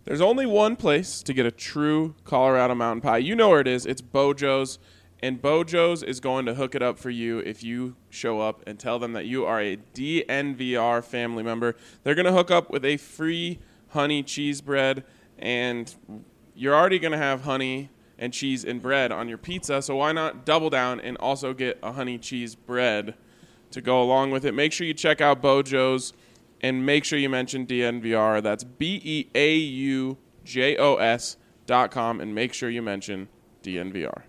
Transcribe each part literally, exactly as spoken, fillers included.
There's only one place to get a true Colorado mountain pie. You know where it is. It's Bojo's. And Bojo's is going to hook it up for you if you show up and tell them that you are a D N V R family member. They're going to hook up with a free honey cheese bread, and you're already going to have honey and cheese and bread on your pizza, so why not double down and also get a honey cheese bread to go along with it. Make sure you check out Bojo's, and make sure you mention D N V R. That's B E A U J O S dot com, and make sure you mention D N V R.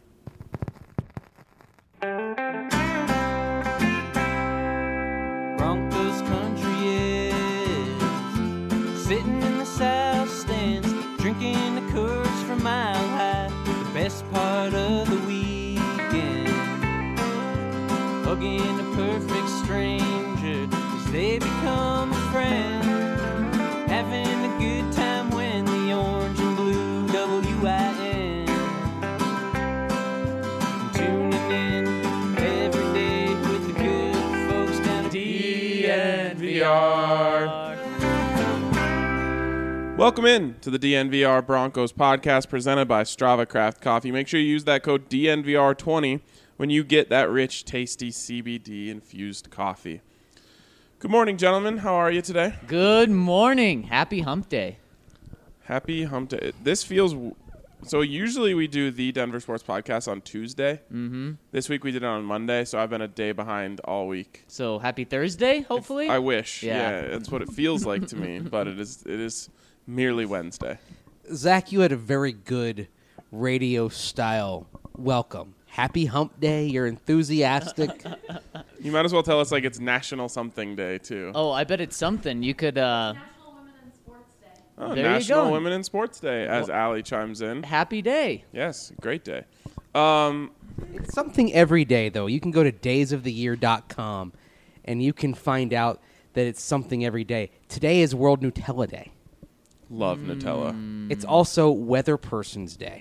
Broncos country is sitting in the south stands, drinking the Coors from Mile High. The best part of the weekend, hugging a perfect stranger as they become a friend, having a good time when the orange and blue W I N, tuning in every day with the good folks down at D N V R. Welcome in to the D N V R Broncos podcast presented by Strava Craft Coffee. Make sure you use that code D N V R twenty when you get that rich, tasty C B D-infused coffee. Good morning, gentlemen. How are you today? Good morning. Happy hump day. Happy hump day. This feels... So usually we do the Denver Sports Podcast on Tuesday. Mm-hmm. This week we did it on Monday, so I've been a day behind all week. So happy Thursday, hopefully? I wish. Yeah. Yeah, that's what it feels like to me, but it is it is merely Wednesday. Zach, you had a very good radio-style welcome. Happy hump day. You're enthusiastic. You might as well tell us like it's National Something Day, too. Oh, I bet it's something. You could... Uh, National Women in Sports Day. Oh, there you National go. Women in Sports Day, as Well- Allie chimes in. happy day. Yes, great day. Um, It's something every day, though. You can go to days of the year dot com, and you can find out that it's something every day. Today is World Nutella Day. love Mm. Nutella. It's also Weather Person's Day.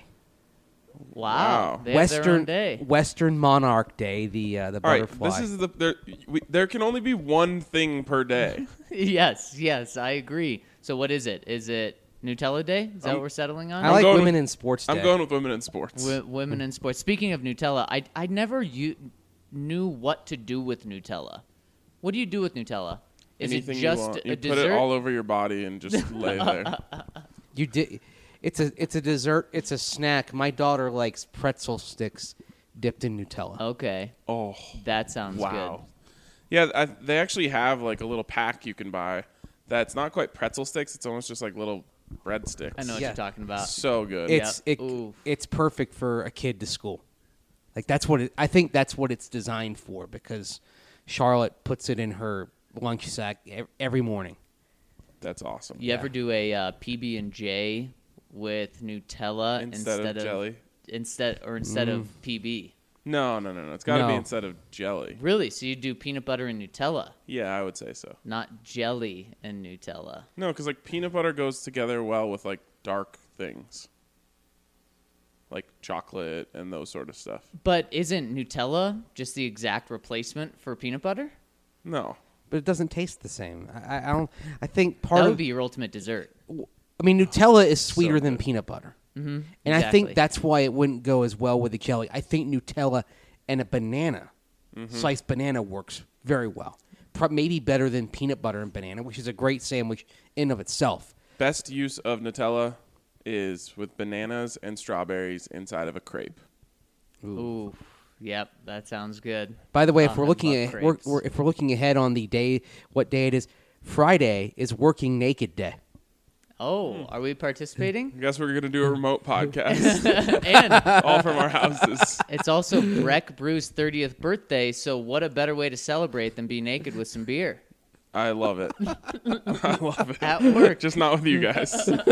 Wow. Wow. They have their own Western day. Western Monarch Day, the uh, the All right, butterfly. this is the there. We, there can only be one thing per day. Yes, yes, I agree. So what is it? Is it Nutella Day? Is that I'm- what we're settling on? I like going Women with- in Sports Day. I'm going with women in sports. W- women in sports. Speaking of Nutella, I I never u- knew what to do with Nutella. What do you do with Nutella? Is Anything it just you want. a You dessert? put it all over your body and just lay there. You did. It's a it's a dessert. It's a snack. My daughter likes pretzel sticks dipped in Nutella. Okay, Oh, that sounds wow. Yeah, I, they actually have like a little pack you can buy that's not quite pretzel sticks. It's almost just like little bread sticks. good. I know what Yeah. you're talking about. So good. It's Yeah. it, Ooh. it's perfect for a kid to school. Like that's what it, I think that's what it's designed for, because Charlotte puts it in her lunch sack ev- every morning. That's awesome. You ever do a uh, P B and J with Nutella Instead of jelly? Instead or instead of P B? No, no, no, no. It's got to be No. instead of jelly. Really? So you do peanut butter and Nutella, Yeah, I would say so. not jelly and Nutella. No, because like peanut butter goes together well with like dark things, like chocolate and those sort of stuff. But isn't Nutella just the exact replacement for peanut butter? No, But it doesn't taste the same. I, I don't. I think part That of would be your ultimate dessert. I mean, Nutella is sweeter So than good. peanut butter, Mm-hmm. and I think that's why it wouldn't go as well with the jelly. I think Nutella and a banana, Mm-hmm. sliced banana, works very well. Pro- maybe better than peanut butter and banana, which is a great sandwich in of itself. best use of Nutella is with bananas and strawberries inside of a crepe. Ooh, yep, that sounds good. By the way, if Oh, we're I looking love at we're, crepes. we're, if we're looking ahead on the day, what day it is? Friday is Working Naked Day. Oh, are we participating? I guess we're gonna do a remote podcast, And all from our houses. it's also Breck Brew's thirtieth birthday, so what a better way to celebrate than be naked with some beer I love it. I love it. at work. Just not with you guys.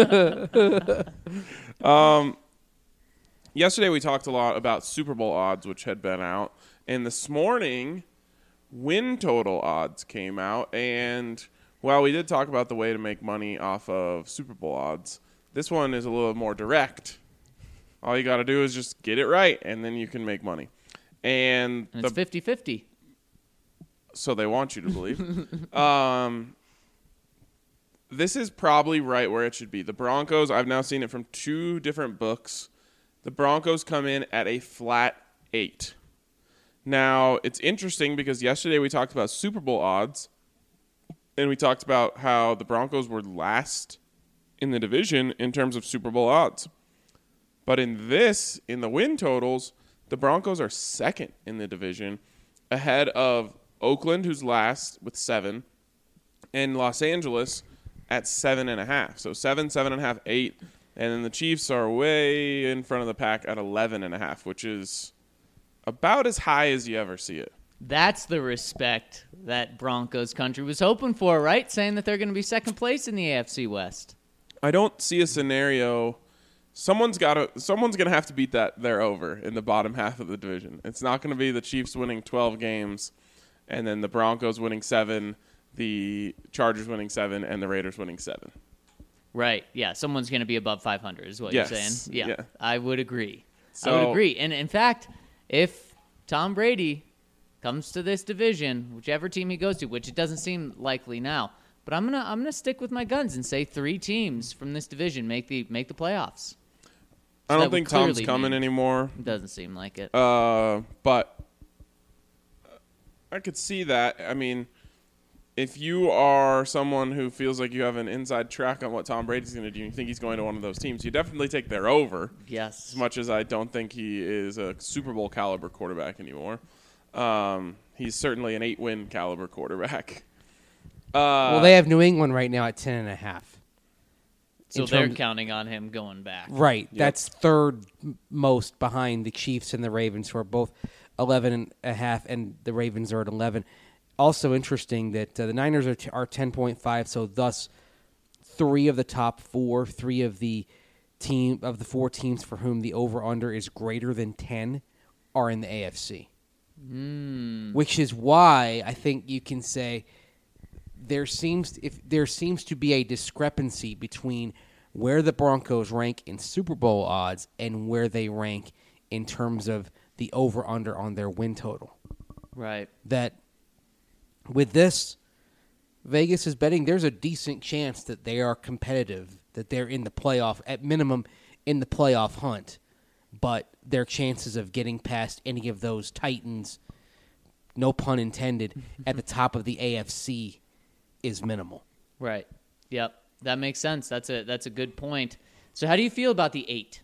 um, yesterday we talked a lot about Super Bowl odds, which had been out, and this morning, win total odds came out. And while we did talk about the way to make money off of Super Bowl odds, this one is a little more direct. All you got to do is just get it right, and then you can make money. And, And the it's fifty-fifty. so they want you to believe. um, this is probably right where it should be. The Broncos, I've now seen it from two different books. The Broncos come in at a flat eight. Now, it's interesting because yesterday we talked about Super Bowl odds, and we talked about how the Broncos were last in the division in terms of Super Bowl odds. But in this, in the win totals, the Broncos are second in the division, ahead of Oakland, who's last with seven, and Los Angeles at seven and a half. So seven, seven and a half, eight, and then the Chiefs are way in front of the pack at eleven and a half, which is about as high as you ever see it. That's the respect that Broncos country was hoping for, right? Saying that they're going to be second place in the A F C West. I don't see a scenario. Someone's got to. Someone's going to have to beat that there over in the bottom half of the division. It's not going to be the Chiefs winning twelve games, and then the Broncos winning seven, the Chargers winning seven, and the Raiders winning seven. Right. Yeah. Someone's going to be above five hundred, is what Yes. you're saying. Yeah, Yeah. I would agree. So- I would agree. And in fact, if Tom Brady comes to this division, whichever team he goes to, which it doesn't seem likely now, but I'm gonna I'm gonna stick with my guns and say three teams from this division make the make the playoffs. I that don't would think Tom's clearly coming mean- anymore. It doesn't seem like it. Uh, but I could see that. I mean, if you are someone who feels like you have an inside track on what Tom Brady's going to do, and you think he's going to one of those teams, you definitely take their over. Yes. As much as I don't think he is a Super Bowl caliber quarterback anymore, um, he's certainly an eight-win caliber quarterback. Uh, well, they have New England right now at ten and a half. So in they're terms- counting on him going back. Right. That's third m- most behind the Chiefs and the Ravens, who are both eleven and a half, and the Ravens are at eleven. Also interesting that uh, the Niners are, t- are ten point five, so thus three of the top four, three of the team of the four teams for whom the over-under is greater than ten are in the A F C. Mm. Which is why I think you can say there seems if there seems to be a discrepancy between where the Broncos rank in Super Bowl odds and where they rank in terms of the over-under on their win total. Right. That with this, Vegas is betting there's a decent chance that they are competitive, that they're in the playoff, at minimum in the playoff hunt, but their chances of getting past any of those Titans, no pun intended, at the top of the A F C is minimal. Right. Yep. That makes sense. That's a that's a good point. So how do you feel about the eight?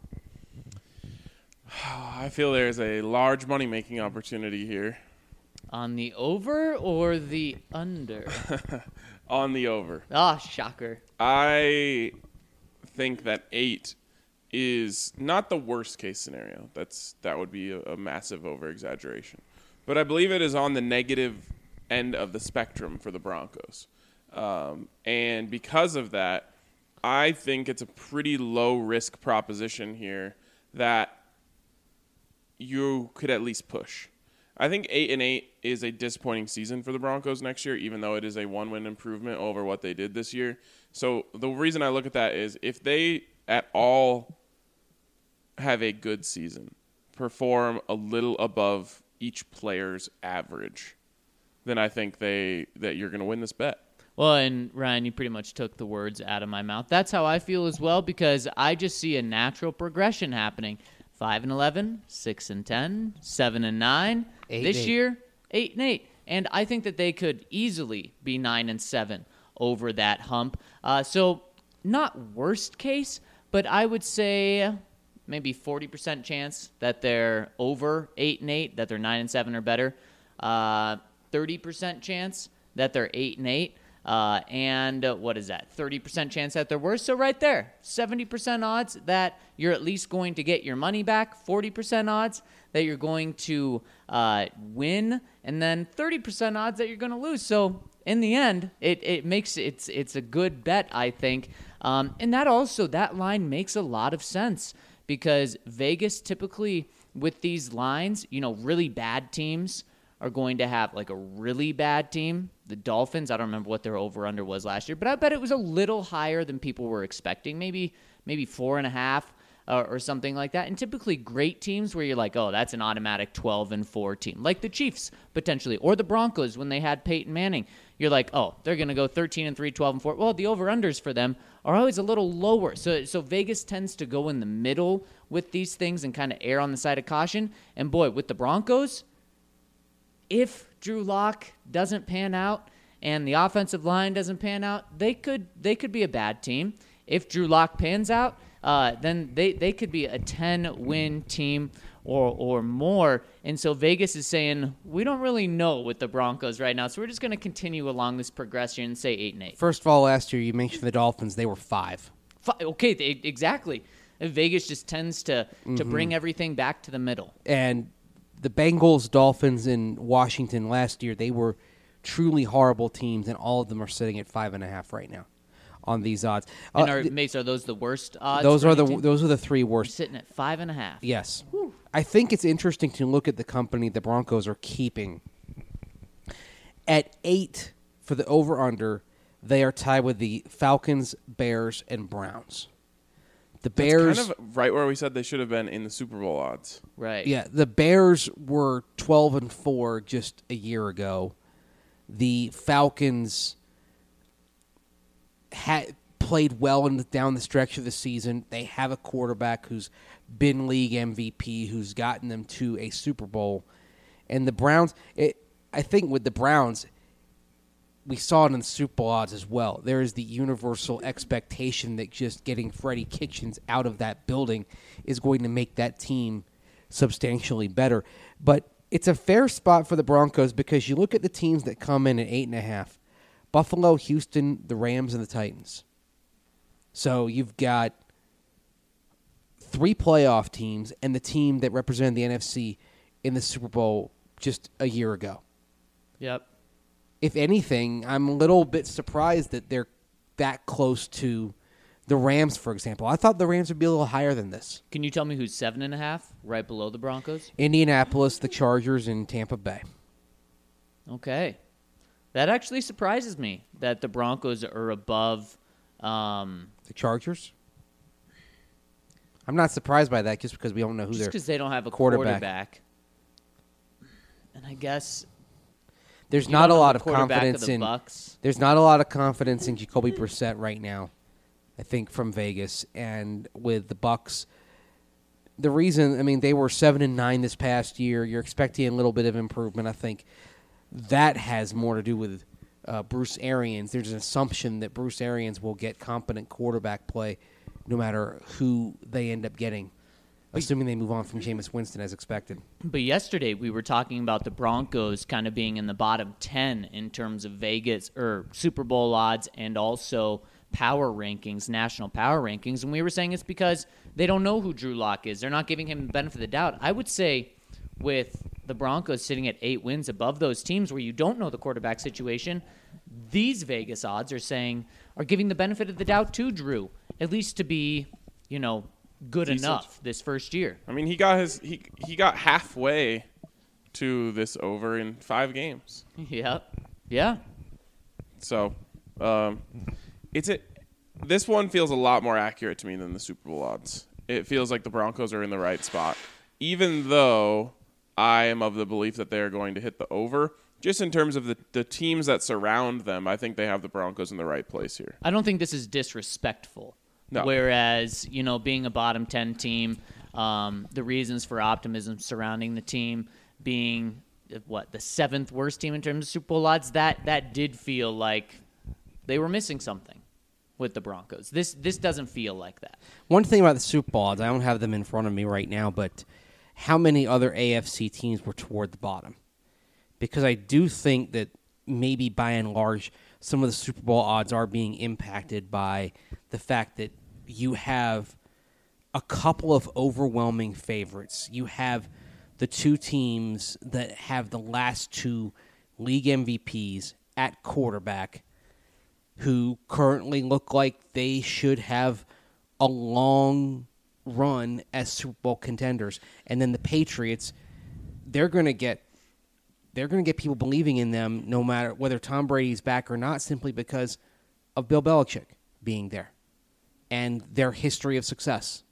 I feel there's a large money-making opportunity here On the over or the under? on the over. Ah, shocker. I think that eight is not the worst case scenario. That's that would be a, a massive over exaggeration, but I believe it is on the negative end of the spectrum for the Broncos, um, and because of that, I think it's a pretty low risk proposition here that you could at least push. I think eight and eight is a disappointing season for the Broncos next year, even though it is a one-win improvement over what they did this year. So the reason I look at that is if they at all have a good season, perform a little above each player's average, then I think they that you're going to win this bet. Well, and Ryan, you pretty much took the words out of my mouth. That's how I feel as well, because I just see a natural progression happening. Five and eleven, six and ten, seven and nine. Eight this and eight. year, eight and eight, and I think that they could easily be nine and seven over that hump. Uh, so not worst case, but I would say maybe forty percent chance that they're over eight and eight, that they're nine and seven or better. Uh, thirty percent chance that they're eight and eight. Uh, and uh, what is that? thirty percent chance that they're worse. So right there, seventy percent odds that you're at least going to get your money back, forty percent odds that you're going to uh, win, and then thirty percent odds that you're going to lose. So in the end, it, it makes it's it's a good bet, I think. Um, and that also, that line makes a lot of sense because Vegas typically with these lines, you know, really bad teams are going to have like a really bad team. The Dolphins, I don't remember what their over-under was last year, but I bet it was a little higher than people were expecting. Maybe maybe four and a half. or, or something like that. And typically great teams where you're like, oh, that's an automatic twelve and four team, like the Chiefs potentially, or the Broncos when they had Peyton Manning. You're like, oh, they're going to go thirteen and three, twelve and four. Well, the over-unders for them are always a little lower. So so Vegas tends to go in the middle with these things and kind of err on the side of caution. And boy, with the Broncos, if Drew Lock doesn't pan out and the offensive line doesn't pan out, they could they could be a bad team. If Drew Lock pans out, uh, then they, they could be a ten-win team or or more. And so Vegas is saying, we don't really know with the Broncos right now, so we're just going to continue along this progression and say eight and eight. First of all, last year you mentioned the Dolphins; they were five. Fi- Okay, they, exactly. And Vegas just tends to, to bring everything back to the middle. And the Bengals, Dolphins, and Washington last year, they were truly horrible teams, and all of them are sitting at five and a half right now on these odds. And Uh, are, th- Mace, are those the worst odds? those for are any the team? those are the three We're worst. sitting at five and a half. Yes, I think it's interesting to look at the company the Broncos are keeping. At eight for the over/under, they are tied with the Falcons, Bears, and Browns. The That's Bears, kind of right where we said they should have been in the Super Bowl odds. Right. yeah, the Bears were twelve and four just a year ago. The Falcons had played well in the, down the stretch of the season. They have a quarterback who's been league M V P, who's gotten them to a Super Bowl. And the Browns, it, I think with the Browns, we saw it in the Super Bowl odds as well. There is the universal expectation that just getting Freddie Kitchens out of that building is going to make that team substantially better. But it's a fair spot for the Broncos because you look at the teams that come in at eight and a half: Buffalo, Houston, the Rams, and the Titans. So you've got three playoff teams and the team that represented the N F C in the Super Bowl just a year ago. Yep. If anything, I'm a little bit surprised that they're that close to the Rams, for example. I thought the Rams would be a little higher than this. Can you tell me who's seven and a half, right below the Broncos? Indianapolis, the Chargers, and Tampa Bay. Okay. That actually surprises me that the Broncos are above. Um, The Chargers? I'm not surprised by that just because we don't know who just their because they don't have a quarterback. quarterback. And I guess There's you not a don't know lot the of quarterback confidence of the in Bucks. There's not a lot of confidence in Jacoby Brissett right now, I think, from Vegas. And with the Bucks, the reason, I mean, they were seven and nine this past year. You're expecting a little bit of improvement. I think that has more to do with uh, Bruce Arians. There's an assumption that Bruce Arians will get competent quarterback play no matter who they end up getting, assuming they move on from Jameis Winston as expected. But yesterday we were talking about the Broncos kind of being in the bottom ten in terms of Vegas or Super Bowl odds and also power rankings, national power rankings, and we were saying it's because they don't know who Drew Lock is. They're not giving him the benefit of the doubt. I would say with the Broncos sitting at eight wins above those teams where you don't know the quarterback situation, these Vegas odds are saying are giving the benefit of the doubt to Drew, at least to be, you know, good Decent. enough this first year. I mean, he got his he he got halfway to this over in five games. Yep. Yeah. So, um, it's a this one feels a lot more accurate to me than the Super Bowl odds. It feels like the Broncos are in the right spot, even though I am of the belief that they are going to hit the over. Just in terms of the, the teams that surround them, I think they have the Broncos in the right place here. I don't think this is disrespectful. No. Whereas, you know, being a bottom ten team, um, the reasons for optimism surrounding the team being, uh, what, the seventh worst team in terms of Super Bowl odds, that, that did feel like they were missing something with the Broncos. This this doesn't feel like that. One thing about the Super Bowl odds, I don't have them in front of me right now, but how many other A F C teams were toward the bottom? Because I do think that maybe by and large, some of the Super Bowl odds are being impacted by the fact that you have a couple of overwhelming favorites. You have the two teams that have the last two league M V Ps at quarterback who currently look like they should have a long run as Super Bowl contenders. And then the Patriots, they're going to get they're going to get people believing in them no matter whether Tom Brady's back or not, simply because of Bill Belichick being there and their history of success.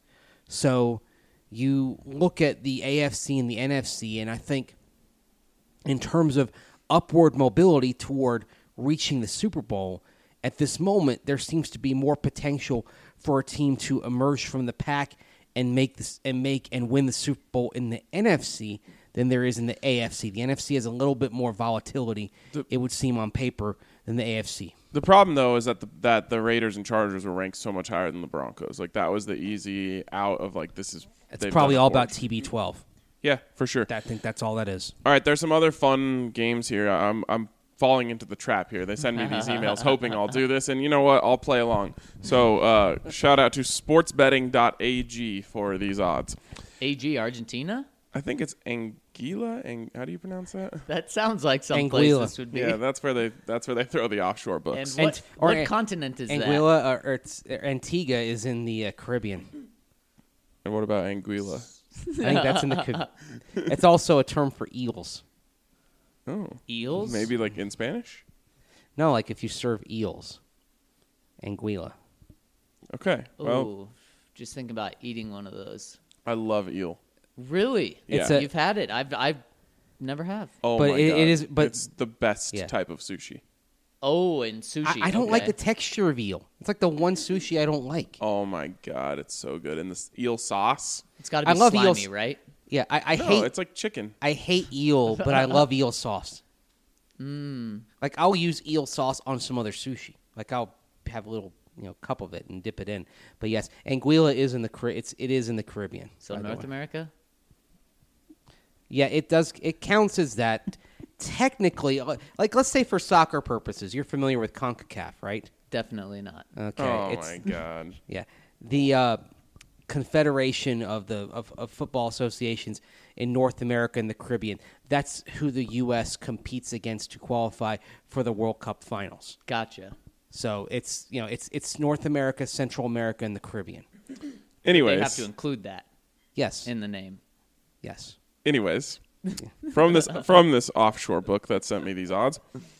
So you look at the A F C and the N F C, and I think in terms of upward mobility toward reaching the Super Bowl, at this moment, there seems to be more potential for a team to emerge from the pack and make this and make and win the Super Bowl in the N F C than there is in the A F C. The N F C has a little bit more volatility, The- it would seem on paper, than the A F C. The problem, though, is that the, that the Raiders and Chargers were ranked so much higher than the Broncos. Like, that was the easy out of, like, this is... It's they've probably done it all for about us. T B twelve. Yeah, for sure. I think that's all that is. All right, there's some other fun games here. I'm I'm falling into the trap here. They send me these emails hoping I'll do this, and you know what? I'll play along. So uh, shout out to sports betting dot a g for these odds. A G Argentina? I think it's Anguilla. Ang- how do you pronounce that? That sounds like some place Anguilla. this would be. Yeah, that's where they that's where they throw the offshore and books. what, Ant- or what An- continent is that? Anguilla or, or it's, or Antigua is in the uh, Caribbean. And what about Anguilla? I think that's in the. Ca- It's also a term for eels. Oh, Eels? maybe like in Spanish. No, like if you serve eels. Anguilla. Okay, well, Ooh, just think about eating one of those. I love eel. Really? It's a- You've had it. I've I've never have. Oh But my it- god, it is- but- it's the best Yeah. type of sushi. Oh, and sushi. I, I don't like okay. the texture of eel. It's like the one sushi I don't like. Oh my god, it's so good. And this eel sauce. It's got to be I love slimy, eels. right? Yeah, I, I no, hate it's like chicken. I hate eel, but I love eel sauce. Mm. Like I'll use eel sauce on some other sushi. Like I'll have a little you know cup of it and dip it in. But yes, Anguilla is in the Car- it's it is in the Caribbean. So by the North way. America? Yeah, it does. It counts as that. Technically, uh, like let's say for soccer purposes, you're familiar with CONCACAF, right? Definitely not. Okay. Oh it's, my god. Yeah, the uh, Confederation of the of, of football associations in North America and the Caribbean. That's who the U S competes against to qualify for the World Cup finals. Gotcha. So it's you know it's it's North America, Central America, and the Caribbean. Anyways, They have to include that Yes. in the name. yes. anyways, from this from this offshore book that sent me these odds.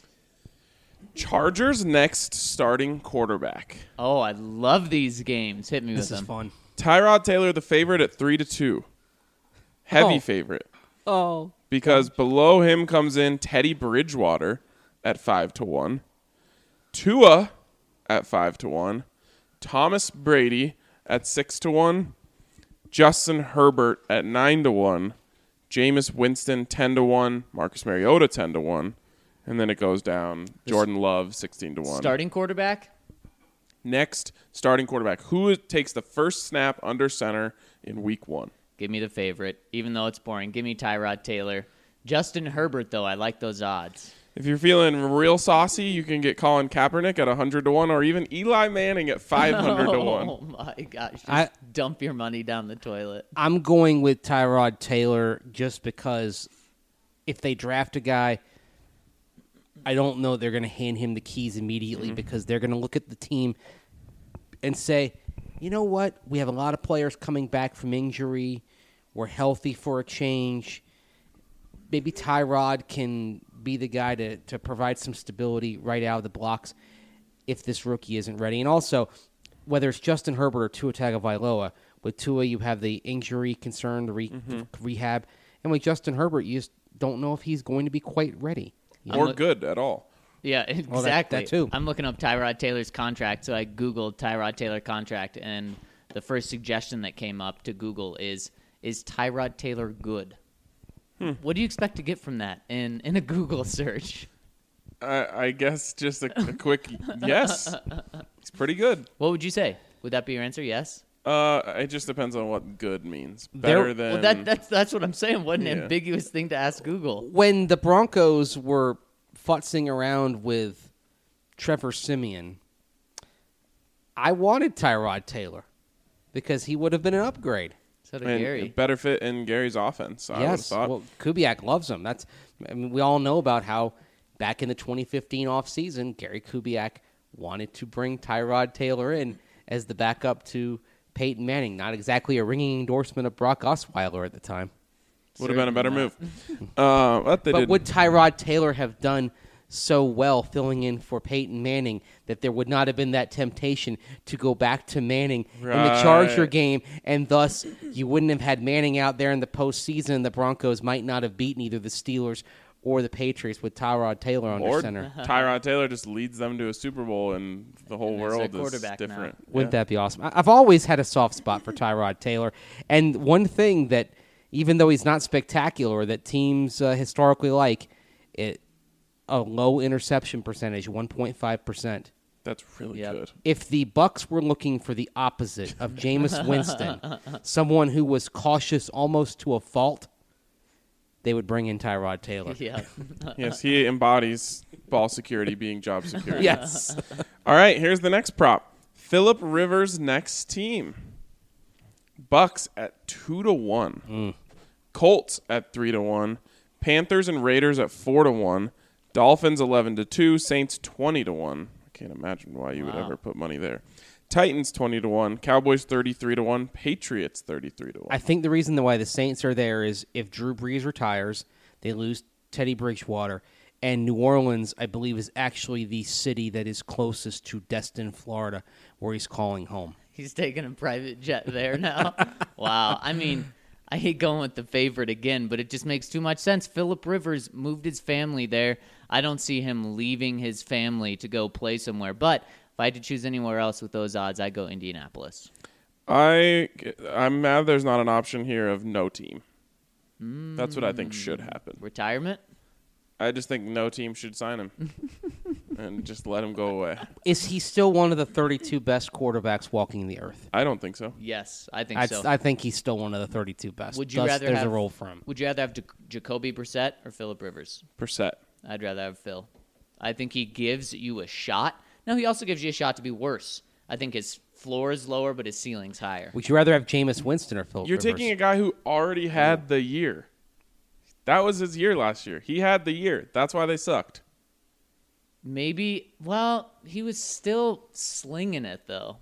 Chargers next starting quarterback. Oh, I love these games. Hit me This with is them. fun. Tyrod Taylor, the favorite at three to two. Heavy Oh. favorite. Oh. Because below him comes in Teddy Bridgewater at five to one. Tua at five to one. Thomas Brady at six to one. Justin Herbert at nine to one. Jameis Winston ten to one. Marcus Mariota ten to one. And then it goes down. Jordan Love sixteen to one. Starting quarterback? Next, starting quarterback. Who takes the first snap under center in week one? Give me the favorite, even though it's boring. Give me Tyrod Taylor. Justin Herbert, though, I like those odds. If you're feeling real saucy, you can get Colin Kaepernick at one hundred to one or even Eli Manning at five hundred to one. Oh, my gosh. Just I- dump your money down the toilet. I'm going with Tyrod Taylor just because if they draft a guy, I don't know they're going to hand him the keys immediately Mm-hmm. because they're going to look at the team and say, you know what? We have a lot of players coming back from injury. We're healthy for a change. Maybe Tyrod can be the guy to, to provide some stability right out of the blocks if this rookie isn't ready. And also, whether it's Justin Herbert or Tua Tagovailoa, with Tua you have the injury concern, the re- Mm-hmm. rehab, and with Justin Herbert you just don't know if he's going to be quite ready. You know? Or look- good at all. Yeah, that- exactly. that too. I'm looking up Tyrod Taylor's contract, so I Googled Tyrod Taylor contract, and the first suggestion that came up to Google is, is Tyrod Taylor good? Hmm. What do you expect to get from that in, in a Google search? I, I guess just a, a quick yes. It's pretty good. What would you say? Would that be your answer? Yes? Uh, it just depends on what good means. There- Better than Well, that, that's, that's what I'm saying. What an Yeah. ambiguous thing to ask Google. When the Broncos were futzing around with Trevor Simeon, I wanted Tyrod Taylor because he would have been an upgrade. So did and Gary. better fit in Gary's offense. I would have Yes, thought. well, Kubiak loves him. That's I mean, we all know about how back in the twenty fifteen offseason, Gary Kubiak wanted to bring Tyrod Taylor in as the backup to Peyton Manning. Not exactly a ringing endorsement of Brock Osweiler at the time. Would have been a better Certainly move. uh, but they But didn't. would Tyrod Taylor have done so well filling in for Peyton Manning that there would not have been that temptation to go back to Manning in the Charger Right. game, and thus you wouldn't have had Manning out there in the postseason, and the Broncos might not have beaten either the Steelers or the Patriots with Tyrod Taylor under Or center. Tyrod Taylor just leads them to a Super Bowl, and the whole And there's their world is quarterback now. different. Wouldn't Yeah. that be awesome? I- I've always had a soft spot for Tyrod Taylor. And one thing that, even though he's not spectacular, that teams uh, historically like, it a low interception percentage, one point five percent. That's really Yep. good. If the Bucks were looking for the opposite of Jameis Winston, someone who was cautious almost to a fault, they would bring in Tyrod Taylor. Yeah. Yes, he embodies ball security being job security. Yes. All right, here's the next prop. Phillip Rivers' next team. Bucks at two to one. Colts at three to one. Panthers and Raiders at four to one. Dolphins eleven to two. Saints twenty to one. I can't imagine why you would Wow. ever put money there. Titans twenty to one. Cowboys thirty-three to one. Patriots thirty-three to one. I think the reason why the Saints are there is if Drew Brees retires, they lose Teddy Bridgewater, and New Orleans, I believe, is actually the city that is closest to Destin, Florida, where he's calling home. He's taking a private jet there now. Wow. I mean, I hate going with the favorite again, but it just makes too much sense. Phillip Rivers moved his family there. I don't see him leaving his family to go play somewhere. But if I had to choose anywhere else with those odds, I'd go Indianapolis. I, I'm mad there's not an option here of no team. That's what I think should happen. Retirement? I just think no team should sign him and just let him go away. Is he still one of the thirty-two best quarterbacks walking the earth? I don't think so. Yes, I think I'd, so. I think he's still one of the thirty-two best. Would you Thus, rather there's have a role for him. Would you rather have Jac- Jacoby Brissett or Phillip Rivers? Percent. I'd rather have Phil. I think he gives you a shot. No, he also gives you a shot to be worse. I think his floor is lower, but his ceiling's higher. Would you rather have Jameis Winston or Philip You're Rivers? taking a guy who already had the year. That was his year last year. He had the year. That's why they sucked. Maybe, well, he was still slinging it, though.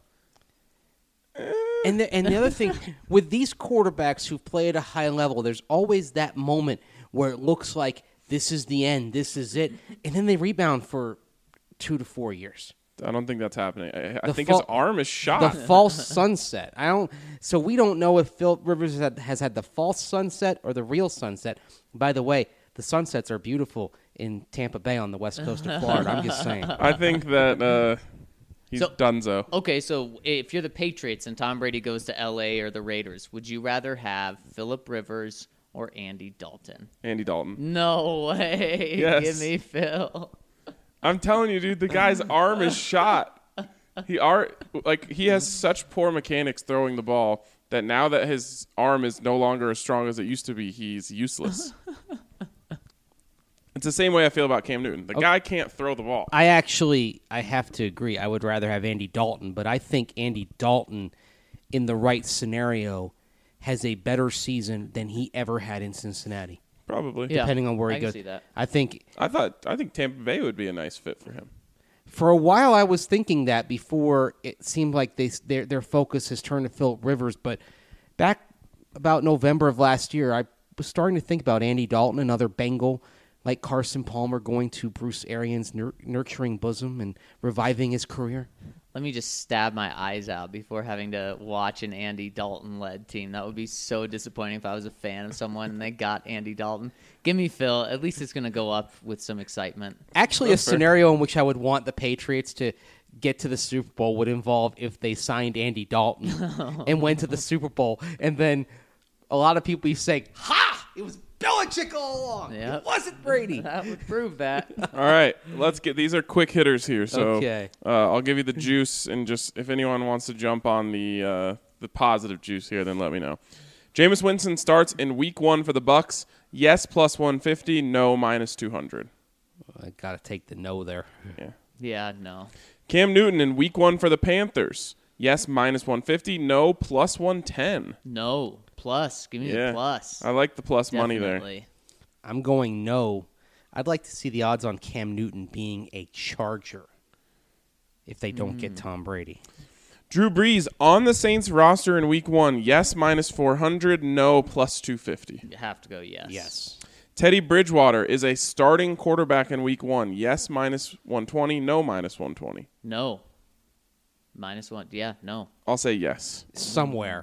And the, and the other thing, with these quarterbacks who play at a high level, there's always that moment where it looks like this is the end, this is it, and then they rebound for two to four years. I don't think that's happening. I, I The think fal- his arm is The shot. false sunset. I don't. So we don't know if Phil Rivers has had, has had the false sunset or the real sunset. By the way, the sunsets are beautiful in Tampa Bay on the west coast of Florida. I'm just saying. I think that uh, he's So- donezo. Okay, so if you're the Patriots and Tom Brady goes to L A or the Raiders, would you rather have Phillip Rivers or Andy Dalton? Andy Dalton. No way. Yes. Give me Phil. I'm telling you, dude, the guy's arm is shot. He are like he has such poor mechanics throwing the ball that now that his arm is no longer as strong as it used to be, he's useless. It's the same way I feel about Cam Newton. The guy can't throw the ball. I actually, I have to agree. I would rather have Andy Dalton, but I think Andy Dalton, in the right scenario, has a better season than he ever had in Cincinnati. Probably. Yeah, Depending on where he I can goes. see that. I think I thought I think Tampa Bay would be a nice fit for him. for a while I was thinking that before it seemed like they their their focus has turned to Phillip Rivers, but back about November of last year, I was starting to think about Andy Dalton, another Bengal, like Carson Palmer, going to Bruce Arians' nur- nurturing bosom and reviving his career. Let me just stab my eyes out before having to watch an Andy Dalton-led team. That would be so disappointing if I was a fan of someone and they got Andy Dalton. Give me Phil. At least it's going to go up with some excitement. Actually, a scenario in which I would want the Patriots to get to the Super Bowl would involve if they signed Andy Dalton and went to the Super Bowl, and then a lot of people be saying, "Ha! It was Belichick all along. Yep. It wasn't Brady." That would prove that. All right, let's get these are quick hitters here. So Okay. uh, I'll give you the juice, and just if anyone wants to jump on the uh, the positive juice here, then let me know. Jameis Winston starts in Week One for the Bucks. Yes, plus one fifty. No, minus two hundred. I got to take the no there. Yeah. Yeah, no. Cam Newton in Week One for the Panthers. Yes, minus one fifty. No, plus one ten. No. Plus. Give me Yeah, the plus. I like the plus money there. Definitely. I'm going no. I'd like to see the odds on Cam Newton being a Charger if they don't get Tom Brady. Drew Brees on the Saints roster in Week One. Yes, minus four hundred. No, plus two fifty. You have to go yes. Yes. Teddy Bridgewater is a starting quarterback in week one. Yes, minus one twenty. No, minus one twenty. No. Minus one. Yeah, no. I'll say yes. Somewhere.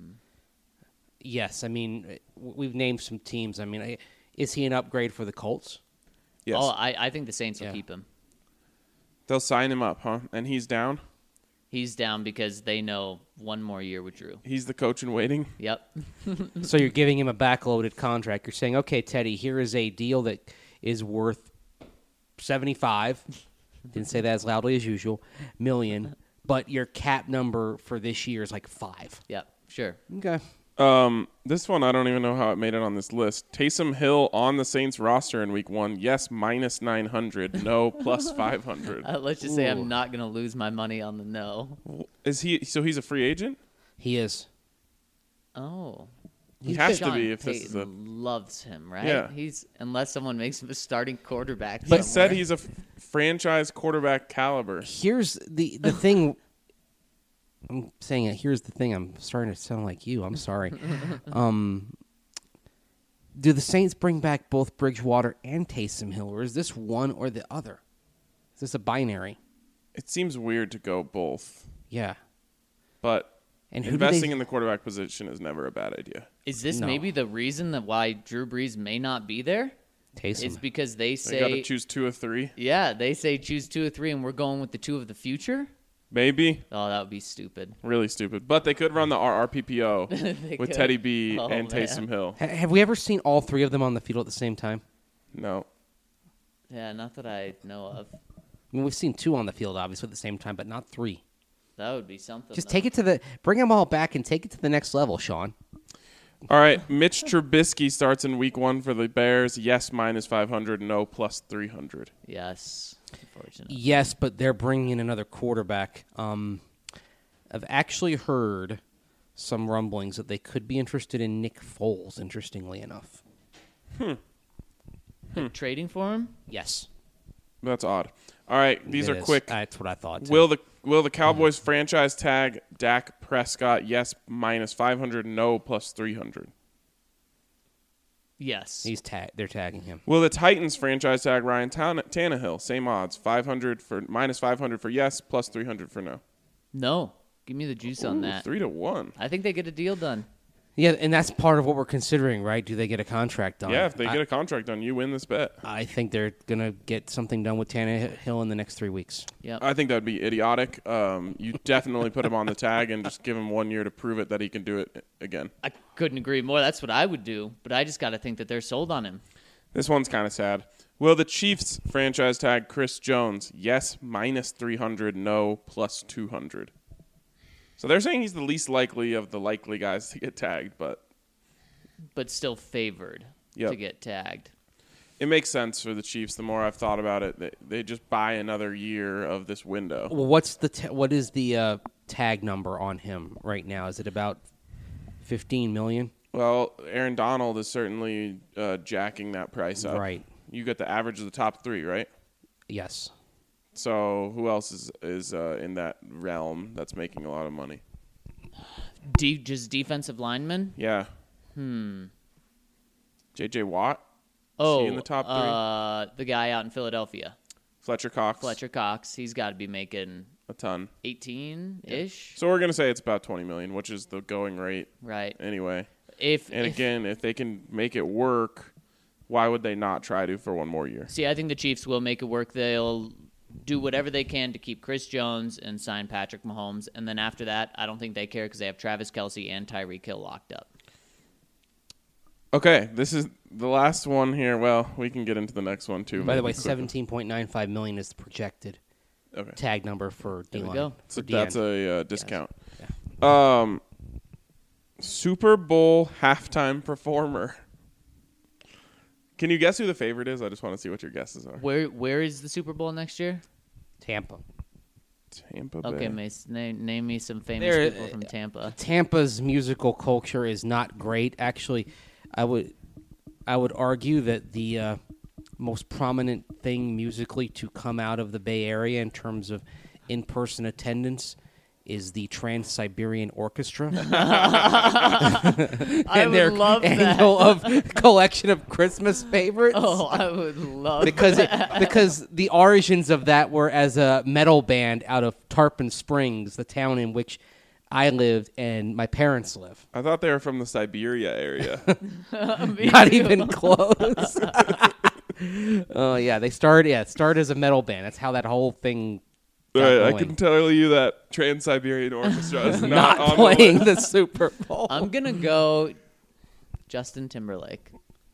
Yes, I mean, we've named some teams. I mean, I- is he an upgrade for the Colts? Yes. Oh, I, I think the Saints will Yeah. keep him. They'll sign him up, huh? And he's down? He's down because they know one more year with Drew. He's the coach in waiting? Yep. So you're giving him a backloaded contract. You're saying, okay, Teddy, here is a deal that is worth seventy-five. Didn't say that as loudly as usual. Million. But your cap number for this year is like five. Yep. Sure. Okay. Um, this one, I don't even know how it made it on this list. Taysom Hill on the Saints roster in week one. Yes, minus nine hundred. No, plus five hundred. Uh, let's just say Ooh. I'm not going to lose my money on the no. Is he, so he's a free agent? He is. Oh. He has to Sean be if this is a... Payton loves him, right? Yeah. He's unless someone makes him a starting quarterback. He said somewhere. he's a f- franchise quarterback caliber. Here's the, the thing. I'm saying it. Here's the thing. I'm starting to sound like you. I'm sorry. um, do the Saints bring back both Bridgewater and Taysom Hill, or is this one or the other? Is this a binary? It seems weird to go both, Yeah. but And who do investing they- in the quarterback position is never a bad idea. Is this No. maybe the reason that why Drew Brees may not be there? Taysom. It's because they They got to say, choose two or three. yeah, they say choose two or three, and we're going with the two of the future. Maybe. Oh, that would be stupid. Really stupid. But they could run the R R P P O They with could. Teddy B Oh, and man. Taysom Hill. Ha- have we ever seen all three of them on the field at the same time? No. Yeah, not that I know of. I mean, we've seen two on the field, obviously, at the same time, but not three. That would be something. Just though. take it to the – bring them all back and take it to the next level, Sean. All right. Mitch Trubisky starts in week one for the Bears. Yes, minus five hundred. No, plus three hundred. Yes, unfortunately. Yes, but they're bringing in another quarterback. Um, I've actually heard some rumblings that they could be interested in Nick Foles, interestingly enough. Like trading for him? Yes. That's odd. All right. These It are is. quick. That's what I thought. too. Will the will the Cowboys franchise tag Dak Prescott? Yes, minus five hundred. No, plus three hundred. Yes. He's ta- they're tagging him. Will the Titans franchise tag Ryan Tan- Tannehill? Same odds. five hundred for minus five hundred for yes, plus three hundred for no. No. Give me the juice on Ooh, that. Three to one. I think they get a deal done. Yeah, and that's part of what we're considering, right? Do they get a contract done? Yeah, if they I, get a contract done, you win this bet. I think they're going to get something done with Tannehill in the next three weeks. Yep. I think that would be idiotic. Um, you definitely put him on the tag and just give him one year to prove it that he can do it again. I couldn't agree more. That's what I would do, but I just got to think that they're sold on him. This one's kind of sad. Will the Chiefs franchise tag Chris Jones? Yes, minus three hundred. No, plus two hundred. So they're saying he's the least likely of the likely guys to get tagged, but But still favored Yep. to get tagged. it makes sense for the Chiefs. The more I've thought about it, they, they just buy another year of this window. Well, what's the ta- what is the uh, tag number on him right now? Is it about fifteen million? Well, Aaron Donald is certainly uh, jacking that price up. Right. You get the average of the top three, right? Yes. So who else is is uh, in that realm that's making a lot of money? De- just defensive linemen? Yeah. Hmm. J J Watt, Oh, in the top three? Uh, the guy out in Philadelphia, Fletcher Cox, Fletcher Cox. He's got to be making a ton. eighteen-ish, So we're gonna say it's about twenty million, which is the going rate right? anyway. If And if- again, if they can make it work, why would they not try to for one more year? see, I think the Chiefs will make it work. They'll do whatever they can to keep Chris Jones and sign Patrick Mahomes, and then after that, I don't think they care because they have Travis Kelce and Tyreek Hill locked up. Okay, this is the last one here. Well, we can get into the next one too. By the maybe way, quicker. seventeen point nine five million is the projected Okay, tag number for There we D-line. go. so for D N. that's a uh, discount. Um, Super Bowl halftime performer. Can you guess who the favorite is? I just want to see what your guesses are. Where where is the Super Bowl next year? Tampa. Tampa Bay. Okay, Mace, name, name me some famous There- people from Tampa. Tampa's musical culture is not great. Actually, I would I would argue that the uh, most prominent thing musically to come out of the Bay Area in terms of in-person attendance is the Trans-Siberian Orchestra. I and would their love that. annual of collection of Christmas favorites. Oh, I would love because it, that. because the origins of that were as a metal band out of Tarpon Springs, the town in which I lived and my parents live. I thought they were from the Siberia area. Not even close. Oh yeah, they started. Yeah, it started as a metal band. That's how that whole thing. got Right, I going. can tell you that Trans-Siberian Orchestra is not, not on playing the the Super Bowl. I'm gonna go Justin Timberlake.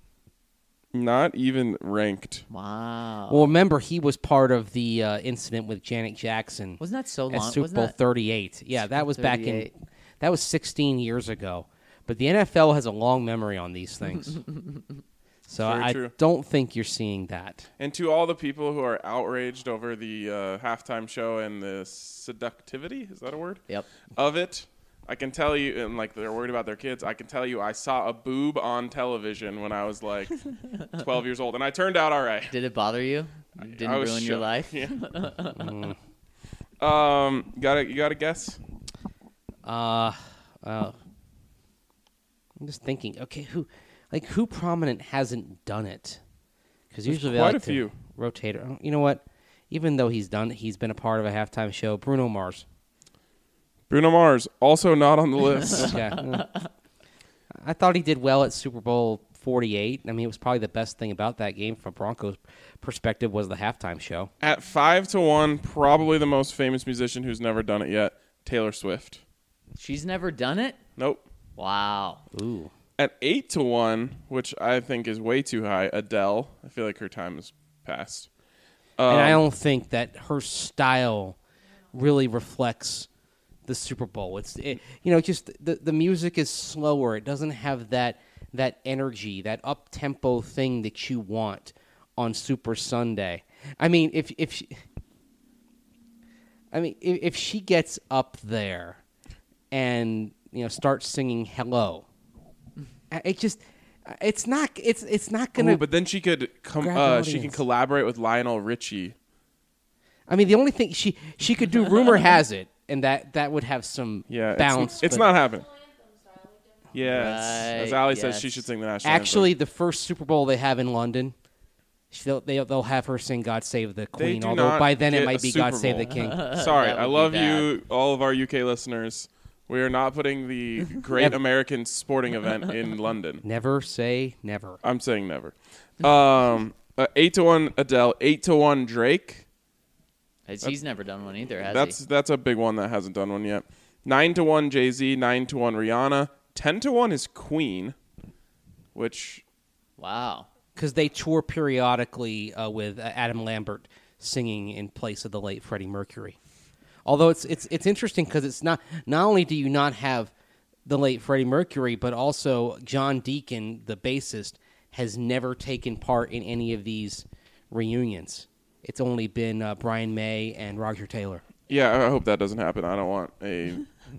Not even ranked. Wow. Well, remember he was part of the uh, incident with Janet Jackson Wasn't that so at long? Super Wasn't Bowl that- thirty-eight. Yeah, Super that was back in. thirty-eight. That was sixteen years ago. But the N F L has a long memory on these things. So Very I true. don't think you're seeing that. And to all the people who are outraged over the uh, halftime show and the seductivity, is that a word? Yep. Of it, I can tell you, and like they're worried about their kids, I can tell you I saw a boob on television when I was like twelve years old, and I turned out all right. Did it bother you? Didn't I was ruin your shook. life? Yeah. Mm. Um, got a, you got a guess? Uh, uh, I'm just thinking. Okay, who, like, who prominent hasn't done it? Because There's usually they quite like a to few. rotate. Oh, you know what? Even though he's done, he's been a part of a halftime show. Bruno Mars. Bruno Mars, also not on the list. Okay. Uh, I thought he did well at Super Bowl forty-eight. I mean, it was probably the best thing about that game from Broncos' perspective was the halftime show. At five to one, probably the most famous musician who's never done it yet, Taylor Swift. She's never done it? Nope. Wow. Ooh. At eight to one, which I think is way too high, Adele. I feel like her time has passed. Um, And I don't think that her style really reflects the Super Bowl. It's it, you know, just the the music is slower. It doesn't have that that energy, that up tempo thing that you want on Super Sunday. I mean, if if she, I mean, if, if she gets up there and you know starts singing "Hello," it just it's not it's it's not gonna. Ooh, but then she could com- grab an uh, she can audience. collaborate with Lionel Richie. I mean, the only thing she she could do, rumor has it, and that that would have some Yeah, it's- bounce. It's, but not happening. Yeah, it's- as Right, Ali says, she yes. should sing the national Actually, anthem. the first Super Bowl they have in London, they'll they'll, they'll have her sing "God Save the Queen." do Although not by then it get might a be Super "God Save the Bowl. King." Sorry, That I would be love bad. you, all of our U K listeners. We are not putting the Great Never. American Sporting Event in London. Never say never. I'm saying never. Um, uh, eight to one Adele, eight to one Drake. He's never done one either, has That's he? that's a big one that hasn't done one yet. Nine to one Jay Z, nine to one Rihanna, ten to one is Queen, which Wow. Because they tour periodically uh, with uh, Adam Lambert singing in place of the late Freddie Mercury. Although it's it's it's interesting because it's not not only do you not have the late Freddie Mercury, but also John Deacon, the bassist, has never taken part in any of these reunions. It's only been uh, Brian May and Roger Taylor. yeah, I hope that doesn't happen. I don't want a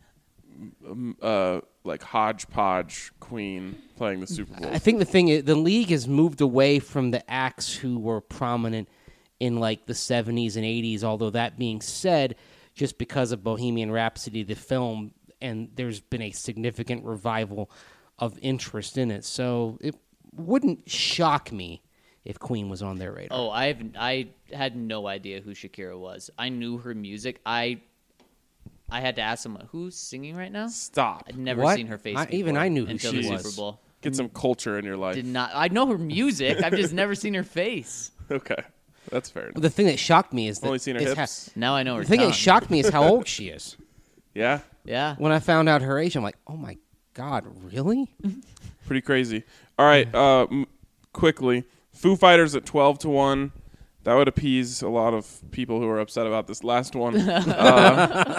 um, uh like hodgepodge Queen playing the Super Bowl. I think the thing is, the league has moved away from the acts who were prominent in like the seventies and eighties. Although that being said, just because of Bohemian Rhapsody, the film, and there's been a significant revival of interest in it. So it wouldn't shock me if Queen was on their radar. Oh, I've I had no idea who Shakira was. I knew her music. I I had to ask someone who's singing right now. Stop. I'd never What? seen her face. I- even before I knew who until she the was. Super Bowl. Get some culture in your life. Did not. I know her music. I've just never seen her face. Okay, that's fair enough. The thing that shocked me is that Only seen her is hips. Now I know her. the thing tongue. that shocked me is how old she is. Yeah, Yeah. When I found out her age, I'm like, oh my god, really? pretty crazy. All right, uh, m- quickly, Foo Fighters at twelve to one. That would appease a lot of people who are upset about this last one. uh,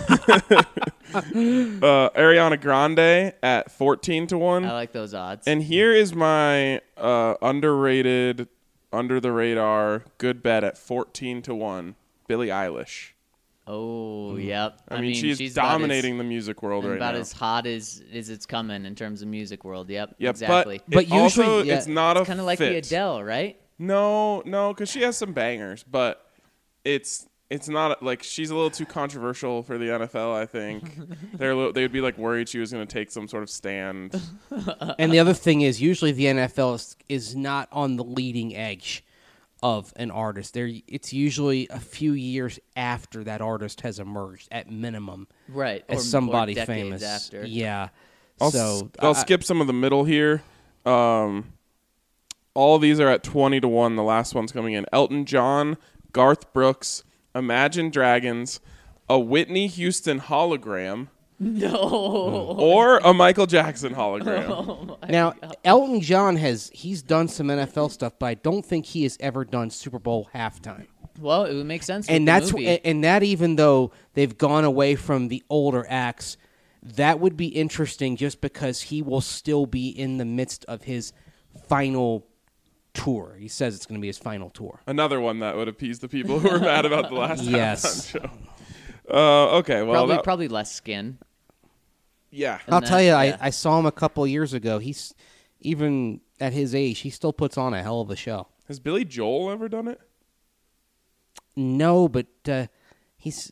uh, Ariana Grande at fourteen to one. I like those odds. And here is my uh, underrated, under the radar, good bet at fourteen to one. Billie Eilish. oh, yep. I, mean, she's, she's about as- dominating the music world right about now. as hot as as it's coming in terms of music world. Yep. Yep, exactly. but, But it also, usually- yeah, it's not a Kind of like fit. the Adele, right? No, no, because she has some bangers, but it's it's not like she's a little too controversial for the N F L. I think they're a little, they would be like worried she was going to take some sort of stand. And the other thing is, usually the N F L is, is not on the leading edge of an artist. There, it's usually a few years after that artist has emerged, at minimum, Right. as or, somebody or decades famous. after. Yeah. I'll, so s- I'll I- skip some of the middle here. Um, all these are at twenty to one. The last one's coming in. Elton John, Garth Brooks, Imagine Dragons, a Whitney Houston hologram, No. or a Michael Jackson hologram. Oh my Now, God. Elton John has he's done some N F L stuff, but I don't think he has ever done Super Bowl halftime. Well, it would make sense. And with that's the movie. and, and that even though they've gone away from the older acts, that would be interesting just because he will still be in the midst of his final tour. He says it's going to be his final tour. Another one that would appease the people who were mad about the last Yes. halftime show. Uh, okay, well, probably that- probably less skin. yeah. And I'll that- tell you, yeah. I, I saw him a couple years ago. He's even at his age, he still puts on a hell of a show. Has Billy Joel ever done it? No, but uh, he's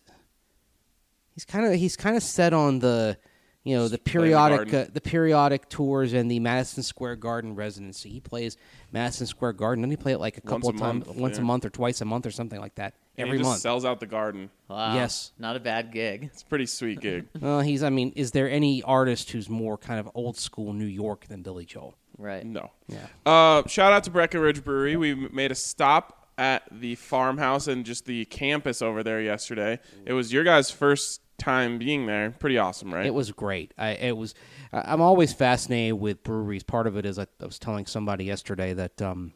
he's kind of he's kind of set on the you know the Just play in the periodic garden. uh, the periodic tours and the Madison Square Garden residency. He plays Madison Square Garden. Doesn't he play it like a Once couple a of times, month, once yeah. a month or twice a month or something like that And every he just month? sells out the garden. Wow. Yes. Not a bad gig. It's a pretty sweet gig. Well, he's. I mean, is there any artist who's more kind of old school New York than Billy Joel? Right. No. Yeah. Uh, shout out to Breckenridge Brewery. We m- made a stop at the farmhouse and just the campus over there yesterday. It was your guys' first time being there. Pretty awesome, right? It was great. I it was. I- I'm always fascinated with breweries. Part of it is I, I was telling somebody yesterday that um,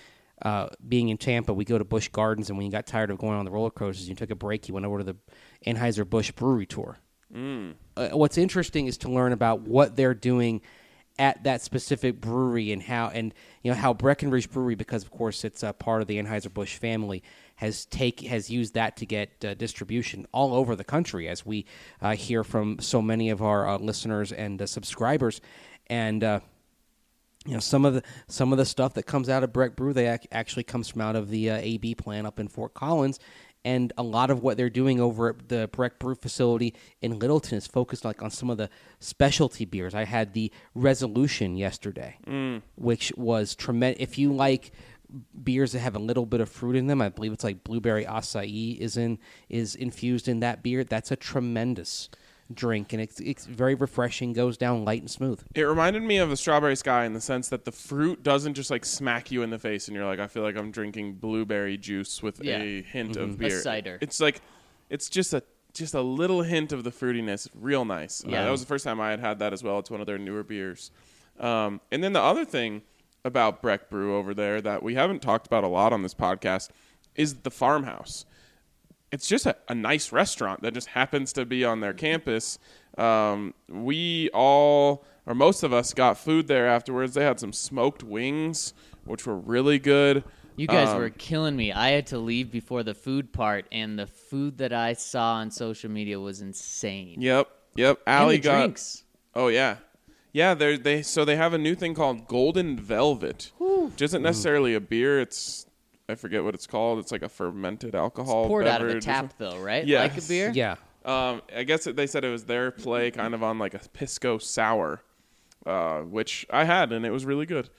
uh, being in Tampa, we go to Busch Gardens, and when you got tired of going on the roller coasters, you took a break. You went over to the Anheuser Busch Brewery Tour. Mm. Uh, what's interesting is to learn about what they're doing at that specific brewery and how and you know how Breckenridge Brewery, because of course it's a part of the Anheuser-Busch family, has take has used that to get uh, distribution all over the country, as we uh, hear from so many of our uh, listeners and uh, subscribers. And uh, you know some of the some of the stuff that comes out of Breck Brew, they ac- actually comes from out of the uh, A B plant up in Fort Collins. And a lot of what they're doing over at the Breck Brew facility in Littleton is focused like on some of the specialty beers. I had the Resolution yesterday, Mm. which was tremendous. If you like beers that have a little bit of fruit in them, I believe it's like blueberry acai is in is infused in that beer. That's a tremendous drink, and it's it's very refreshing. Goes down light and smooth. It reminded me of the Strawberry Sky in the sense that the fruit doesn't just like smack you in the face and you're like, I feel like I'm drinking blueberry juice with Yeah. a hint Mm-hmm. of beer. cider. It's like, it's just a just a little hint of the fruitiness. Real nice. Uh, Yeah. that was the first time I had had that as well. It's one of their newer beers. Um, and then the other thing about Breck Brew over there that we haven't talked about a lot on this podcast is the farmhouse. It's just a, a nice restaurant that just happens to be on their campus. Um, we all, or most of us, got food there afterwards. They had some smoked wings, which were really good. You guys Um, were killing me. I had to leave before the food part, and the food that I saw on social media was insane. Yep, yep. And Allie the got. drinks. Oh yeah, yeah. They they so they have a new thing called Golden Velvet, which isn't necessarily a beer. It's I forget what it's called. It's like a fermented alcohol. Poured out of a beverage or tap, something. though, right? Yes. Like a beer? Yeah. Um, I guess it, they said it was their play kind of on like a pisco sour, uh, which I had and it was really good.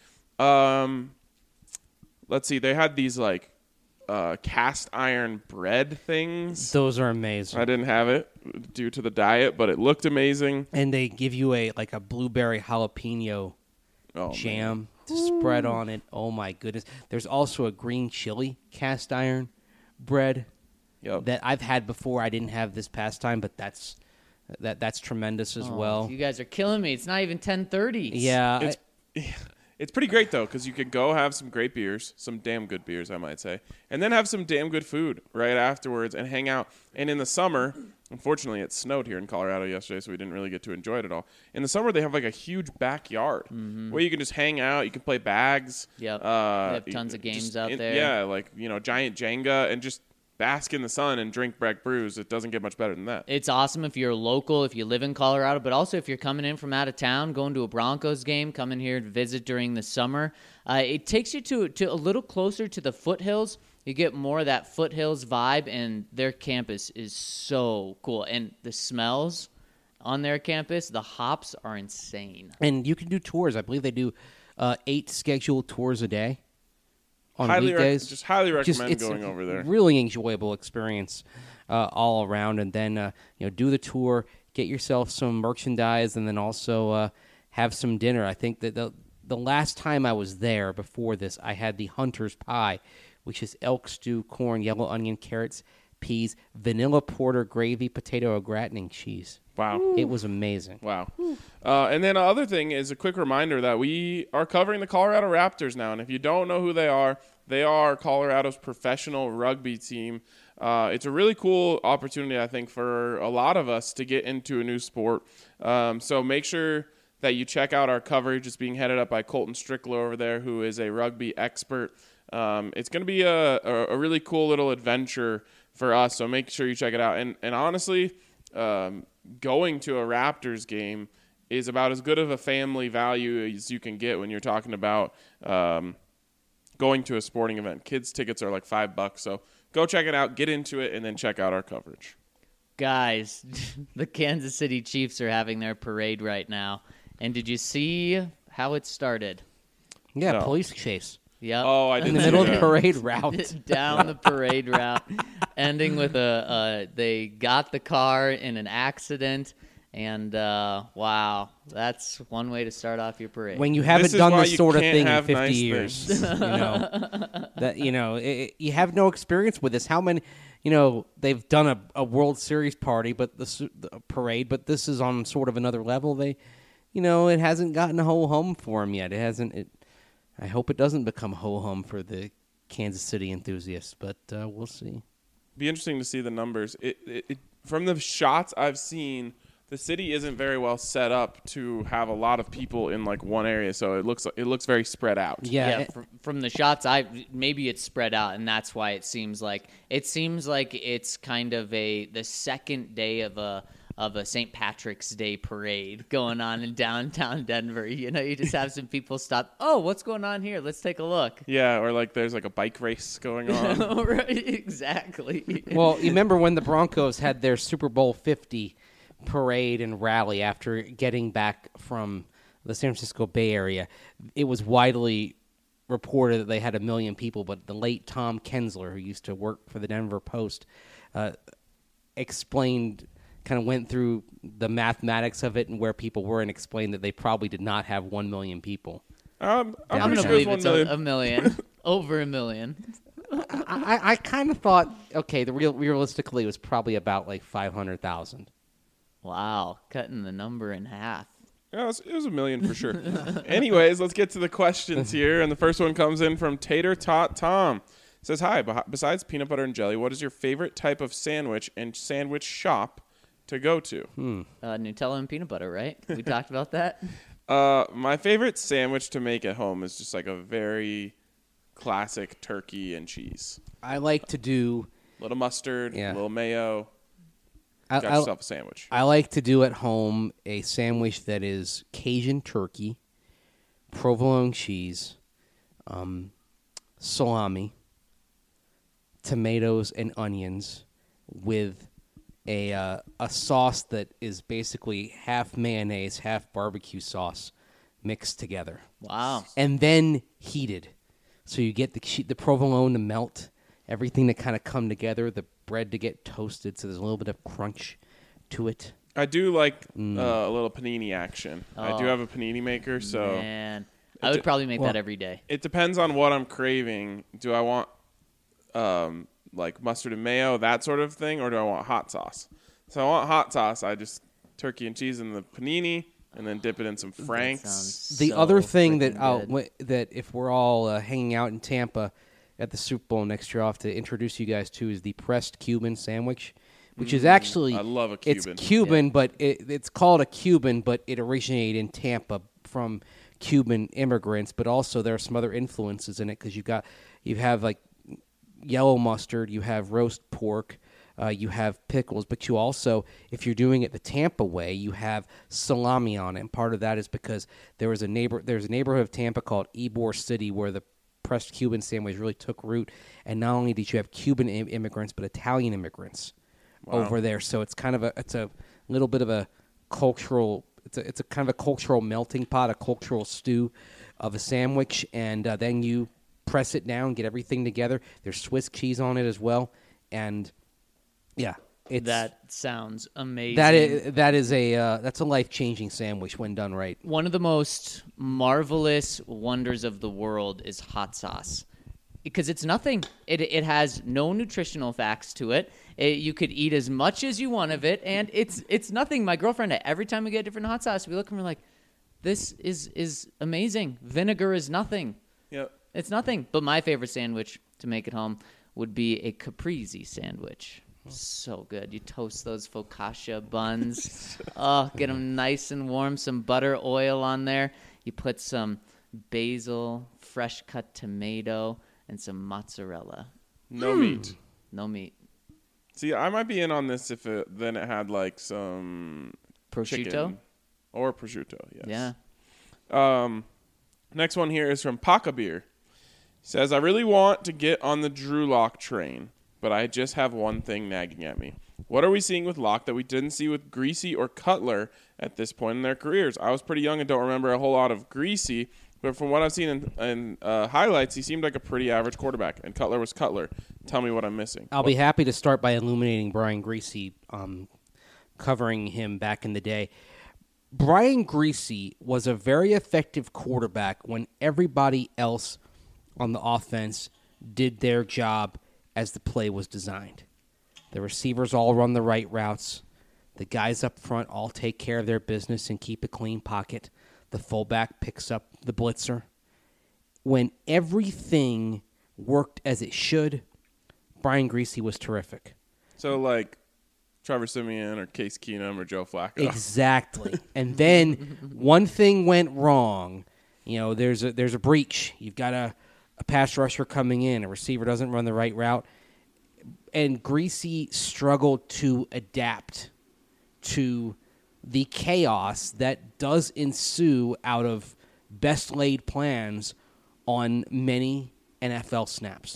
Um, let's see, they had these like uh, cast iron bread things. Those are amazing. I didn't have it due to the diet, but it looked amazing. And they give you a like a blueberry jalapeno Oh, man. jam to spread on it. Oh my goodness! There's also a green chili cast iron bread Yep. that I've had before. I didn't have this past time, but that's that that's tremendous as Oh, well. You guys are killing me. It's not even ten thirty. Yeah, It's it's pretty great though, because you could go have some great beers, some damn good beers, I might say, and then have some damn good food right afterwards and hang out. And in the summer, unfortunately, it snowed here in Colorado yesterday, so we didn't really get to enjoy it at all. In the summer, they have like a huge backyard where you can just hang out. You can play bags. Yep. Uh, They have tons of games just out in- there. Yeah, like you know, giant Jenga and just bask in the sun and drink Breck brews. It doesn't get much better than that. It's awesome if you're local, if you live in Colorado, but also if you're coming in from out of town, going to a Broncos game, coming here to visit during the summer. Uh, it takes you to, to a little closer to the foothills. You get more of that foothills vibe, and their campus is so cool. And the smells on their campus, the hops are insane. And you can do tours. I believe they do uh, eight scheduled tours a day on highly weekdays. Rec- just highly Just- recommend it's going a over there. Really enjoyable experience uh, all around. And then uh, you know, do the tour, get yourself some merchandise, and then also uh, have some dinner. I think that the the last time I was there before this, I had the Hunter's Pie, which is elk stew, corn, yellow onion, carrots, peas, vanilla porter, gravy, potato, au gratin, and cheese. Wow. It was amazing. Wow. Uh, and then the other thing is a quick reminder that we are covering the Colorado Raptors now. And if you don't know who they are, they are Colorado's professional rugby team. Uh, it's a really cool opportunity, I think, for a lot of us to get into a new sport. Um, so make sure that you check out our coverage. It's being headed up by Colton Strickler over there, who is a rugby expert. Um, it's going to be a, a, a really cool little adventure for us. So make sure you check it out. And, and honestly, um, going to a Raptors game is about as good of a family value as you can get when you're talking about um, going to a sporting event. Kids tickets are like five bucks, so go check it out, get into it, and then check out our coverage. Guys, the Kansas City Chiefs are having their parade right now. And did you see how it started? Yeah, No. police chase. Yep. Oh, I In didn't the see middle of the that. parade route. Down the parade route, ending with a uh, they got the car in an accident, and uh, wow, that's one way to start off your parade. When you haven't This is done why this you sort of can't thing in have fifty nice years, things. you know, that you know, it, it- you have no experience with this. How many, you know, they've done a, a World Series party, but the, su- the parade, but this is on sort of another level. They, you know, it hasn't gotten a ho hum for them yet. It hasn't. It, I hope it doesn't become ho hum for the Kansas City enthusiasts, but uh, we'll see. Be interesting to see the numbers. It, it, it from the shots I've seen, the city isn't very well set up to have a lot of people in like one area, so it looks it looks very spread out. Yeah, yeah, it- from, from the shots, I maybe it's spread out, and that's why it seems like it seems like it's kind of a the second day of a of a Saint Patrick's Day parade going on in downtown Denver. You know, you just have some people stop. Oh, what's going on here? Let's take a look. Yeah, or like there's like a bike race going on. Right, exactly. Well, you remember when the Broncos had their Super Bowl fifty parade and rally after getting back from the San Francisco Bay Area? It was widely reported that they had a million people, but the late Tom Kensler, who used to work for the Denver Post, uh, explained, kind of went through the mathematics of it and where people were and explained that they probably did not have one million people. Um, I'm I'm pretty gonna sure it was believe one it's a, million. a million, over a million. I, I, I kind of thought, okay, the real realistically it was probably about like five hundred thousand. Wow, cutting the number in half. Yeah, it was, it was a million for sure. Anyways, let's get to the questions here. And the first one comes in from Tater Tot Tom. It says, hi, beh- besides peanut butter and jelly, what is your favorite type of sandwich and sandwich shop to go to? Uh, Nutella and peanut butter, right? We talked about that. Uh, my favorite sandwich to make at home is just like a very classic turkey and cheese. I like to do Little mustard, Yeah. little mayo. I, Got I- yourself a sandwich. I like to do at home a sandwich that is Cajun turkey, provolone cheese, um, salami, tomatoes and onions with a uh, a sauce that is basically half mayonnaise, half barbecue sauce mixed together, Wow. and then heated. So you get the che- the provolone to melt, everything to kind of come together, the bread to get toasted, so there's a little bit of crunch to it. I do like Mm. uh, a little panini action. I do Oh. have a panini maker, so Man, I would probably make Well- that every day. it depends on what I'm craving. Do I want um, like mustard and mayo, that sort of thing, or do I want hot sauce? So I want hot sauce. I just turkey and cheese in the panini, and then dip it in some Franks. Sounds The so other thing freaking that I'll, good. w- that if we're all uh, hanging out in Tampa at the Super Bowl next year, I'll have to introduce you guys to is the pressed Cuban sandwich, which is actually I love a it's Cuban. Cuban, but it, it's called a Cuban, but it originated in Tampa from Cuban immigrants. But also there are some other influences in it because you got you have like yellow mustard, you have roast pork, uh, you have pickles, but you also, if you're doing it the Tampa way, you have salami on it. And part of that is because there was a neighbor, there's a neighborhood of Tampa called Ybor City where the pressed Cuban sandwich really took root. And not only did you have Cuban im- immigrants, but Italian immigrants Wow. over there. So it's kind of a, it's a little bit of a cultural, it's a, it's a kind of a cultural melting pot, a cultural stew of a sandwich. And uh, then you press it down, get everything together. There's Swiss cheese on it as well. And yeah, it's That sounds amazing. that is that is a uh, that's a life-changing sandwich when done right. One of the most marvelous wonders of the world is hot sauce. Because it's nothing. It it has no nutritional facts to it. It- You could eat as much as you want of it, and it's it's nothing. My girlfriend, every time we get different hot sauce, we look and we're like, this is, is amazing. Vinegar is nothing. Yep. It's nothing. But my favorite sandwich, to make it home, would be a caprese sandwich. So good. You toast those focaccia buns. Oh, get them nice and warm. Some butter, oil on there. You put some basil, fresh cut tomato, and some mozzarella. No meat. No meat. See, I might be in on this if it then it had like some Prosciutto? chicken or prosciutto. Yes. Yeah. Um, next one here is from Paca Beer. He says, I really want to get on the Drew Lock train, but I just have one thing nagging at me. What are we seeing with Lock that we didn't see with Greasy or Cutler at this point in their careers? I was pretty young and don't remember a whole lot of Greasy, but from what I've seen in, in uh, highlights, he seemed like a pretty average quarterback, and Cutler was Cutler. Tell me what I'm missing. I'll be happy to start by illuminating Brian Greasy, um, covering him back in the day. Brian Greasy was a very effective quarterback when everybody else on the offense did their job as the play was designed. The receivers all run the right routes. The guys up front all take care of their business and keep a clean pocket. The fullback picks up the blitzer. When everything worked as it should, Brian Greasy was terrific. So, like, Trevor Siemian or Case Keenum or Joe Flacco. Exactly. And then one thing went wrong. You know, there's a there's a breach. You've got a, a pass rusher coming in. A receiver doesn't run the right route. And Greasy struggled to adapt to the chaos that does ensue out of best laid plans on many N F L snaps.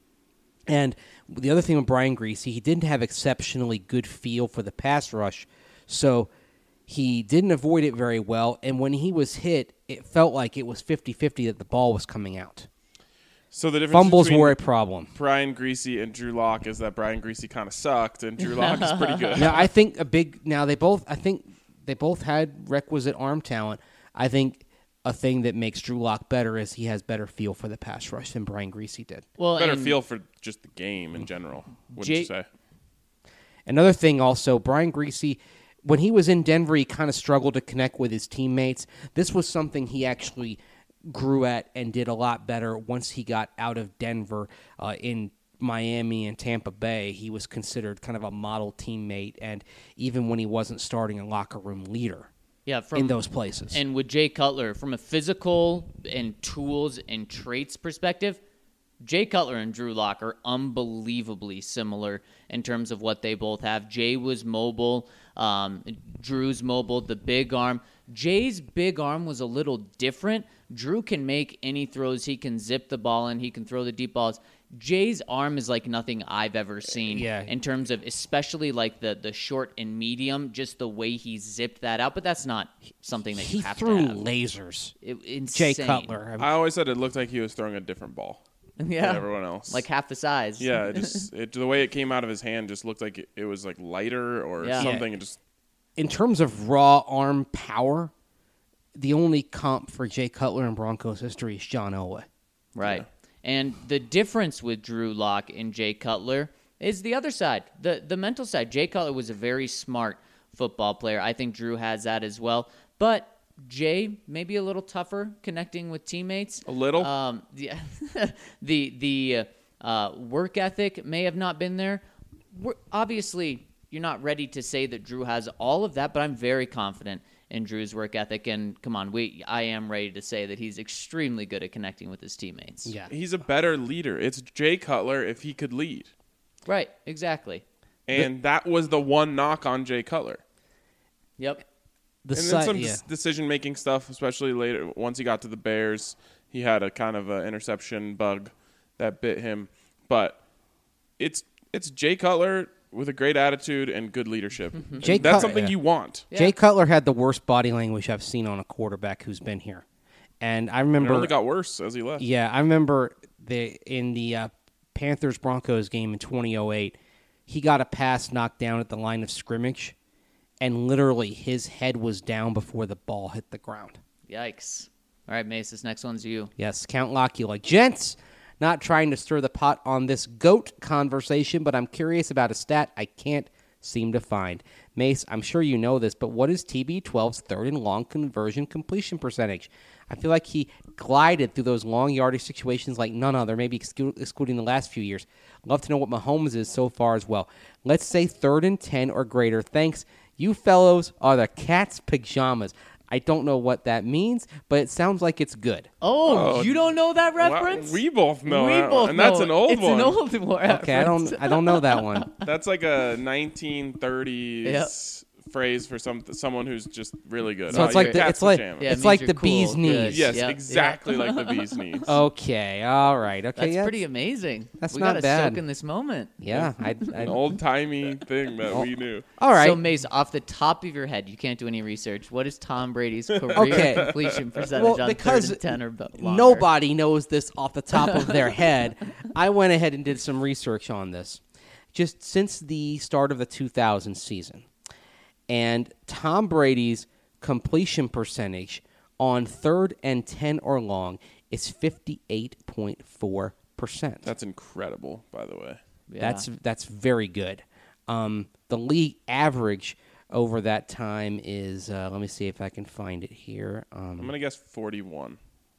And the other thing with Brian Greasy, he didn't have exceptionally good feel for the pass rush, so he didn't avoid it very well. And when he was hit, it felt like it was fifty-fifty that the ball was coming out. So the difference Fumbles between were a problem. Brian Greasy and Drew Lock is that Brian Greasy kind of sucked, and Drew Lock is pretty good. Now, I think a big. Now they both. I think they both had requisite arm talent. I think a thing that makes Drew Lock better is he has better feel for the pass rush than Brian Greasy did. Well, Better and feel for just the game in general, wouldn't Jay- you say? Another thing also, Brian Greasy, when he was in Denver, he kind of struggled to connect with his teammates. This was something he actually grew at and did a lot better once he got out of Denver. Uh, in Miami and Tampa Bay, he was considered kind of a model teammate, and even when he wasn't starting, a locker room leader yeah, from in those places. And with Jay Cutler, from a physical and tools and traits perspective, Jay Cutler and Drew Lock are unbelievably similar in terms of what they both have. Jay was mobile. Um, Drew's mobile, the big arm. Jay's big arm was a little different. Drew can make any throws. He can zip the ball in. He can throw the deep balls. Jay's arm is like nothing I've ever seen Yeah. in terms of especially like the, the short and medium, just the way he zipped that out. But that's not something that he you have threw to have. lasers. It, Jay insane. Cutler. I mean, I always said it looked like he was throwing a different ball Yeah. than everyone else. Like half the size. yeah, it just it, the way it came out of his hand just looked like it, it was like lighter or Yeah. something. And just in terms of raw arm power, the only comp for Jay Cutler in Broncos history is John Elway. Right. Yeah. And the difference with Drew Lock and Jay Cutler is the other side, the the mental side. Jay Cutler was a very smart football player. I think Drew has that as well. But Jay maybe a little tougher connecting with teammates. A little? Um, the the the uh, work ethic may have not been there. We're, obviously, you're not ready to say that Drew has all of that, but I'm very confident in Drew's work ethic. And come on, we I am ready to say that he's extremely good at connecting with his teammates. Yeah. He's a better leader. It's Jay Cutler if he could lead. Right, exactly. And that was the one knock on Jay Cutler. Yep. The And si- then some yeah. decision-making stuff, especially later. Once he got to the Bears, he had a kind of an interception bug that bit him. But it's it's Jay Cutler with a great attitude and good leadership. And Jay that's Cut- something yeah. you want. Yeah. Jay Cutler had the worst body language I've seen on a quarterback who's been here. And I And it remember only got worse as he left. Yeah, I remember the in the uh, Panthers Broncos game in twenty oh eight, he got a pass knocked down at the line of scrimmage, and literally his head was down before the ball hit the ground. Yikes. All right, Mace, this next one's you. Yes, Count Locula. Gents, not trying to stir the pot on this GOAT conversation, but I'm curious about a stat I can't seem to find. Mace, I'm sure you know this, but what is T B twelve's third and long conversion completion percentage? I feel like he glided through those long yardage situations like none other, maybe exclu- excluding the last few years. Love to know what Mahomes is so far as well. Let's say third and ten or greater. Thanks. You fellows are the cat's pajamas. I don't know what that means, but it sounds like it's good. Oh, Oh, you don't know that Wow, reference? we both know we that both one. And that's know an it. old it's one. It's an old one. Okay, I don't I don't know that one. That's like a nineteen thirties phrase for some someone who's just really good. So Oh, it's like your the cat's it's like pajamas. Yeah, it it's means like you're the cool, bee's good. Yes, knees. Yep, yep. exactly like the bee's knees. Okay, all right. Okay, That's yeah, pretty amazing. that's we not gotta bad. soak in this moment. Yeah, I, An I old timey thing that we knew. all right. So, Mace, off the top of your head, you can't do any research. What is Tom Brady's career Okay. completion percentage Well, on because third and ten or bo- longer? Nobody knows this off the top of their head. I went ahead and did some research on this just since the start of the two thousand season. And Tom Brady's completion percentage on third and ten or long is fifty-eight point four percent. That's incredible, by the way. Yeah. That's that's very good. Um, the league average over that time is, uh, let me see if I can find it here, I'm um, gonna guess forty-one.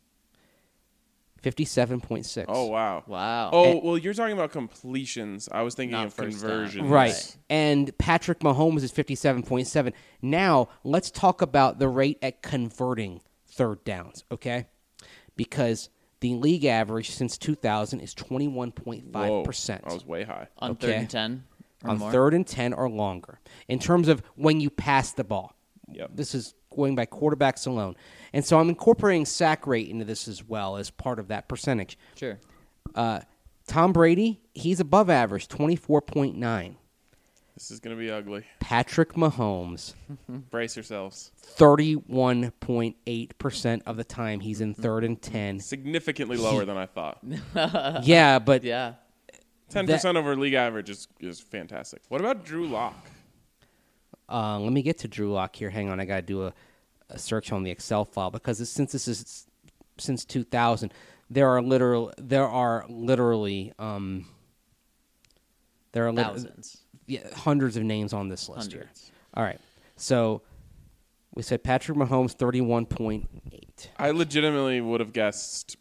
fifty-seven point six. Oh wow. wow. Oh And- well, you're talking about completions. I was thinking Not of first down. conversions. Right. And Patrick Mahomes is fifty-seven point seven. Now, let's talk about the rate at converting third downs, okay? Because the league average since two thousand is twenty-one point five percent. Whoa, I was way high. on okay. third and ten or On more? third and ten or longer. In terms of when you pass the ball. Yep. This is going by quarterbacks alone. And so I'm incorporating sack rate into this as well as part of that percentage. Sure. Uh, Tom Brady, he's above average, twenty-four point nine. This is gonna be ugly. Patrick Mahomes, Brace yourselves. thirty-one point eight percent of the time he's in third and ten. Significantly lower than I thought. Yeah, but Yeah. Ten percent over league average is is fantastic. What about Drew Lock? uh, let me get to Drew Lock here. Hang on, I got to do a, a search on the Excel file because this, since this is since two thousand, there are literal there are literally um, there are lit- Thousands. yeah, hundreds of names on this list here. Hundreds. All right, so we said Patrick Mahomes thirty-one point eight. I legitimately would have guessed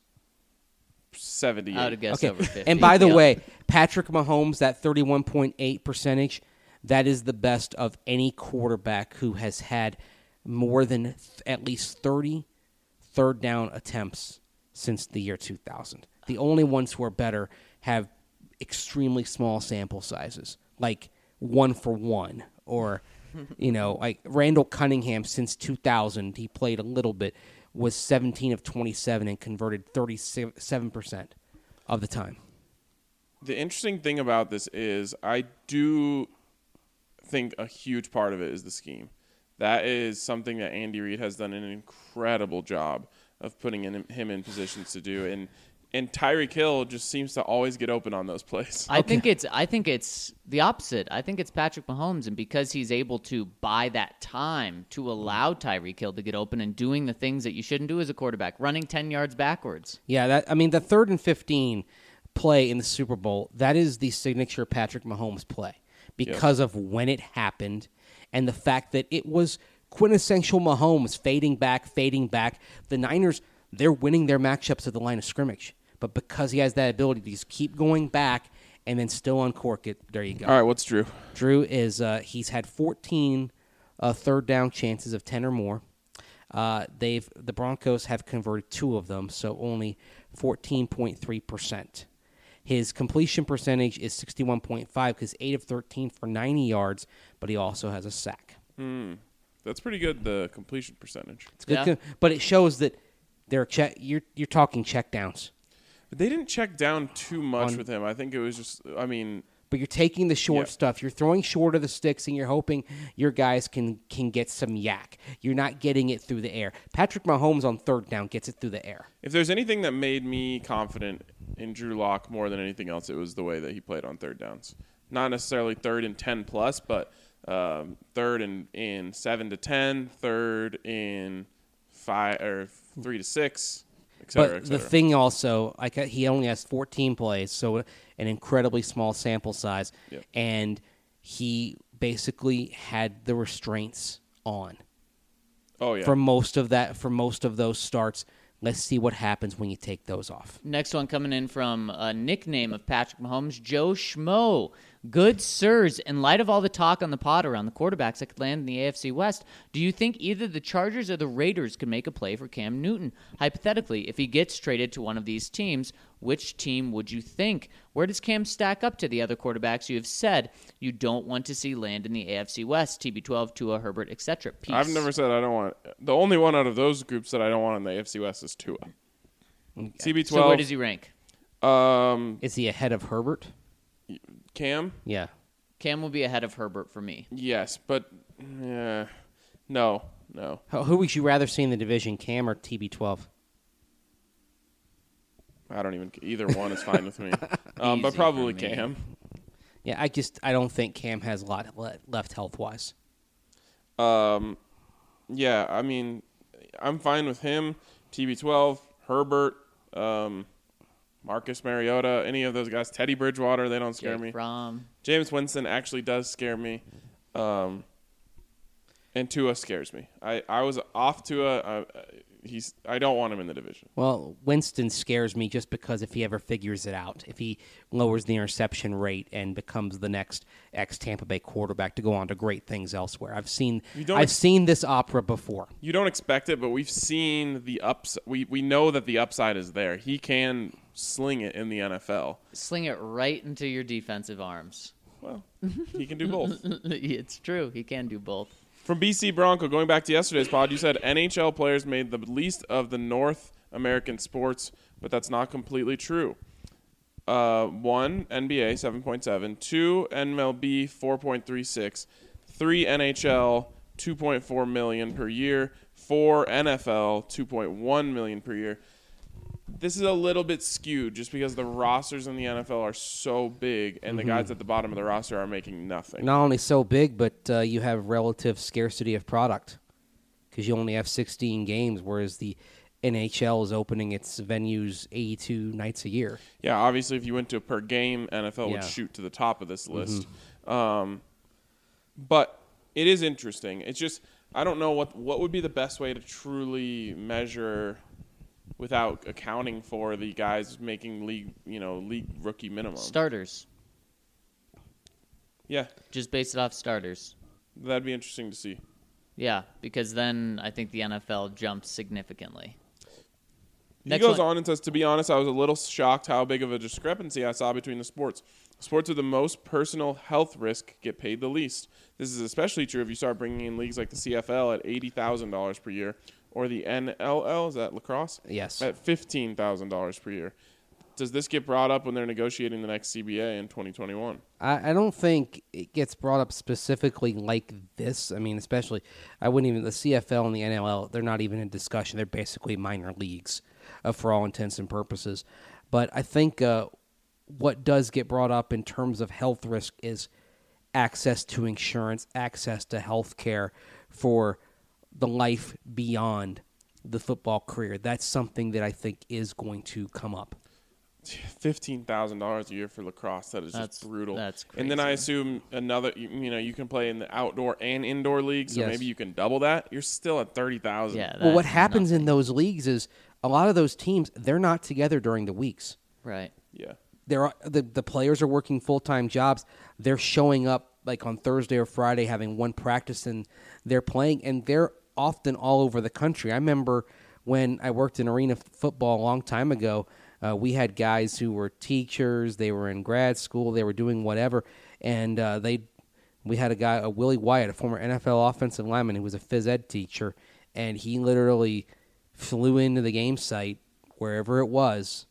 seventy. I would have guessed Okay, over fifty. and by the Yep. way, Patrick Mahomes, that thirty-one point eight percentage, that is the best of any quarterback who has had more than th- at least thirty third down attempts since the year two thousand. The only ones who are better have extremely small sample sizes, like one for one, or, you know, like Randall Cunningham since two thousand, he played a little bit, was seventeen of twenty-seven and converted thirty-seven percent of the time. The interesting thing about this is I do think a huge part of it is the scheme. That is something that Andy Reid has done an incredible job of putting in, him in positions to do. And and Tyreek Hill just seems to always get open on those plays. I think it's I think it's the opposite. I think it's Patrick Mahomes, and because he's able to buy that time to allow Tyreek Hill to get open and doing the things that you shouldn't do as a quarterback, running ten yards backwards. Yeah, that I mean the third and fifteen play in the Super Bowl, that is the signature Patrick Mahomes play because of when it happened and the fact that it was quintessential Mahomes fading back, fading back. The Niners, they're winning their matchups at the line of scrimmage, but because he has that ability to just keep going back and then still uncork it, there you go. All right, what's Drew? Drew is uh, he's had fourteen uh, third down chances of ten or more. Uh, they've the Broncos have converted two of them, so only fourteen point three percent. His completion percentage is sixty-one point five because eight of thirteen for ninety yards, but he also has a sack. Hmm. That's pretty good, the completion percentage. It's good, Yeah. co- but it shows that they're check. You're you're talking check downs, But they didn't check down too much On- with him. I think it was just, I mean, but you're taking the short Yeah. stuff. You're throwing short of the sticks, and you're hoping your guys can can get some yak. You're not getting it through the air. Patrick Mahomes on third down gets it through the air. if there's anything that made me confident in Drew Lock more than anything else, it was the way that he played on third downs. Not necessarily third and ten plus, but um, third and in seven to ten, third in five or three to six, et cetera, But et the cetera. thing also, like uh, he only has fourteen plays, so an incredibly small sample size, Yep. and he basically had the restraints on oh yeah, for most of that. For most of those starts, let's see what happens when you take those off. Next one coming in from a nickname of Patrick Mahomes, Joe Schmo. Good sirs, in light of all the talk on the pod around the quarterbacks that could land in the A F C West, do you think either the Chargers or the Raiders could make a play for Cam Newton? Hypothetically, if he gets traded to one of these teams, which team would you think? Where does Cam stack up to the other quarterbacks you have said you don't want to see land in the A F C West? T B twelve, Tua, Herbert, et cetera. Peace. I've never said I don't want. The only one out of those groups that I don't want in the A F C West is Tua. T B twelve. So where does he rank? Um, Is he ahead of Herbert? Cam. Yeah. Cam will be ahead of Herbert for me. Yes, but yeah, no, no. Who who would you rather see in the division, Cam or T B twelve? I don't even. Either one is fine with me. Um, but Easy probably for me. Cam. Yeah, I just I don't think Cam has a lot le- left health wise. Um, yeah, I mean, I'm fine with him. T B twelve, Herbert, um, Marcus Mariota, any of those guys. Teddy Bridgewater, they don't scare Jake me. Fromm. James Winston actually does scare me. Um, and Tua scares me. I, I was off Tua. Uh, he's I don't want him in the division. Well, Winston scares me just because if he ever figures it out, if he lowers the interception rate and becomes the next ex Tampa Bay quarterback to go on to great things elsewhere. I've seen You don't I've ex- seen this opera before. You don't expect it, but we've seen the ups. We we know that the upside is there. He can sling it in the N F L. Sling it right into your defensive arms. Well, he can do both. It's true. He can do both. From B C Bronco, going back to yesterday's pod, you said N H L players made the least of the North American sports, but that's not completely true. Uh, one, N B A, seven point seven. Two, N M L B, four point three six. Three, N H L, two point four million dollars per year. Four, N F L, two point one million dollars per year. This is a little bit skewed just because the rosters in the N F L are so big and the guys at the bottom of the roster are making nothing. Not only so big, but uh, you have relative scarcity of product because you only have sixteen games, whereas the N H L is opening its venues eighty-two nights a year. Yeah, obviously, if you went to per game, N F L would Yeah. shoot to the top of this list. Um, but it is interesting. It's just I don't know what what would be the best way to truly measure without accounting for the guys making league, you know, league rookie minimum. Starters. Yeah, Just base it off starters. that'd be interesting to see. Yeah, because then I think the N F L jumps significantly. He Next goes one. on and says, to be honest, I was a little shocked how big of a discrepancy I saw between the sports. Sports with the most personal health risk get paid the least. This is especially true if you start bringing in leagues like the C F L at eighty thousand dollars per year or the N L L, is that lacrosse? Yes. At fifteen thousand dollars per year. Does this get brought up when they're negotiating the next C B A in twenty twenty-one? I, I don't think it gets brought up specifically like this. I mean, especially, I wouldn't even, the C F L and the N L L, they're not even in discussion. They're basically minor leagues uh, for all intents and purposes. But I think uh, what does get brought up in terms of health risk is access to insurance, access to health care for the life beyond the football career. That's something that I think is going to come up. Fifteen thousand dollars a year for lacrosse. That is That's- just brutal. that's And then I crazy. assume another. You, you know, you can play in the outdoor and indoor league, so Yes. maybe you can double that. You're still at thirty thousand. Yeah. Well, what that's happens in nothing. those leagues is a lot of those teams, they're not together during the weeks. Right. Yeah. They're, the, the players are working full-time jobs. They're showing up like on Thursday or Friday having one practice and they're playing, and they're often all over the country. I remember when I worked in arena football a long time ago, uh, we had guys who were teachers, they were in grad school, they were doing whatever, and uh, they we had a guy, a Willie Wyatt, a former N F L offensive lineman who was a phys ed teacher, and he literally flew into the game site wherever it was,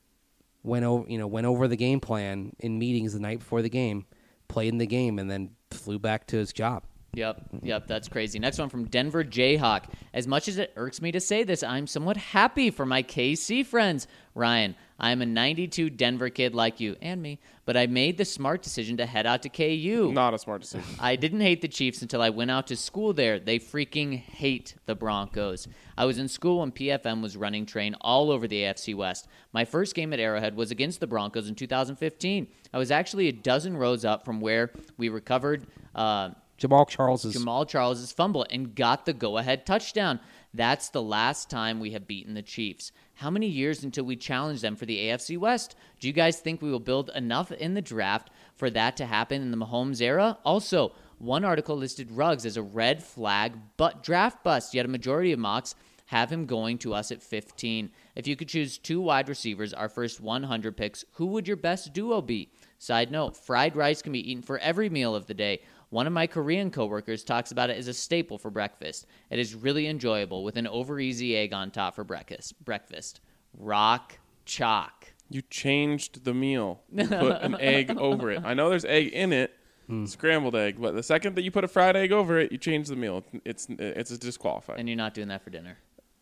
went over, you know, went over the game plan in meetings the night before the game, played in the game, and then flew back to his job. Yep, yep, that's crazy. Next one from Denver Jayhawk. As much as it irks me to say this, I'm somewhat happy for my K C friends. Ryan, I'm a ninety-two Denver kid like you and me, but I made the smart decision to head out to K U. Not a smart decision. I didn't hate the Chiefs until I went out to school there. They freaking hate the Broncos. I was in school when P F M was running train all over the A F C West. My first game at Arrowhead was against the Broncos in two thousand fifteen. I was actually a dozen rows up from where we recovered uh, Jamal Charles's Jamal Charles's fumble and got the go-ahead touchdown. That's the last time we have beaten the Chiefs. How many years until we challenge them for the A F C West? Do you guys think we will build enough in the draft for that to happen in the Mahomes era? Also, one article listed Ruggs as a red flag but draft bust, yet a majority of mocks have him going to us at fifteen. If you could choose two wide receivers, our first one hundred picks, who would your best duo be? Side note, fried rice can be eaten for every meal of the day. One of my Korean coworkers talks about it as a staple for breakfast. It is really enjoyable with an over-easy egg on top for breakfast. Breakfast. Rock chalk. You changed the meal. You put an egg over it. I know there's egg in it, scrambled egg, but the second that you put a fried egg over it, you change the meal. It's it's a disqualified. And you're not doing that for dinner.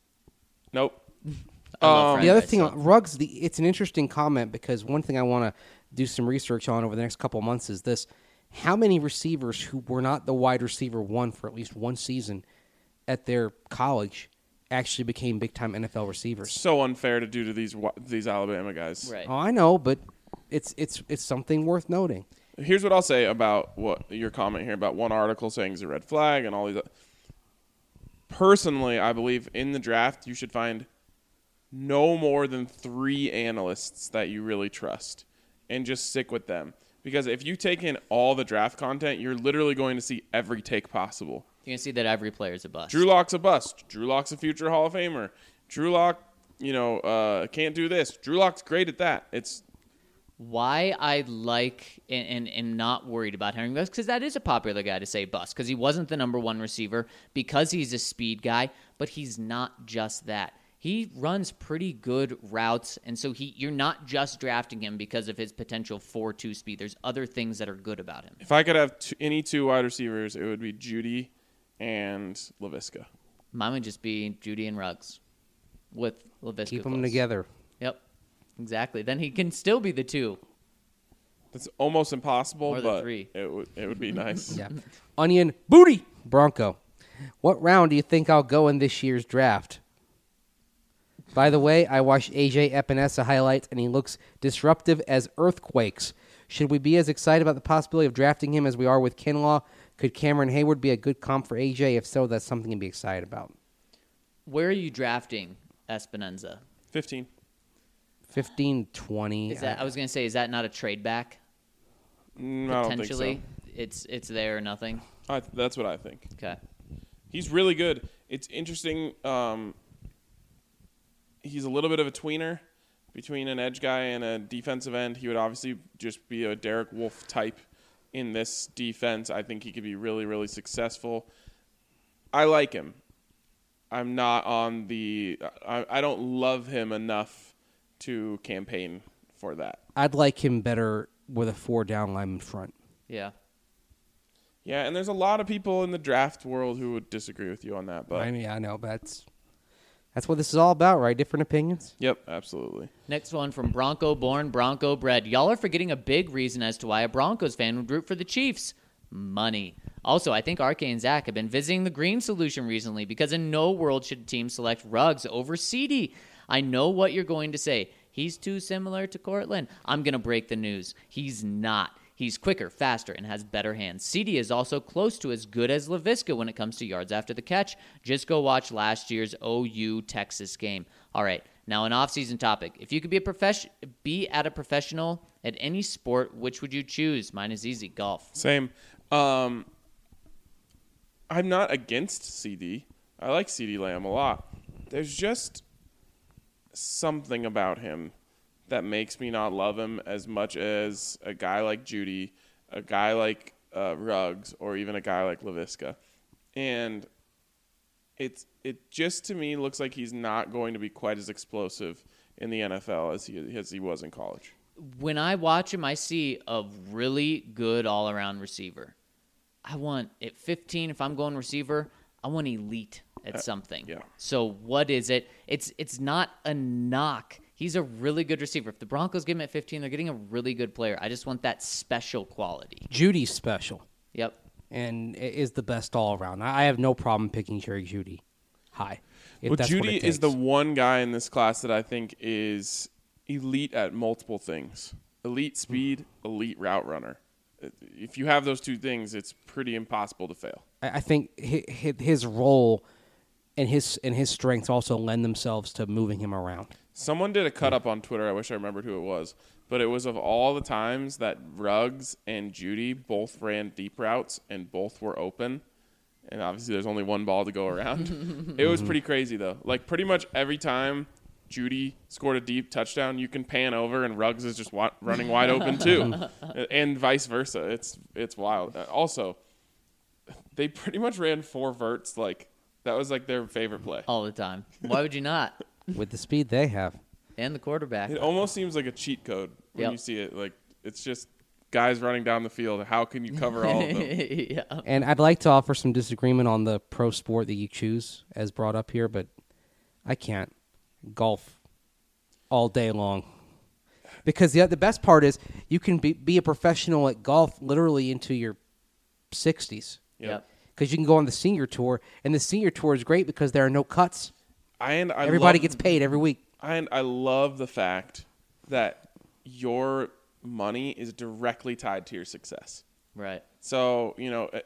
Nope. I love Um, fried The other rice, thing, though. on Ruggs, the, it's an interesting comment because one thing I want to do some research on over the next couple of months is this. How many receivers who were not the wide receiver one for at least one season at their college actually became big-time N F L receivers? So unfair to do to these wa- these Alabama guys. Right. Oh, I know, but it's it's it's something worth noting. Here's what I'll say about what your comment here about one article saying it's a red flag and all these. Personally, I believe in the draft you should find no more than three analysts that you really trust and just stick with them. Because if you take in all the draft content, you're literally going to see every take possible. You can see that every player is a bust. Drew Lock's a bust. Drew Lock's a future Hall of Famer. Drew Lock, you know, uh, can't do this. Drew Lock's great at that. It's Why I like and, and, and not worried about Henry Ruggs, because that is a popular guy to say bust, because he wasn't the number one receiver, because he's a speed guy, but he's not just that. He runs pretty good routes, and so he you're not just drafting him because of his potential four two speed. There's other things that are good about him. if I could have two, any two wide receivers, it would be Judy and Laviska. Mine would just be Judy and Ruggs with Laviska. Keep them close. together. Yep, exactly. Then he can still be the two. That's almost impossible, Or the but three. it would it would be nice. Yeah. Onion booty Bronco. What round do you think I'll go in this year's draft? By the way, I watched A J Epinesa highlights, and he looks disruptive as earthquakes. Should we be as excited about the possibility of drafting him as we are with Kinlaw? Could Cameron Hayward be a good comp for A J? If so, that's something to be excited about. Where are you drafting Espinoza? Fifteen. fifteen, twenty. Is that I was gonna say, is that not a trade back? Mm, I don't think Potentially, it's it's there or nothing. so. I, that's what I think. Okay. He's really good. It's interesting. Um, he's a little bit of a tweener between an edge guy and a defensive end. He would obviously just be a Derek Wolfe type in this defense. I think he could be really, really successful. I like him. I'm not on the I, I don't love him enough to campaign for that. I'd like him better with a four down lineman front. Yeah. Yeah, and there's a lot of people in the draft world who would disagree with you on that, but I mean, I know, but that's, that's what this is all about, right? Different opinions? yep, absolutely. Next one from Bronco born, Bronco bred. Y'all are forgetting a big reason as to why a Broncos fan would root for the Chiefs. Money. Also, I think R K and Zach have been visiting the Green Solution recently because in no world should a team select Ruggs over C D. I know what you're going to say. He's too similar to Cortland. I'm going to break the news. He's not. He's quicker, faster, and has better hands. C D is also close to as good as Laviska when it comes to yards after the catch. Just go watch last year's O U Texas game. All right, now an off-season topic. If you could be a profes- be at a professional at any sport, which would you choose? Mine is easy, golf. Same. Um, I'm not against C D. I like CeeDee Lamb a lot. There's just something about him that makes me not love him as much as a guy like Judy, a guy like uh, Ruggs, or even a guy like Laviska. And it's it just to me looks like he's not going to be quite as explosive in the N F L as he as he was in college. When I watch him, I see a really good all-around receiver. I want at fifteen, if I'm going receiver, I want elite at something. yeah. So what is it? It's it's not a knock. He's a really good receiver. If the Broncos get him at fifteen, they're getting a really good player. I just want that special quality. Judy's special Yep. and is the best all around. I have no problem picking Jerry Judy high. if Well, that's what Judy it is the takes. one guy in this class that I think is elite at multiple things. Elite speed, elite route runner. If you have those two things, it's pretty impossible to fail. I I think hi- hi- his role and his and his strengths also lend themselves to moving him around. Someone did a cut up on Twitter. I wish I remembered who it was. But it was of all the times that Ruggs and Judy both ran deep routes and both were open. And obviously there's only one ball to go around. It was pretty crazy, though. Like, pretty much every time Judy scored a deep touchdown, you can pan over and Ruggs is just wa- running wide open, too. And vice versa. It's it's wild. Uh, Also, they pretty much ran four verts. Like, that was, like, their favorite play. All the time. Why would you not? With the speed they have. And the quarterback. It almost seems like a cheat code when Yep. you see it. Like, it's just guys running down the field. How can you cover all of them? yeah. And I'd like to offer some disagreement on the pro sport that you choose, as brought up here, but I can't. Golf all day long. Because the the best part is you can be, be a professional at golf literally into your sixties. Yep. Yep. Because you can go on the senior tour, and the senior tour is great because there are no cuts. And I Everybody love, gets paid every week. And I love the fact that your money is directly tied to your success. Right. So, you know, uh,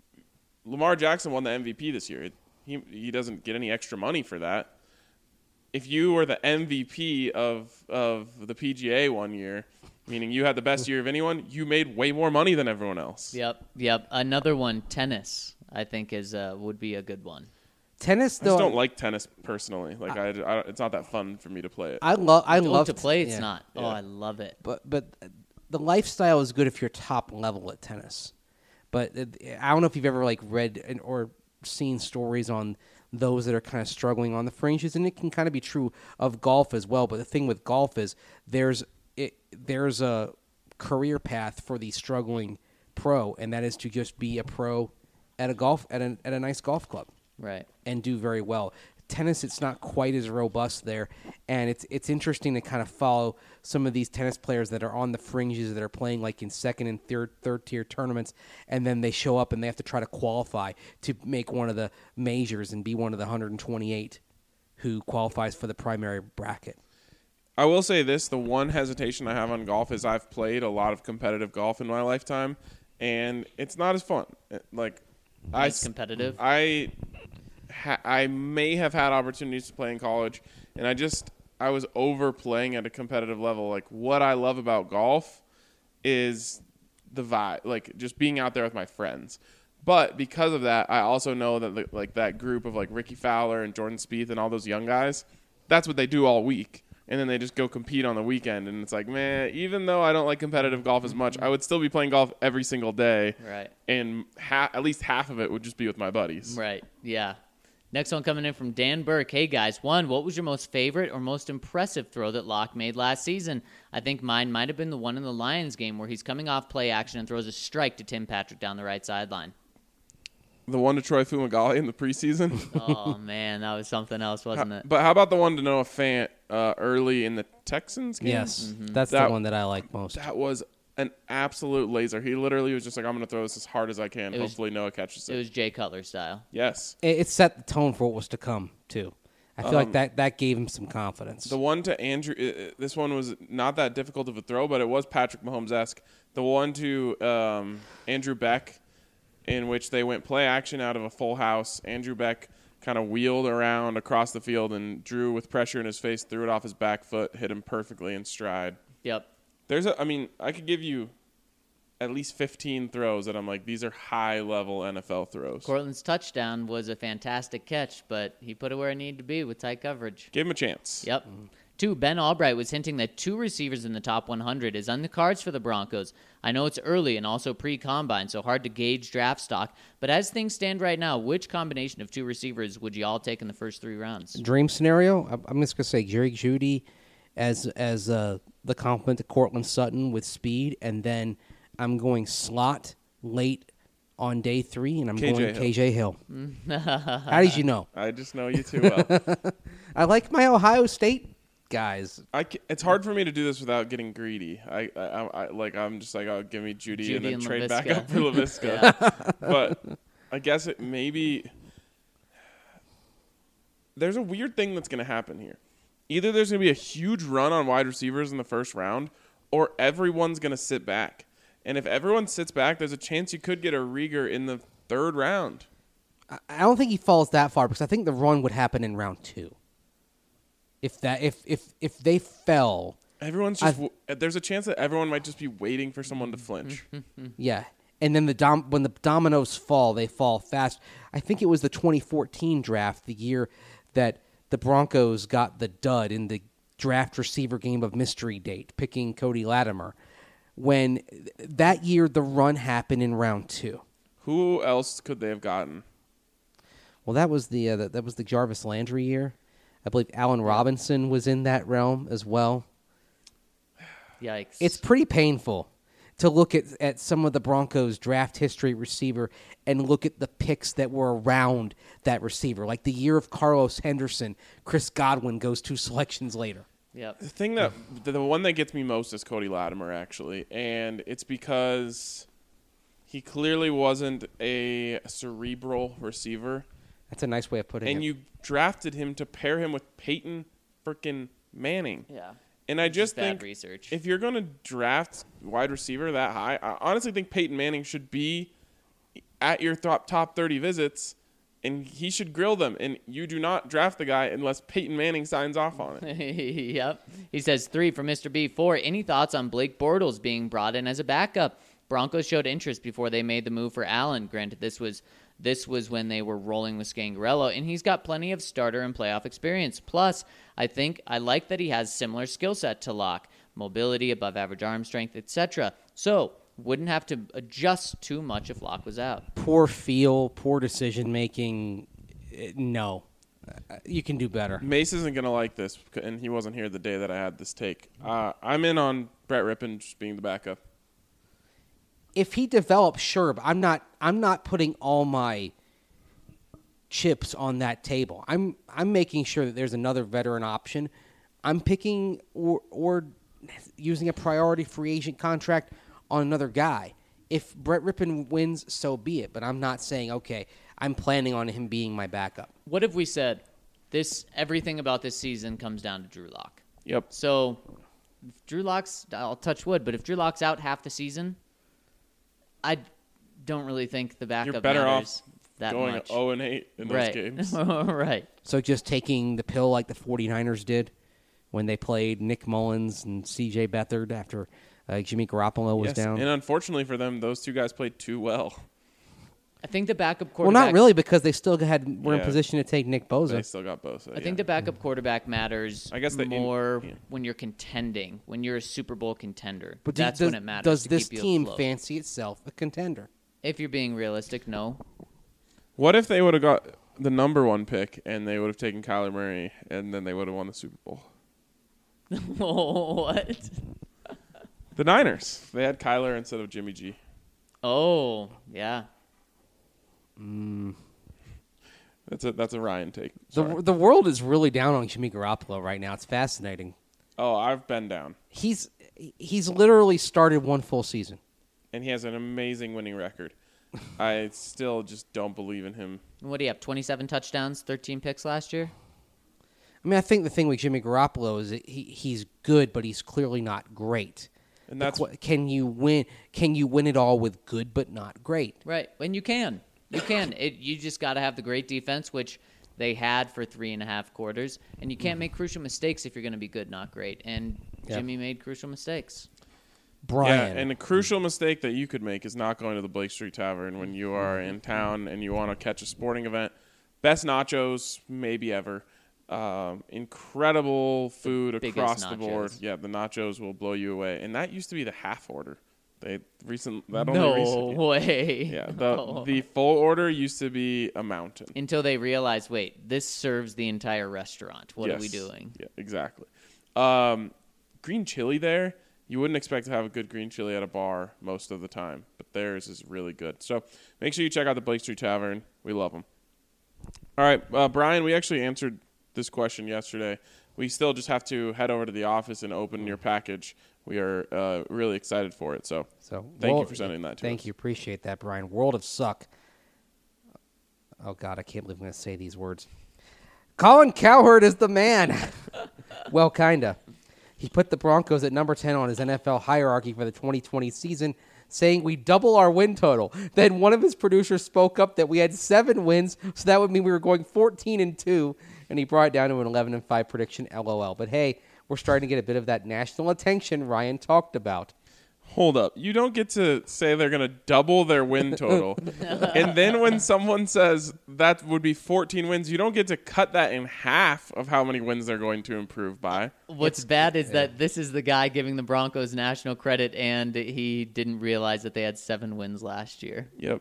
Lamar Jackson won the M V P this year. He he doesn't get any extra money for that. If you were the M V P of of the P G A one year, meaning you had the best year of anyone, you made way more money than everyone else. Yep. Yep. Another one, tennis, I think is uh, would be a good one. Tennis, I though, just don't like tennis personally. Like I, I, it's not that fun for me to play it. I love. I Oh, love to play. It's yeah. not. Oh, Yeah. I love it. But but the lifestyle is good if you're top level at tennis. But it, I don't know if you've ever like read and, or seen stories on those that are kind of struggling on the fringes, and it can kind of be true of golf as well. But the thing with golf is there's it, there's a career path for the struggling pro, and that is to just be a pro at a golf at a at a nice golf club. Right. And do very well. Tennis, it's not quite as robust there, and it's it's interesting to kind of follow some of these tennis players that are on the fringes that are playing like in second and third third tier tournaments, and then they show up and they have to try to qualify to make one of the majors and be one of the one hundred twenty-eight who qualifies for the primary bracket. I will say this: the one hesitation I have on golf is I've played a lot of competitive golf in my lifetime, and it's not as fun. It- Like I Nice s- competitive. I ha- I may have had opportunities to play in college, and I just I was overplaying at a competitive level. Like, what I love about golf is the vibe, like just being out there with my friends. But because of that, I also know that the, like that group of like Ricky Fowler and Jordan Spieth and all those young guys, that's what they do all week. And then they just go compete on the weekend. And it's like, man, even though I don't like competitive golf as much, I would still be playing golf every single day. Right. And ha- at least half of it would just be with my buddies. Right. Yeah. Next one coming in from Dan Burke. Hey, guys. One, what was your most favorite or most impressive throw that Locke made last season? I think mine might have been the one in the Lions game where he's coming off play action and throws a strike to Tim Patrick down the right sideline. The one to Troy Fumagalli in the preseason. Oh, man. That was something else, wasn't it? But how about the one to Noah Fant uh, early in the Texans game? Yes, that's That- the one that I like most. That was an absolute laser. He literally was just like, I'm going to throw this as hard as I can. It was- Hopefully Noah catches it. It was Jay Cutler style. Yes. It, it set the tone for what was to come too. I feel like that that gave him some confidence. The one to Andrew, uh, uh, this one was not that difficult of a throw, but it was Patrick Mahomes-esque. The one to um, Andrew Beck, in which they went play action out of a full house. Andrew Beck kind of wheeled around across the field, and Drew, with pressure in his face, threw it off his back foot, hit him perfectly in stride. Yep. There's a, I mean, I could give you at least fifteen throws that I'm like, these are high-level N F L throws. Cortland's touchdown was a fantastic catch, but he put it where it needed to be with tight coverage. Give him a chance. Yep. Two, Ben Albright was hinting that two receivers in the top one hundred is on the cards for the Broncos. I know it's early and also pre-combine, so hard to gauge draft stock. But as things stand right now, which combination of two receivers would you all take in the first three rounds? Dream scenario, I'm- I'm just going to say Jerry Jeudy as as uh, the complement to Cortland Sutton with speed, and then I'm going slot late on day three, and I'm K J going Hill. K J Hill. How did you know? I just know you too well. I like my Ohio State guys. I ca- it's hard for me to do this without getting greedy. I, I, I, I like I'm just like, oh, give me Judy, Judy and then and trade back Laviska. up for Laviska. Yeah. But I guess it maybe there's a weird thing that's going to happen here. Either there's going to be a huge run on wide receivers in the first round, or everyone's going to sit back. And if everyone sits back, there's a chance you could get a Rieger in the third round. I- I don't think he falls that far because I think the run would happen in round two. If that, if if if they fell, Everyone's just w- there's a chance that everyone might just be waiting for someone to flinch. yeah, and then the dom- when the dominoes fall, they fall fast. I think it was the twenty fourteen draft, the year that the Broncos got the dud in the draft receiver game of mystery date, picking Cody Latimer. When th- that year the run happened in round two. Who else could they have gotten? Well, that was the, uh, the that was the Jarvis Landry year. I believe Allen Robinson was in that realm as well. Yikes. It's pretty painful to look at, at some of the Broncos' draft history receiver and look at the picks that were around that receiver. Like the year of Carlos Henderson, Chris Godwin goes two selections later. Yep. The thing that the, the one that gets me most is Cody Latimer, actually, and it's because he clearly wasn't a cerebral receiver, That's a nice way of putting and it. you drafted him to pair him with Peyton frickin' Manning. Yeah. And I Which is just bad think research. if you're going to draft wide receiver that high, I honestly think Peyton Manning should be at your top top thirty visits, and he should grill them. And you do not draft the guy unless Peyton Manning signs off on it. Yep. He says three from Mister B. Four. Any thoughts on Blake Bortles being brought in as a backup? Broncos showed interest before they made the move for Allen. Granted, this was this was when they were rolling with Scangarello, and he's got plenty of starter and playoff experience. Plus, I think I like that he has similar skill set to Locke, mobility, above average arm strength, et cetera. So wouldn't have to adjust too much if Locke was out. Poor feel, poor decision making. eh, No. Uh, You can do better. Mace isn't going to like this, and he wasn't here the day that I had this take. Uh, I'm in on Brett Rippon just being the backup. If he develops, sure, but I'm not I'm not putting all my chips on that table. I'm I'm making sure that there's another veteran option. I'm picking or or using a priority free agent contract on another guy. If Brett Rippon wins, so be it. But I'm not saying, okay, I'm planning on him being my backup. What if we said this? Everything about this season comes down to Drew Lock. Yep. So, if Drew Lock's, I'll touch wood, but if Drew Lock's out half the season, I don't really think the backup You're better matters off that going much. oh and eight in those right. games. right. So just taking the pill like the 49ers did when they played Nick Mullins and C J Beathard after uh, Jimmy Garoppolo was Yes, down. and unfortunately for them, those two guys played too well. I think the backup Well, quarterback. not really, because they still had were in Yeah. position to take Nick Bosa. They still got Bosa. I think the backup quarterback matters I guess the in- more yeah. when you're contending, when you're a Super Bowl contender. But do- That's does, when it matters. Does to this keep you team afloat. fancy itself a contender? If you're being realistic, no. What if they would have got the number one pick and they would have taken Kyler Murray and then they would have won the Super Bowl? what? The Niners. They had Kyler instead of Jimmy G. Oh, yeah. That's a that's a Ryan take. The Sorry. the world is really down on Jimmy Garoppolo right now. It's fascinating. Oh, I've been down, He's he's literally started one full season. and he has an amazing winning record. I still just don't believe in him. What do you have? twenty-seven touchdowns, thirteen picks last year? I mean, I think the thing with Jimmy Garoppolo is that he he's good, but he's clearly not great. And The that's qu- can you win? Can you win it all with good but not great? Right. And you can. You can. It, you just got to have the great defense, which they had for three and a half quarters. And you can't make crucial mistakes if you're going to be good, not great. And Yeah. Jimmy made crucial mistakes. Brian. Yeah, and a crucial mistake that you could make is not going to the Blake Street Tavern when you are in town and you want to catch a sporting event. Best nachos maybe ever. Um, incredible food across the board. nachos. Yeah, the nachos will blow you away. And that used to be the half order. They recent that No only recently. way. Yeah, the the full order used to be a mountain. Until they realize, wait, this serves the entire restaurant. What are we Yes. doing? Yeah, exactly. Um, green chili there. You wouldn't expect to have a good green chili at a bar most of the time, but theirs is really good. So make sure you check out the Blake Street Tavern. We love them. All right, uh, Brian, we actually answered this question yesterday. We still just have to head over to the office and open your package. We are uh, really excited for it. So, So thank World- you for sending that to Thank us. you. Appreciate that, Brian. World of Suck. Oh, God, I can't believe I'm going to say these words. Colin Cowherd is the man. Well, kind of. He put the Broncos at number ten on his N F L hierarchy for the twenty twenty season, saying we double our win total. Then one of his producers spoke up that we had seven wins, so that would mean we were going fourteen and two, and he brought it down to an eleven and five prediction, LOL. But hey, we're starting to get a bit of that national attention Ryan talked about. Hold up. You don't get to say they're going to double their win total. And then when someone says that would be fourteen wins, you don't get to cut that in half of how many wins they're going to improve by. What's bad is that this is the guy giving the Broncos national credit, and he didn't realize that they had seven wins last year. Yep.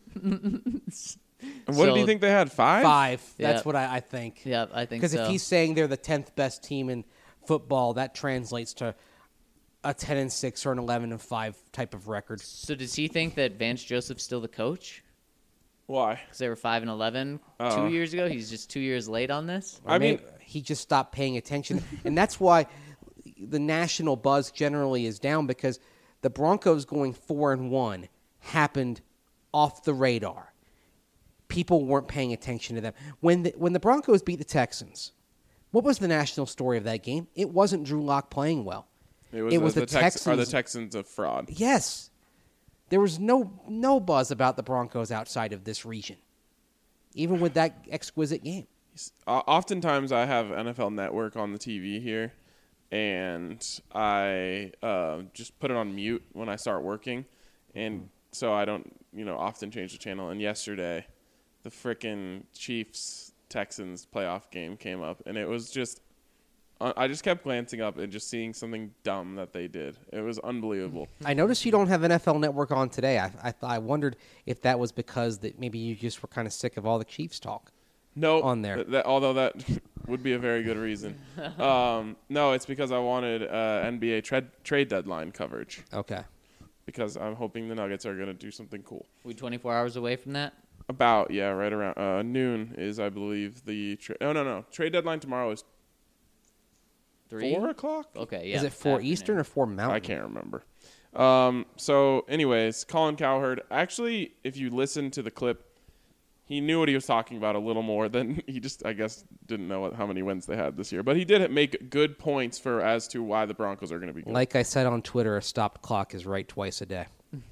And what did So- you think they had? Five? Five. That's Yeah. what I, I think. Yeah, I think Because so. if he's saying they're the tenth best team in football, that translates to a ten and six or an eleven and five type of record. So does he think that Vance Joseph's still the coach? Why? Because they were five and eleven Oh. two years ago. He's just two years late on this. I mean, Maybe he just stopped paying attention, and that's why the national buzz generally is down, because the Broncos going four and one happened off the radar. People weren't paying attention to them when the, when the Broncos beat the Texans. What was the national story of that game? It wasn't Drew Lock playing well. it was, it the, was the, the Tex- Are the Texans- Texans a fraud? Yes. There was no no buzz about the Broncos outside of this region, even with that exquisite game. O- Oftentimes, I have N F L Network on the T V here, and I uh, just put it on mute when I start working, and so I don't, you know, often change the channel. And yesterday, the frickin' Chiefs Texans playoff game came up, and it was just, uh, I just kept glancing up and just seeing something dumb that they did. It was unbelievable. I noticed you don't have N F L Network on today. I I, I wondered if that was because that maybe you just were kind of sick of all the Chiefs talk. No, on there. th- that, although that would be a very good reason. Um, no, it's because I wanted uh, N B A trade trade deadline coverage, Okay. because I'm hoping the Nuggets are going to do something cool. We twenty-four hours away from that. About, yeah, right around uh, noon is, I believe, the tra- no, no, no. Trade deadline tomorrow is Three. four o'clock. Okay, yeah. Is it four afternoon. Eastern or four Mountain? I can't remember. Um, so, anyways, Colin Cowherd. Actually, if you listen to the clip, he knew what he was talking about a little more than he just, I guess, didn't know what, how many wins they had this year. But he did make good points for as to why the Broncos are going to be good. Like I said on Twitter, a stopped clock is right twice a day.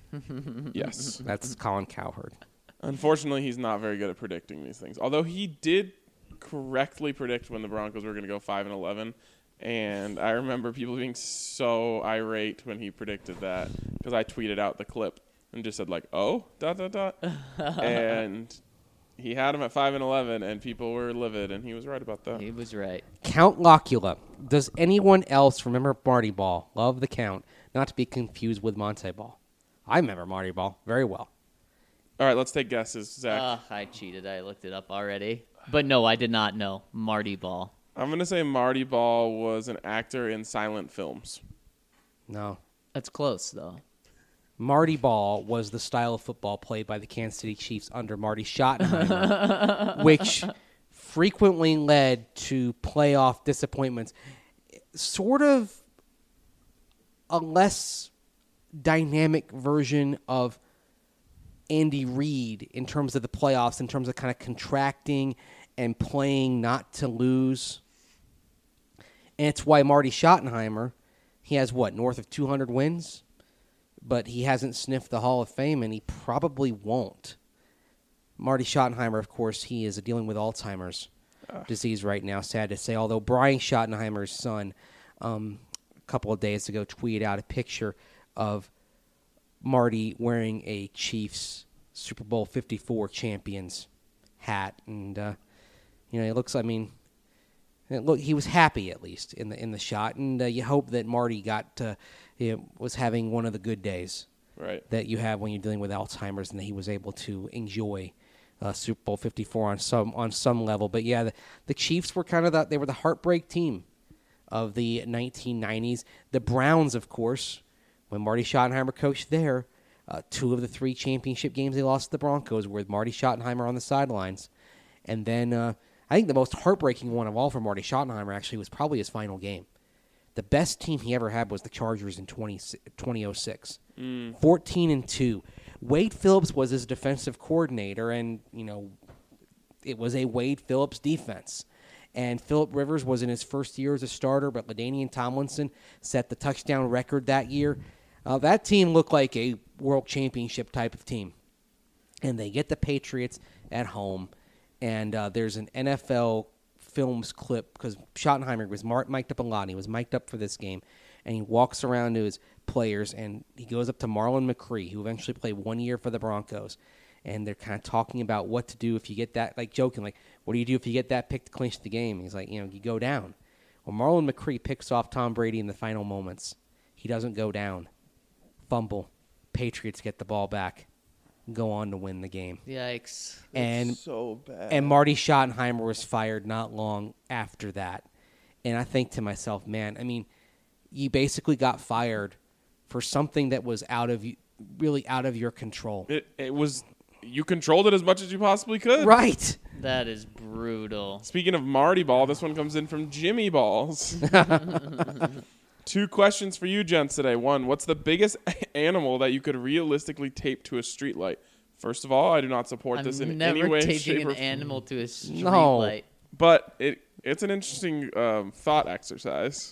Yes. That's Colin Cowherd. Unfortunately, he's not very good at predicting these things. Although he did correctly predict when the Broncos were going to go five and eleven, and I remember people being so irate when he predicted that, because I tweeted out the clip and just said like, "Oh, dot dot dot," and he had him at five and eleven, and people were livid, and he was right about that. He was right. Count Locula. Does anyone else remember Marty Ball? Love the Count. Not to be confused with Monte Ball. I remember Marty Ball very well. All right, let's take guesses, Zach. Ugh, I cheated. I looked it up already. But no, I did not know. Marty Ball. I'm gonna say Marty Ball was an actor in silent films. No. That's close, though. Marty Ball was the style of football played by the Kansas City Chiefs under Marty Schottenheimer, which frequently led to playoff disappointments. Sort of a less dynamic version of Andy Reid in terms of the playoffs, in terms of kind of contracting and playing not to lose. And it's why Marty Schottenheimer, he has what, north of two hundred wins? But he hasn't sniffed the Hall of Fame, and he probably won't. Marty Schottenheimer, of course, he is dealing with Alzheimer's disease right now, sad to say. Although Brian Schottenheimer's son, um, a couple of days ago, tweeted out a picture of Marty wearing a Chiefs Super Bowl fifty-four champions hat, and uh, you know, it looks. I mean, it look, he was happy at least in the in the shot, and uh, you hope that Marty got uh, you know, was having one of the good days Right. that you have when you're dealing with Alzheimer's, and that he was able to enjoy uh, Super Bowl fifty-four on some on some level. But yeah, the, the Chiefs were kind of the, they were the heartbreak team of the nineteen nineties. The Browns, of course, when Marty Schottenheimer coached there, uh, two of the three championship games they lost to the Broncos were with Marty Schottenheimer on the sidelines. And then uh, I think the most heartbreaking one of all for Marty Schottenheimer actually was probably his final game. The best team he ever had was the Chargers in twenty oh six. Mm. fourteen and two. Wade Phillips was his defensive coordinator, and, you know, it was a Wade Phillips defense. And Phillip Rivers was in his first year as a starter, but LaDainian Tomlinson set the touchdown record that year. Uh, that team looked like a world championship type of team. And they get the Patriots at home, and uh, there's an N F L Films clip, because Schottenheimer was mar- mic'd up a lot. He was mic'd up for this game, and he walks around to his players, and he goes up to Marlon McCree, who eventually played one year for the Broncos, and they're kind of talking about what to do if you get that, like joking, like, what do you do if you get that pick to clinch the game? He's like, you know, you go down. Well, Marlon McCree picks off Tom Brady in the final moments. He doesn't go down. Fumble. Patriots get the ball back. Go on to win the game. Yikes. And so bad. and Marty Schottenheimer was fired not long after that. And I think to myself, man, I mean, you basically got fired for something that was out of you, really out of your control. It, it was, you controlled it as much as you possibly could. Right. That is brutal. Speaking of Marty Ball, this one comes in from Jimmy Balls. Two questions for you, gents, today. One, what's the biggest animal that you could realistically tape to a streetlight? First of all, I do not support I'm this in never any way, taping shape, an or form. animal to a street No. light. But it it's an interesting um, thought exercise.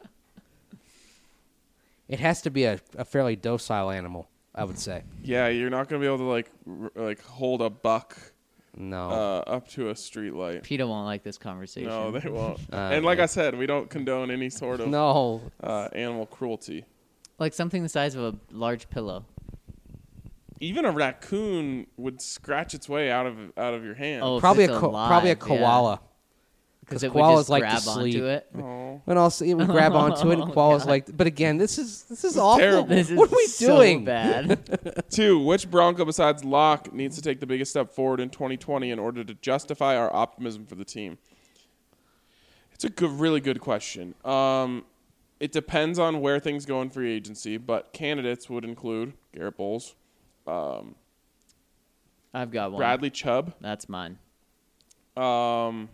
It has to be a, a fairly docile animal, I would say. Yeah, you're not gonna be able to like r- like hold a buck No. uh, up to a streetlight. PETA won't like this conversation. No, they won't. Uh, and like yeah. I said, we don't condone any sort of no. uh, animal cruelty. Like something the size of a large pillow. Even a raccoon would scratch its way out of out of your hand. Oh, if Probably a it's ko- alive, probably a yeah. koala. Because Because it would koalas just like to grab sleep. onto it. Oh. And also, it would grab onto it, and Oh, koalas God. like. But again, this is this is awful. terrible. This is what are we so doing? bad. Two, which Bronco besides Locke needs to take the biggest step forward in twenty twenty in order to justify our optimism for the team? It's a good, really good question. Um, it depends on where things go in free agency, but candidates would include Garrett Bowles, um, I've got one. Bradley Chubb, That's mine. um,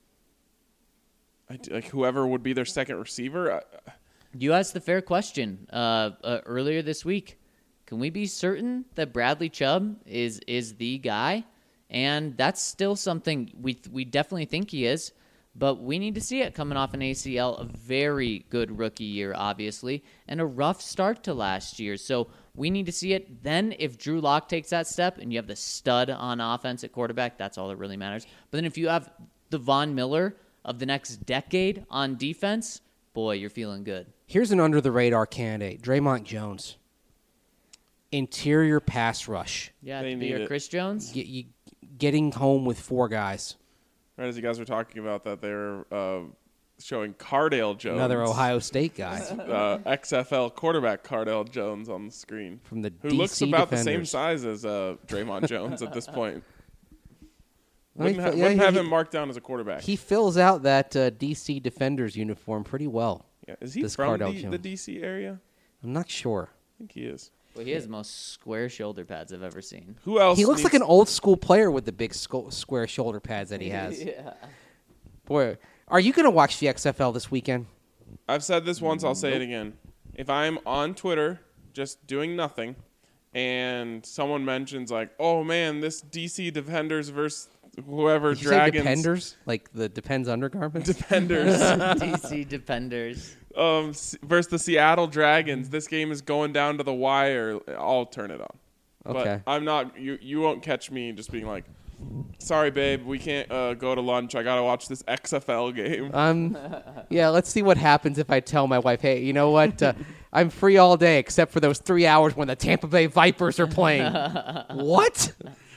I d- like whoever would be their second receiver. I, You asked the fair question uh, uh, earlier this week. Can we be certain that Bradley Chubb is is the guy? And that's still something we we definitely think he is, but we need to see it coming off an A C L. A very good rookie year, obviously, and a rough start to last year. So we need to see it. Then if Drew Lock takes that step and you have the stud on offense at quarterback, that's all that really matters. But then if you have the Von Miller of the next decade on defense, boy, you're feeling good. Here's an under-the-radar candidate, Draymond Jones. Interior pass rush. Yeah, They to be need your it. Chris Jones. Get, you, getting home with four guys. right as you guys were talking about that, they were uh, showing Cardale Jones, Another Ohio State guy uh, X F L quarterback Cardale Jones on the screen, from the who D C looks about the same Defenders. size as uh, Draymond Jones at this point. Well, he Wouldn't, ha- fi- yeah, wouldn't have he- him marked down as a quarterback. He fills out that uh, D C Defenders uniform pretty well. yeah. Is he this from Cardale D- Jones. the D C area? I'm not sure. I think he is. Well, he has the most square shoulder pads I've ever seen. Who else? He looks like needs- an old school player with the big sco- square shoulder pads that he has. yeah. Boy, are you going to watch the X F L this weekend? I've said this once. I'll say it again. If I'm on Twitter just doing nothing, and someone mentions like, "Oh man, this D C Defenders versus whoever Did you Dragons say Dependers? Like the Depends undergarments? Defenders D C Defenders. um, s- versus the Seattle Dragons. This game is going down to the wire. I'll turn it on. Okay. But I'm not. You you won't catch me just being like, "Sorry, babe, we can't uh, go to lunch. I gotta watch this X F L game." Um, yeah, let's see what happens if I tell my wife, hey, you know what? Uh, I'm free all day except for those three hours when the Tampa Bay Vipers are playing. What?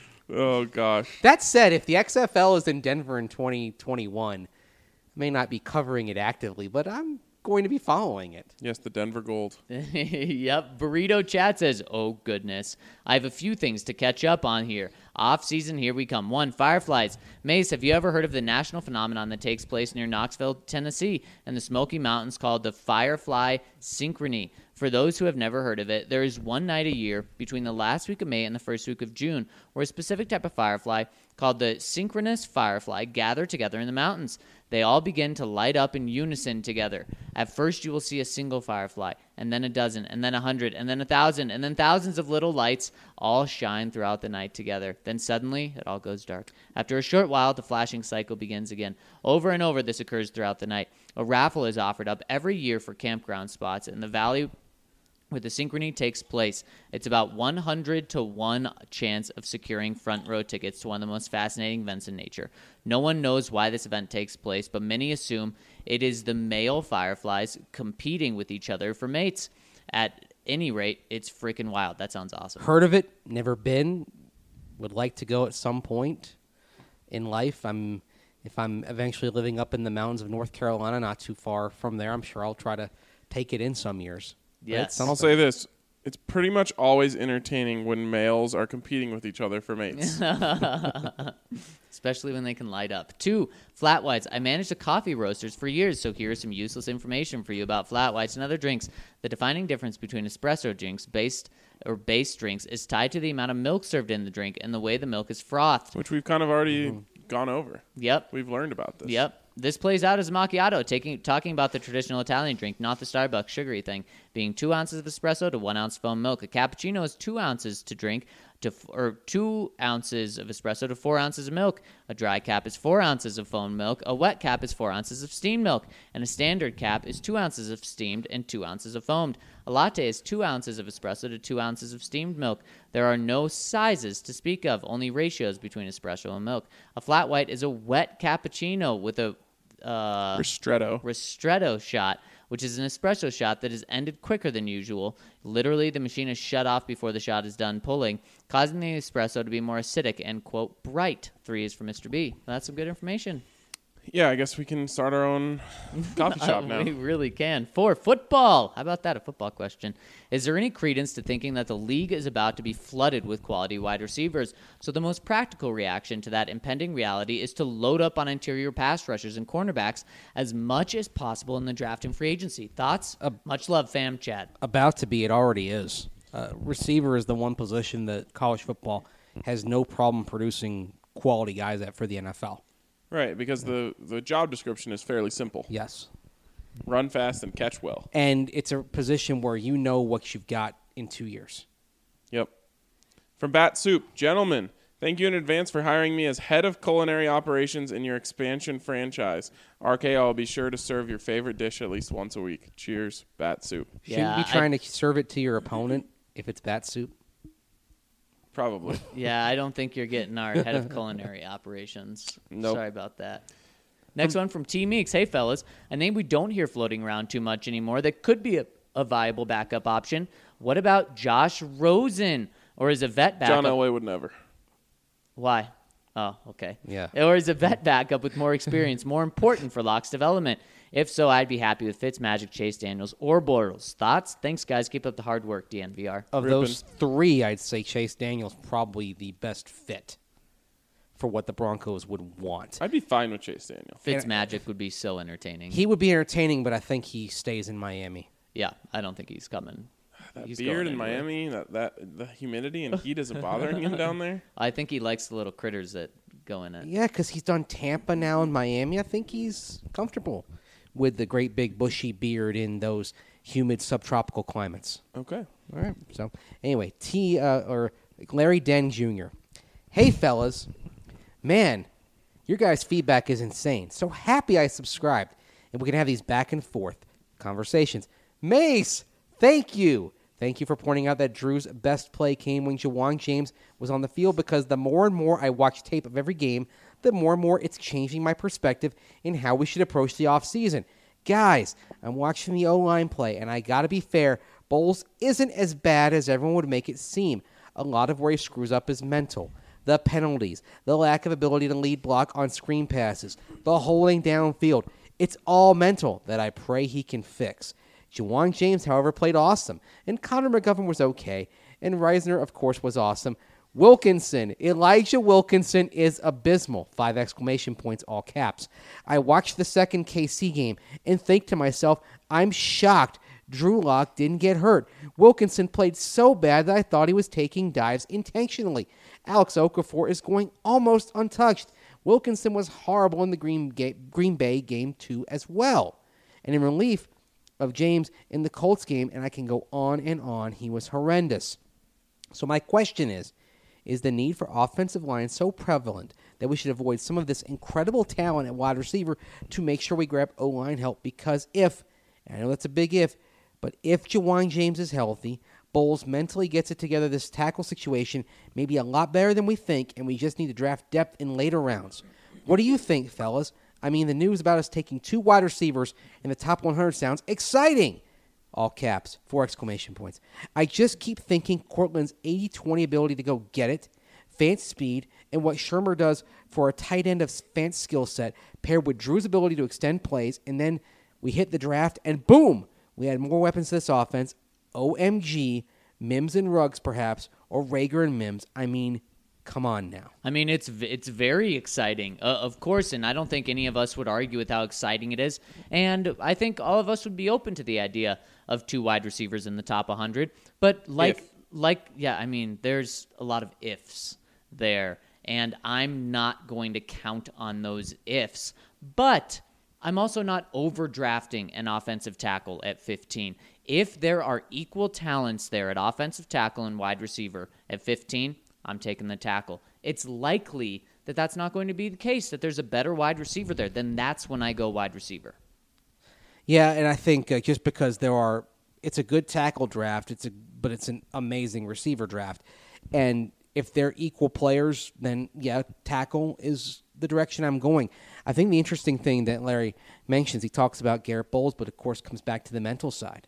Oh, gosh. That said, if the X F L is in Denver in twenty twenty-one, I may not be covering it actively, but I'm going to be following it. Yes, the Denver Gold. Yep. Burrito Chat says, oh, goodness. I have a few things to catch up on here. Off season, here we come. One, fireflies. Mace, have you ever heard of the national phenomenon that takes place near Knoxville, Tennessee, and the Smoky Mountains called the Firefly Synchrony? For those who have never heard of it, there is one night a year between the last week of May and the first week of June where a specific type of firefly called the synchronous firefly gather together in the mountains. They all begin to light up in unison together. At first, you will see a single firefly, and then a dozen, and then a hundred, and then a thousand, and then thousands of little lights all shine throughout the night together. Then suddenly, it all goes dark. After a short while, the flashing cycle begins again. Over and over, this occurs throughout the night. A raffle is offered up every year for campground spots in the valley where the synchrony takes place. It's about one hundred to one chance of securing front row tickets to one of the most fascinating events in nature. No one knows why this event takes place, but many assume it is the male fireflies competing with each other for mates. At any rate, it's freaking wild. That sounds awesome. Heard of it, never been, would like to go at some point in life. I'm if I'm eventually living up in the mountains of North Carolina, not too far from there, I'm sure I'll try to take it in some years. Yes. I'll say this. It's pretty much always entertaining when males are competing with each other for mates. Especially when they can light up. Two, flat whites. I managed a coffee roasters for years, so here is some useless information for you about flat whites and other drinks. The defining difference between espresso drinks based or base drinks is tied to the amount of milk served in the drink and the way the milk is frothed. Which we've kind of already gone over. Yep. We've learned about this. Yep. This plays out as a macchiato, taking, talking about the traditional Italian drink, not the Starbucks sugary thing, being two ounces of espresso to one ounce foam milk. A cappuccino is two ounces to drink, to or two ounces of espresso to four ounces of milk. A dry cap is four ounces of foam milk. A wet cap is four ounces of steamed milk. And a standard cap is two ounces of steamed and two ounces of foamed. A latte is two ounces of espresso to two ounces of steamed milk. There are no sizes to speak of, only ratios between espresso and milk. A flat white is a wet cappuccino with a Uh, Ristretto. ristretto shot, which is an espresso shot that is ended quicker than usual. Literally, the machine is shut off before the shot is done pulling, causing the espresso to be more acidic and, quote, bright. Three is for Mister B. That's some good information. Yeah, I guess we can start our own coffee shop now. We really can. Four, football. How about that? A football question. Is there any credence to thinking that the league is about to be flooded with quality wide receivers? So the most practical reaction to that impending reality is to load up on interior pass rushers and cornerbacks as much as possible in the draft and free agency. Thoughts? Uh, Much love, fam, Chad. About to be, it already is. Uh, receiver is the one position that college football has no problem producing quality guys at for the N F L. Right, because the, the job description is fairly simple. Yes. Run fast and catch well. And it's a position where you know what you've got in two years. Yep. From Bat Soup, gentlemen, thank you in advance for hiring me as head of culinary operations in your expansion franchise. R K O, I'll be sure to serve your favorite dish at least once a week. Cheers, Bat Soup. Shouldn't Yeah, you be trying I- to serve it to your opponent if it's bat soup? Probably. Yeah, I don't think you're getting our head of culinary operations. Nope. Sorry about that. Next one from T Meeks. Hey, fellas. A name we don't hear floating around too much anymore that could be a, a viable backup option. What about Josh Rosen? Or is a vet backup? John Elway would never. Why? Oh, okay. Yeah. Or is a vet backup with more experience more important for Locke's development? If so, I'd be happy with Fitzmagic, Chase Daniels, or Bortles. Thoughts? Thanks, guys. Keep up the hard work, D N V R. Of Rippin'. those three, I'd say Chase Daniels probably the best fit for what the Broncos would want. I'd be fine with Chase Daniel. Fitzmagic would be so entertaining. He would be entertaining, but I think he stays in Miami. yeah, I don't think he's coming. That He's beard going in anywhere. Miami, that, that the humidity and heat isn't bothering him down there. I think he likes the little critters that go in it. Yeah, because he's done Tampa now and Miami. I think he's comfortable with the great big bushy beard in those humid subtropical climates. Okay. All right. So anyway, T uh, or Larry Den Junior Hey fellas, man, your guys' feedback is insane. So happy I subscribed, and we can have these back and forth conversations. Mace, thank you. Thank you for pointing out that Drew's best play came when Jawon James was on the field, because the more and more I watch tape of every game, the more and more it's changing my perspective in how we should approach the offseason. Guys, I'm watching the O-line play, and I got to be fair, Bowles isn't as bad as everyone would make it seem. A lot of where he screws up is mental. The penalties, the lack of ability to lead block on screen passes, the holding downfield. It's all mental that I pray he can fix. Ja'Wuan James, however, played awesome, and Connor McGovern was okay, and Reisner, of course, was awesome. Wilkinson, Elijah Wilkinson is abysmal. Five exclamation points, all caps. I watched the second K C game and think to myself, I'm shocked Drew Lock didn't get hurt. Wilkinson played so bad that I thought he was taking dives intentionally. Alex Okafor is going almost untouched. Wilkinson was horrible in the Green, Ga- Green Bay game two as well. And in relief of James in the Colts game, and I can go on and on, he was horrendous. So my question is, is the need for offensive line so prevalent that we should avoid some of this incredible talent at wide receiver to make sure we grab O-line help? Because if, and I know that's a big if, but if Ja'Wuan James is healthy, Bowles mentally gets it together, this tackle situation may be a lot better than we think, and we just need to draft depth in later rounds. What do you think, fellas? I mean, the news about us taking two wide receivers in the top one hundred sounds exciting. All caps, four exclamation points. I just keep thinking Cortland's eighty twenty ability to go get it, Fant's speed, and what Shermer does for a tight end of Fant's skill set, paired with Drew's ability to extend plays, and then we hit the draft, and boom, we had more weapons to this offense. O M G, Mims and Ruggs perhaps, or Rager and Mims. I mean, come on now. I mean, it's it's very exciting, uh, of course, and I don't think any of us would argue with how exciting it is. And I think all of us would be open to the idea of two wide receivers in the top one hundred. But like, If. like, yeah, I mean, there's a lot of ifs there, and I'm not going to count on those ifs. But I'm also not overdrafting an offensive tackle at fifteen. If there are equal talents there at offensive tackle and wide receiver at fifteen, I'm taking the tackle. It's likely that that's not going to be the case, that there's a better wide receiver there. Then that's when I go wide receiver. Yeah, and I think uh, just because there are, it's a good tackle draft, it's a but it's an amazing receiver draft, and if they're equal players, then yeah, tackle is the direction I'm going. I think the interesting thing that Larry mentions, he talks about Garrett Bowles, but of course comes back to the mental side.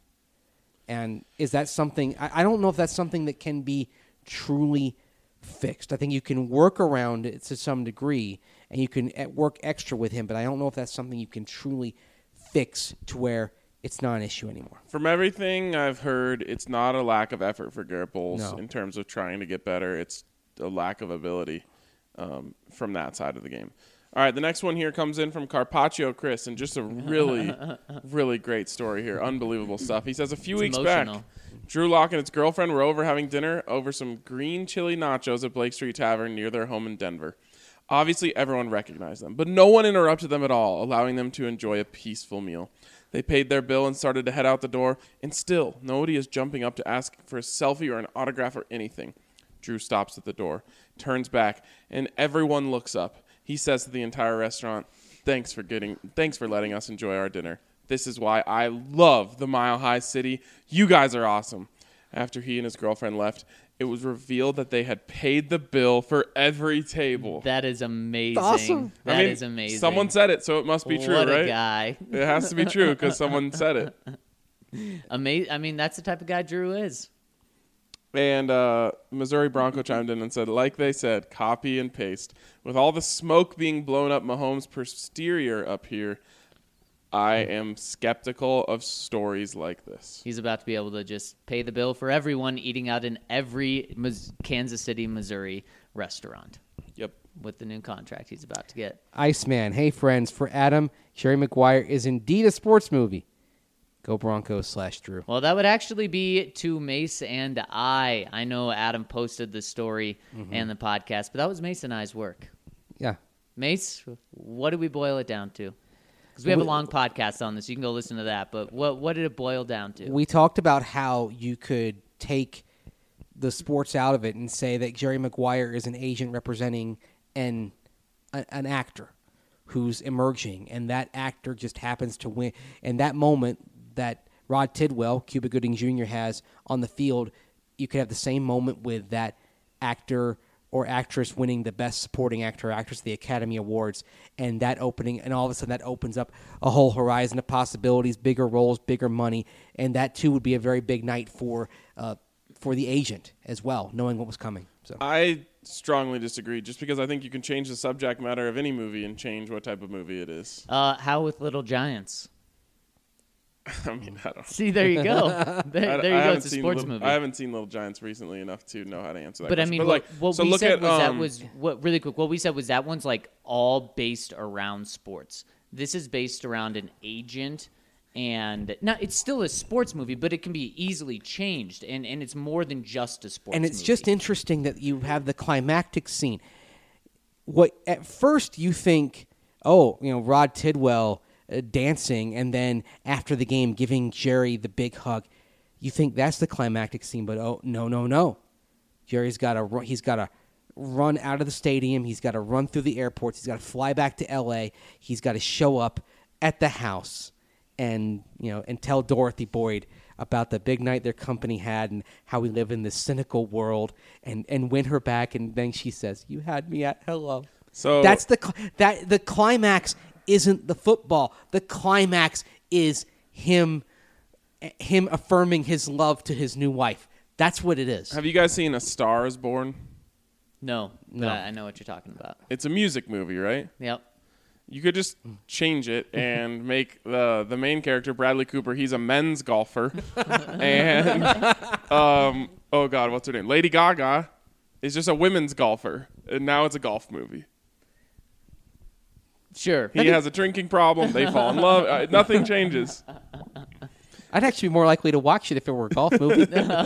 And is that something, I, I don't know if that's something that can be truly fixed. I think you can work around it to some degree, and you can work extra with him, but I don't know if that's something you can truly fix to where it's not an issue anymore. From everything I've heard, it's not a lack of effort for Garrett Bowles No. in terms of trying to get better. It's a lack of ability um, from that side of the game. All right, the next one here comes in from Carpaccio Chris, and just a really, really great story here. Unbelievable stuff. He says a few It's weeks emotional. back, Drew Lock and his girlfriend were over having dinner over some green chili nachos at Blake Street Tavern near their home in Denver. Obviously, everyone recognized them, but no one interrupted them at all, allowing them to enjoy a peaceful meal. They paid their bill and started to head out the door, and still, nobody is jumping up to ask for a selfie or an autograph or anything. Drew stops at the door, turns back, and everyone looks up. He says to the entire restaurant, "Thanks for getting, thanks for letting us enjoy our dinner. This is why I love the Mile High City. You guys are awesome." After he and his girlfriend left, it was revealed that they had paid the bill for every table. That is amazing. Awesome. That I is mean, amazing. Someone said it, so it must be true, what right? a guy. It has to be true because someone said it. Ama- I mean, that's the type of guy Drew is. And uh, Missouri Bronco chimed in and said, like they said, copy and paste. With all the smoke being blown up Mahomes' posterior up here, I am skeptical of stories like this. He's about to be able to just pay the bill for everyone eating out in every Mis- Kansas City, Missouri restaurant Yep. with the new contract he's about to get. Iceman, hey friends, for Adam, Jerry Maguire is indeed a sports movie. Go Broncos slash Drew. Well, that would actually be to Mace and I. I know Adam posted the story Mm-hmm. and the podcast, but that was Mace and I's work. Yeah. Mace, what did we boil it down to? Because we have a We- long podcast on this. You can go listen to that. But what what did it boil down to? We talked about how you could take the sports out of it and say that Jerry Maguire is an agent representing an a, an actor who's emerging, and that actor just happens to win. And that moment that Rod Tidwell, Cuba Gooding Junior has on the field, you could have the same moment with that actor or actress winning the Best Supporting Actor or Actress at the Academy Awards, and that opening, and all of a sudden that opens up a whole horizon of possibilities, bigger roles, bigger money, and that too would be a very big night for uh, for the agent as well, knowing what was coming. So I strongly disagree, just because I think you can change the subject matter of any movie and change what type of movie it is. Uh, how with Little Giants? I mean, I don't. See, there you go. There, I, there you I go. haven't It's a seen sports Little- movie. I haven't seen Little Giants recently enough to know how to answer that. But I question. mean, but what, like, what so we look said at, was um, that was what really quick. What we said was that one's like all based around sports. This is based around an agent, and now it's still a sports movie, but it can be easily changed, and, and it's more than just a sports. and it's movie. just interesting that you have the climactic scene. What at first you think, oh, you know, Rod Tidwell uh, dancing, and then after the game giving Jerry the big hug, you think that's the climactic scene. But oh, no, no, no, Jerry's got to he's got to run out of the stadium. He's got to run through the airports. He's got to fly back to L A. He's got to show up at the house and you know and tell Dorothy Boyd about the big night their company had and how we live in this cynical world, and, and win her back. And then she says, "You had me at hello." So That's the cl- that the climax isn't the football. The climax is him him affirming his love to his new wife. That's what it is. Have you guys seen A Star Is Born? no, No. but I know what you're talking about. It's a music movie, right? Yep. You could just change it and make the the main character Bradley Cooper. He's a men's golfer, and um, oh god, what's her name? Lady Gaga is just a women's golfer, and now it's a golf movie. Sure. He has a drinking problem. They fall in love. Uh, nothing changes. I'd actually be more likely to watch it if it were a golf movie.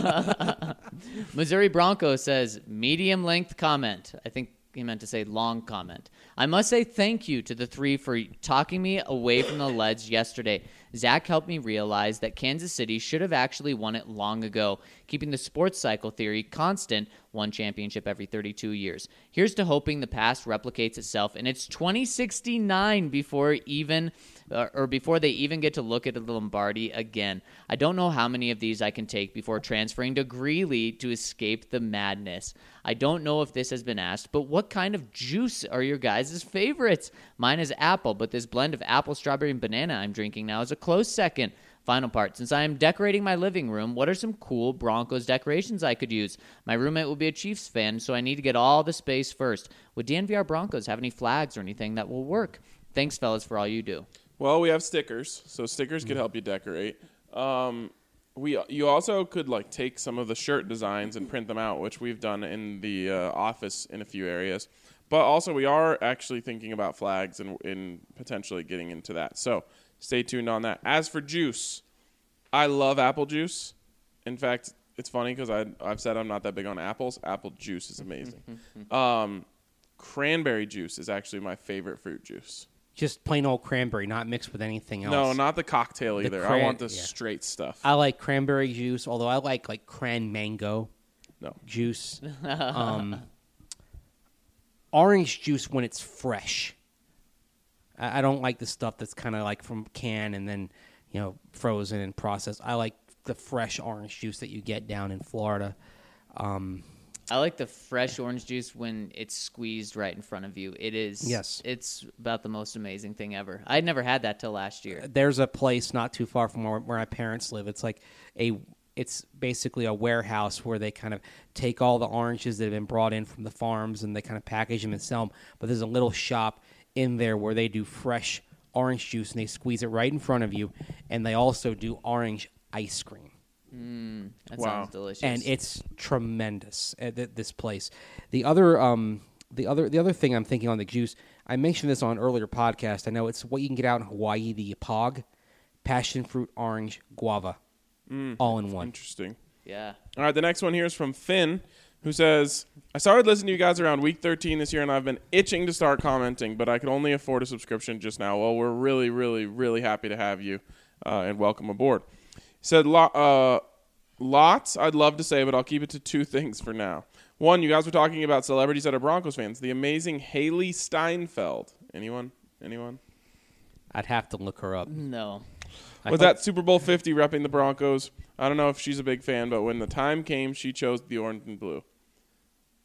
Missouri Bronco says, medium length comment. I think he meant to say long comment. I must say thank you to the three for talking me away from the leads yesterday. Zach helped me realize that Kansas City should have actually won it long ago, keeping the sports cycle theory constant, one championship every thirty-two years. Here's to hoping the past replicates itself, and it's twenty sixty-nine before even uh, or before they even get to look at the Lombardi again. I don't know how many of these I can take before transferring to Greeley to escape the madness. I don't know if this has been asked, but what kind of juice are your guys' favorites? Mine is apple, but this blend of apple, strawberry, and banana I'm drinking now is a close second. Final part. Since I am decorating my living room, what are some cool Broncos decorations I could use? My roommate will be a Chiefs fan, so I need to get all the space first. Would D N V R Broncos have any flags or anything that will work? Thanks, fellas, for all you do. Well, we have stickers, so stickers could help you decorate. Um, we you also could like take some of the shirt designs and print them out, which we've done in the uh, office in a few areas. But also, we are actually thinking about flags and, and potentially getting into that. So stay tuned on that. As for juice, I love apple juice. In fact, it's funny because I've said I'm not that big on apples. Apple juice is amazing. um, cranberry juice is actually my favorite fruit juice. Just plain old cranberry, not mixed with anything else. No, not the cocktail The either. I cran- want the yeah. straight stuff. I like cranberry juice, although I like like cran mango No. juice. um, orange juice when it's fresh. I, I don't like the stuff that's kind of like from can and then you know frozen and processed. I like the fresh orange juice that you get down in Florida. Um, I like the fresh orange juice when it's squeezed right in front of you. It is. Yes. It's about the most amazing thing ever. I'd never had that till last year. there's a place not too far from where, where my parents live. It's like a, it's basically a warehouse where they kind of take all the oranges that have been brought in from the farms and they kind of package them and sell them. But there's a little shop in there where they do fresh orange juice and they squeeze it right in front of you. And they also do orange ice cream. That Wow. sounds delicious. And it's tremendous at th- this place. The other, um, the other, the other thing I'm thinking on the juice, I mentioned this on an earlier podcast. I know it's what you can get out in Hawaii, the Pog, passion fruit, orange, guava, all in one. Interesting. yeah. All right, the next one here is from Finn, who says, I started listening to you guys around week thirteen this year, and I've been itching to start commenting, but I could only afford a subscription just now. Well, we're really, really, really happy to have you, uh, and welcome aboard. He said, Lo- uh, lots I'd love to say, but I'll keep it to two things for now. One, you guys were talking about celebrities that are Broncos fans. The amazing Haley Steinfeld. Anyone? Anyone? I'd have to look her up. No. Was that Super Bowl fifty repping the Broncos? I don't know if she's a big fan, but when the time came, she chose the orange and blue.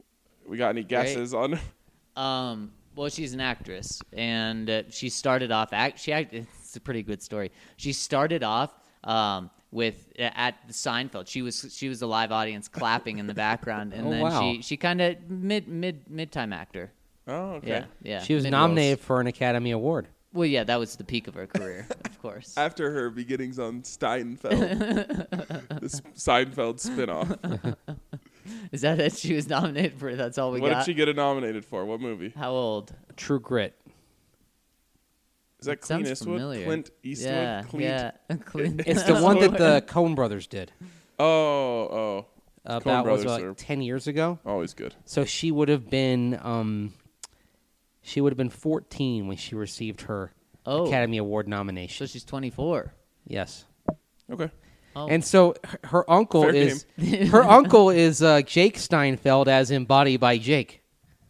We got any guesses on? Um, well, she's an actress, and uh, she started off. Act, she act, it's a pretty good story. She started off um, with uh, at the Seinfeld. She was she was a live audience clapping in the background, and Oh, then wow. she she kind of mid mid mid time actor. Oh, okay. Yeah, yeah. She was Mid- nominated for an Academy Award. Well, yeah, that was the peak of her career, of course. After her beginnings on Steinfeld, this Seinfeld spinoff. Is that it? She was nominated for. That's all we What got. did she get nominated for? What movie? How old? True Grit. Is that It Clint sounds Eastwood? familiar. Clint Eastwood? Yeah, Clint? yeah. Clint. It's the one that the Coen brothers did Oh, oh. Coen about was brothers it, are like ten years ago. always good. So she would have been um, she would have been fourteen when she received her Oh. Academy Award So nomination. she's twenty-four. Yes. Okay. Oh. And so her, her uncle Fair is her uncle is uh, Jake Steinfeld, as embodied by Jake,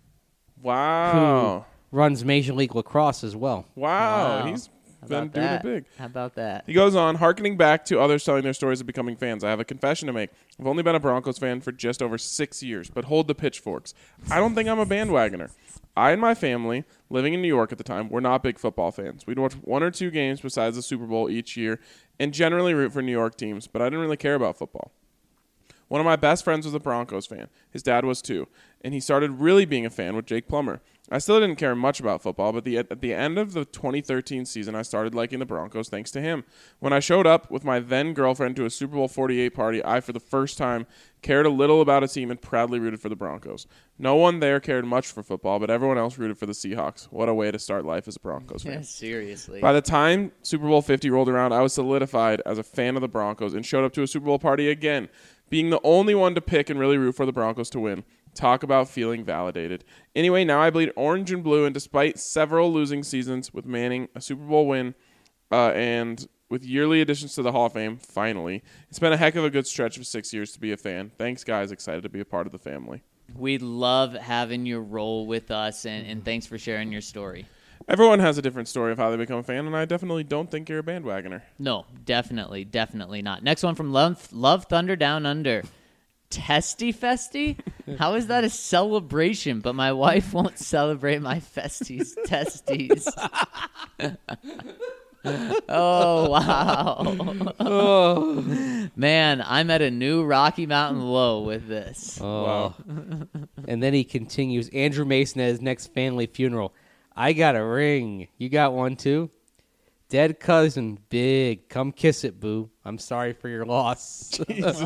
Wow. who runs Major League Lacrosse as well. Wow. Wow. He's How been about doing that? it big. How about that? He goes on, harkening back to others telling their stories of becoming fans. I have a confession to make. I've only been a Broncos fan for just over six years, but hold the pitchforks. I don't think I'm a bandwagoner. I and my family, living in New York at the time, were not big football fans. We'd watch one or two games besides the Super Bowl each year and generally root for New York teams, but I didn't really care about football. One of my best friends was a Broncos fan. His dad was too, and he started really being a fan with Jake Plummer. I still didn't care much about football, but the, at the end of the twenty thirteen season, I started liking the Broncos thanks to him. When I showed up with my then-girlfriend to a Super Bowl forty-eight party, I, for the first time, cared a little about a team and proudly rooted for the Broncos. No one there cared much for football, but everyone else rooted for the Seahawks. What a way to start life as a Broncos fan. Yeah, seriously. By the time Super Bowl fifty rolled around, I was solidified as a fan of the Broncos and showed up to a Super Bowl party again, being the only one to pick and really root for the Broncos to win. Talk about feeling validated. Anyway, now I bleed orange and blue, and despite several losing seasons with Manning, a Super Bowl win, uh, and with yearly additions to the Hall of Fame, finally, it's been a heck of a good stretch of six years to be a fan. Thanks, guys. Excited to be a part of the family. We love having your role with us, and, and thanks for sharing your story. Everyone has a different story of how they become a fan, and I definitely don't think you're a bandwagoner. No, definitely, definitely not. Next one from Love, Love Thunder Down Under. Testy Festy? How is that a celebration? But my wife won't celebrate my festies testes. Oh, wow. Oh, Man, I'm at a new Rocky Mountain low with this. Wow. And then he continues. Andrew Mason at his next family funeral. I got a ring. You got one too? Dead cousin, big. Come kiss it, boo. I'm sorry for your loss.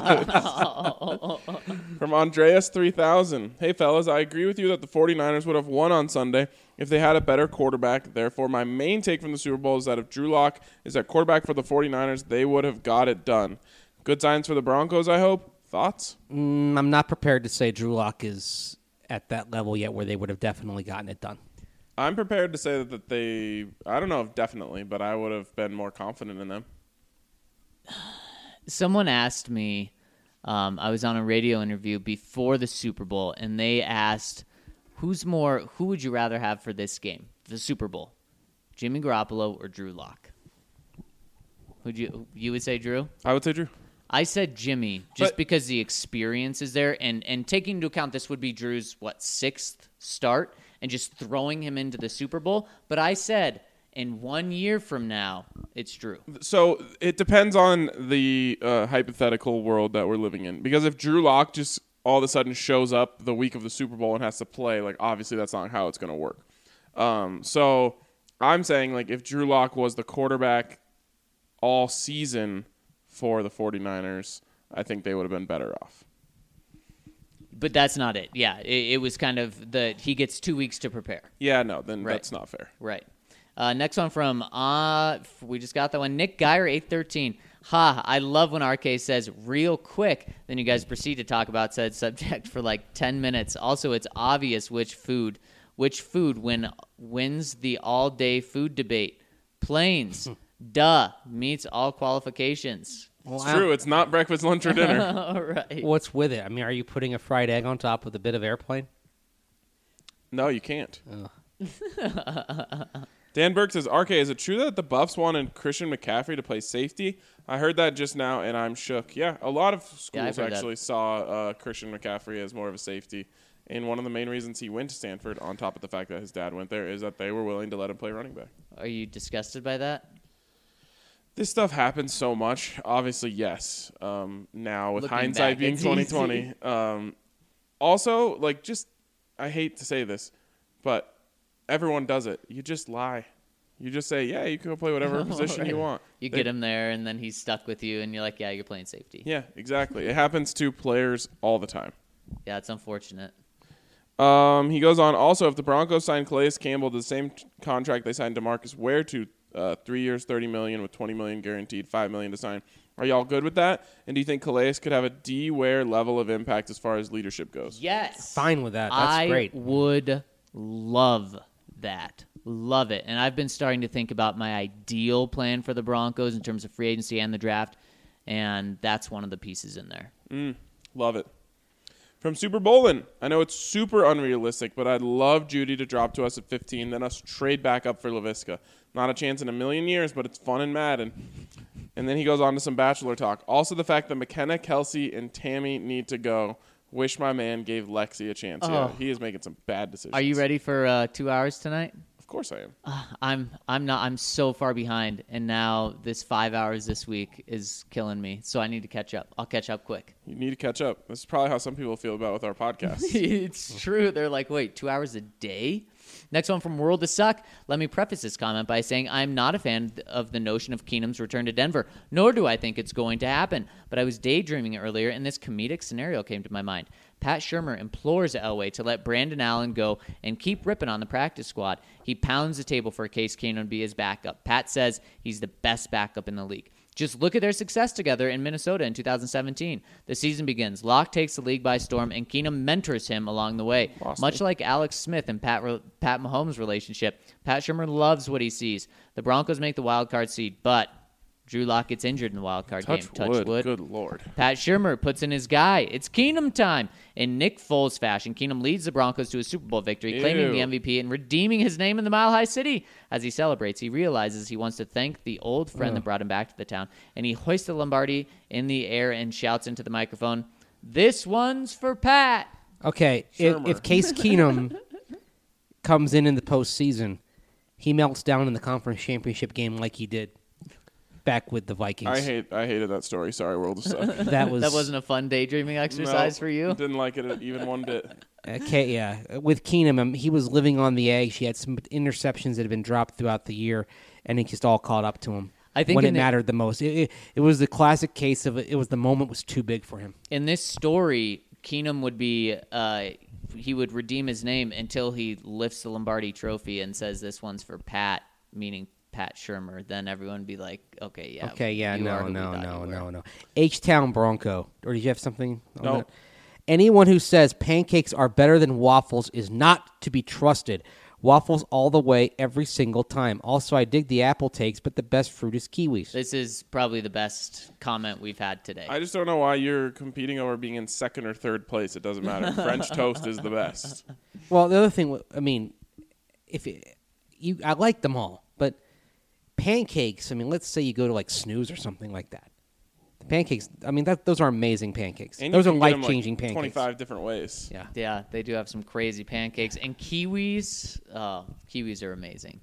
From Andreas three thousand. Hey, fellas, I agree with you that the 49ers would have won on Sunday if they had a better quarterback. Therefore, my main take from the Super Bowl is that if Drew Lock is at quarterback for the 49ers, they would have got it done. Good signs for the Broncos, I hope. Thoughts? Mm, I'm not prepared to say Drew Lock is at that level yet where they would have definitely gotten it done. I'm prepared to say that, that they, I don't know if definitely, but I would have been more confident in them. Someone asked me, um, I was on a radio interview before the Super Bowl, and they asked, "Who's more? Who would you rather have for this game, the Super Bowl, Jimmy Garoppolo or Drew Lock?" Would you you would say Drew? I would say Drew. I said Jimmy just But- because the experience is there, and and taking into account this would be Drew's what sixth start, and just throwing him into the Super Bowl. But I said in one year from now, it's Drew. So it depends on the uh, hypothetical world that we're living in. Because if Drew Lock just all of a sudden shows up the week of the Super Bowl and has to play, like obviously that's not how it's going to work. Um, so I'm saying like if Drew Lock was the quarterback all season for the 49ers, I think they would have been better off. But that's not it. Yeah, it, it was kind of the he gets two weeks to prepare. Yeah, no, then Right. that's not fair. Right. Uh, next one from uh, we just got that one. Nick Geyer eight thirteen. Ha! I love when R K says real quick. Then you guys proceed to talk about said subject for like ten minutes. Also, it's obvious which food, which food when wins the all day food debate. Planes. Duh. Meets all qualifications. It's true. It's not breakfast, lunch, or dinner. All right. What's with it? I mean, are you putting a fried egg on top with a bit of airplane? No, you can't. Dan Burke says, R K, is it true that the Buffs wanted Christian McCaffrey to play safety? I heard that just now, and I'm shook. Yeah, a lot of Yeah, I've schools heard that. actually saw uh, Christian McCaffrey as more of a safety, And one of the main reasons he went to Stanford, on top of the fact that his dad went there, is that they were willing to let him play running back. Are you disgusted by that? This stuff happens so much. Obviously, yes. Um, now, with Looking hindsight back, being it's twenty easy. twenty. Um, also, like, just, I hate to say this, but everyone does it. You just lie. You just say, yeah, you can go play whatever position you want. You They- get him there, and then he's stuck with you, and you're like, yeah, you're playing safety. Yeah, exactly. It happens to players all the time. Yeah, it's unfortunate. Um, he goes on, also, if the Broncos signed Calais Campbell to the same t- contract they signed DeMarcus Ware to, uh, three years, thirty million dollars with twenty million dollars guaranteed, five million dollars to sign, are y'all good with that? And do you think Calais could have a D. Ware level of impact as far as leadership goes? Yes. Fine with that. That's I great. would love that. Love it. And I've been starting to think about my ideal plan for the Broncos in terms of free agency and the draft, and that's one of the pieces in there. Mm, love it. From Super Bowlin, I know it's super unrealistic, but I'd love Judy to drop to us at fifteen, then us trade back up for LaVisca. Not a chance in a million years, but it's fun and Madden. And then he goes on to some Bachelor talk. Also the fact that McKenna, Kelsey, and Tammy need to go. Wish my man gave Lexi a chance. Yeah, Oh. he is making some bad decisions. Are you ready for uh, two hours tonight? Of course I am. Uh, I'm I'm not I'm so far behind, and now this five hours this week is killing me. So I need to catch up. I'll catch up quick. You need to catch up. This is probably how some people feel about with our podcast. It's true. They're like, wait, two hours a day? Next one from World to Suck. Let me preface this comment by saying I'm not a fan of the notion of Keenum's return to Denver, nor do I think it's going to happen. But I was daydreaming earlier, and this comedic scenario came to my mind. Pat Shurmur implores Elway to let Brandon Allen go and keep ripping on the practice squad. He pounds the table for Case Keenum to be his backup. Pat says he's the best backup in the league. Just look at their success together in Minnesota in two thousand seventeen. The season begins. Locke takes the league by storm, and Keenum mentors him along the way. Lost Much me. like Alex Smith and Pat Pat Mahomes' relationship, Pat Shurmur loves what he sees. The Broncos make the wild card seed, but Drew Lock gets injured in the wild card Touch game. wood. Touch wood. Good Lord. Pat Shurmur puts in his guy. It's Keenum time. In Nick Foles fashion, Keenum leads the Broncos to a Super Bowl victory, claiming Ew. the M V P and redeeming his name in the Mile High City. As he celebrates, he realizes he wants to thank the old friend that brought him back to the town, and he hoists the Lombardi in the air and shouts into the microphone, "This one's for Pat." Okay, if, Shermer. if Case Keenum comes in in the postseason, he melts down in the conference championship game like he did back with the Vikings. I hate. I hated that story. Sorry, World of Suck. that was That wasn't a fun daydreaming exercise No, for you? Didn't like it even one bit. Okay, yeah. With Keenum, um, he was living on the edge. He had some interceptions that had been dropped throughout the year, and it just all caught up to him I think when it in the- mattered the most. It, it, it was the classic case of it was the moment was too big for him. In this story, Keenum would be uh, he would redeem his name until he lifts the Lombardi Trophy and says, "This one's for Pat," meaning Pat Shurmur. Then everyone would be like, "Okay, yeah, Okay, yeah, you are no, who we no, thought no, you were." no, no. H-Town Bronco. Or did you have something on No. that? Anyone who says pancakes are better than waffles is not to be trusted. Waffles all the way every single time. Also, I dig the apple takes, but the best fruit is kiwis. This is probably the best comment we've had today. I just don't know why you're competing over being in second or third place. It doesn't matter. French toast is the best. Well, the other thing, I mean, if it, you, I like them all, but pancakes. I mean, let's say you go to like Snooze or something like that. The pancakes. I mean, that those are amazing pancakes. And those you are can get 'em, life changing like pancakes. twenty-five different ways. Yeah. yeah, they do have some crazy pancakes and kiwis. Oh, kiwis are amazing.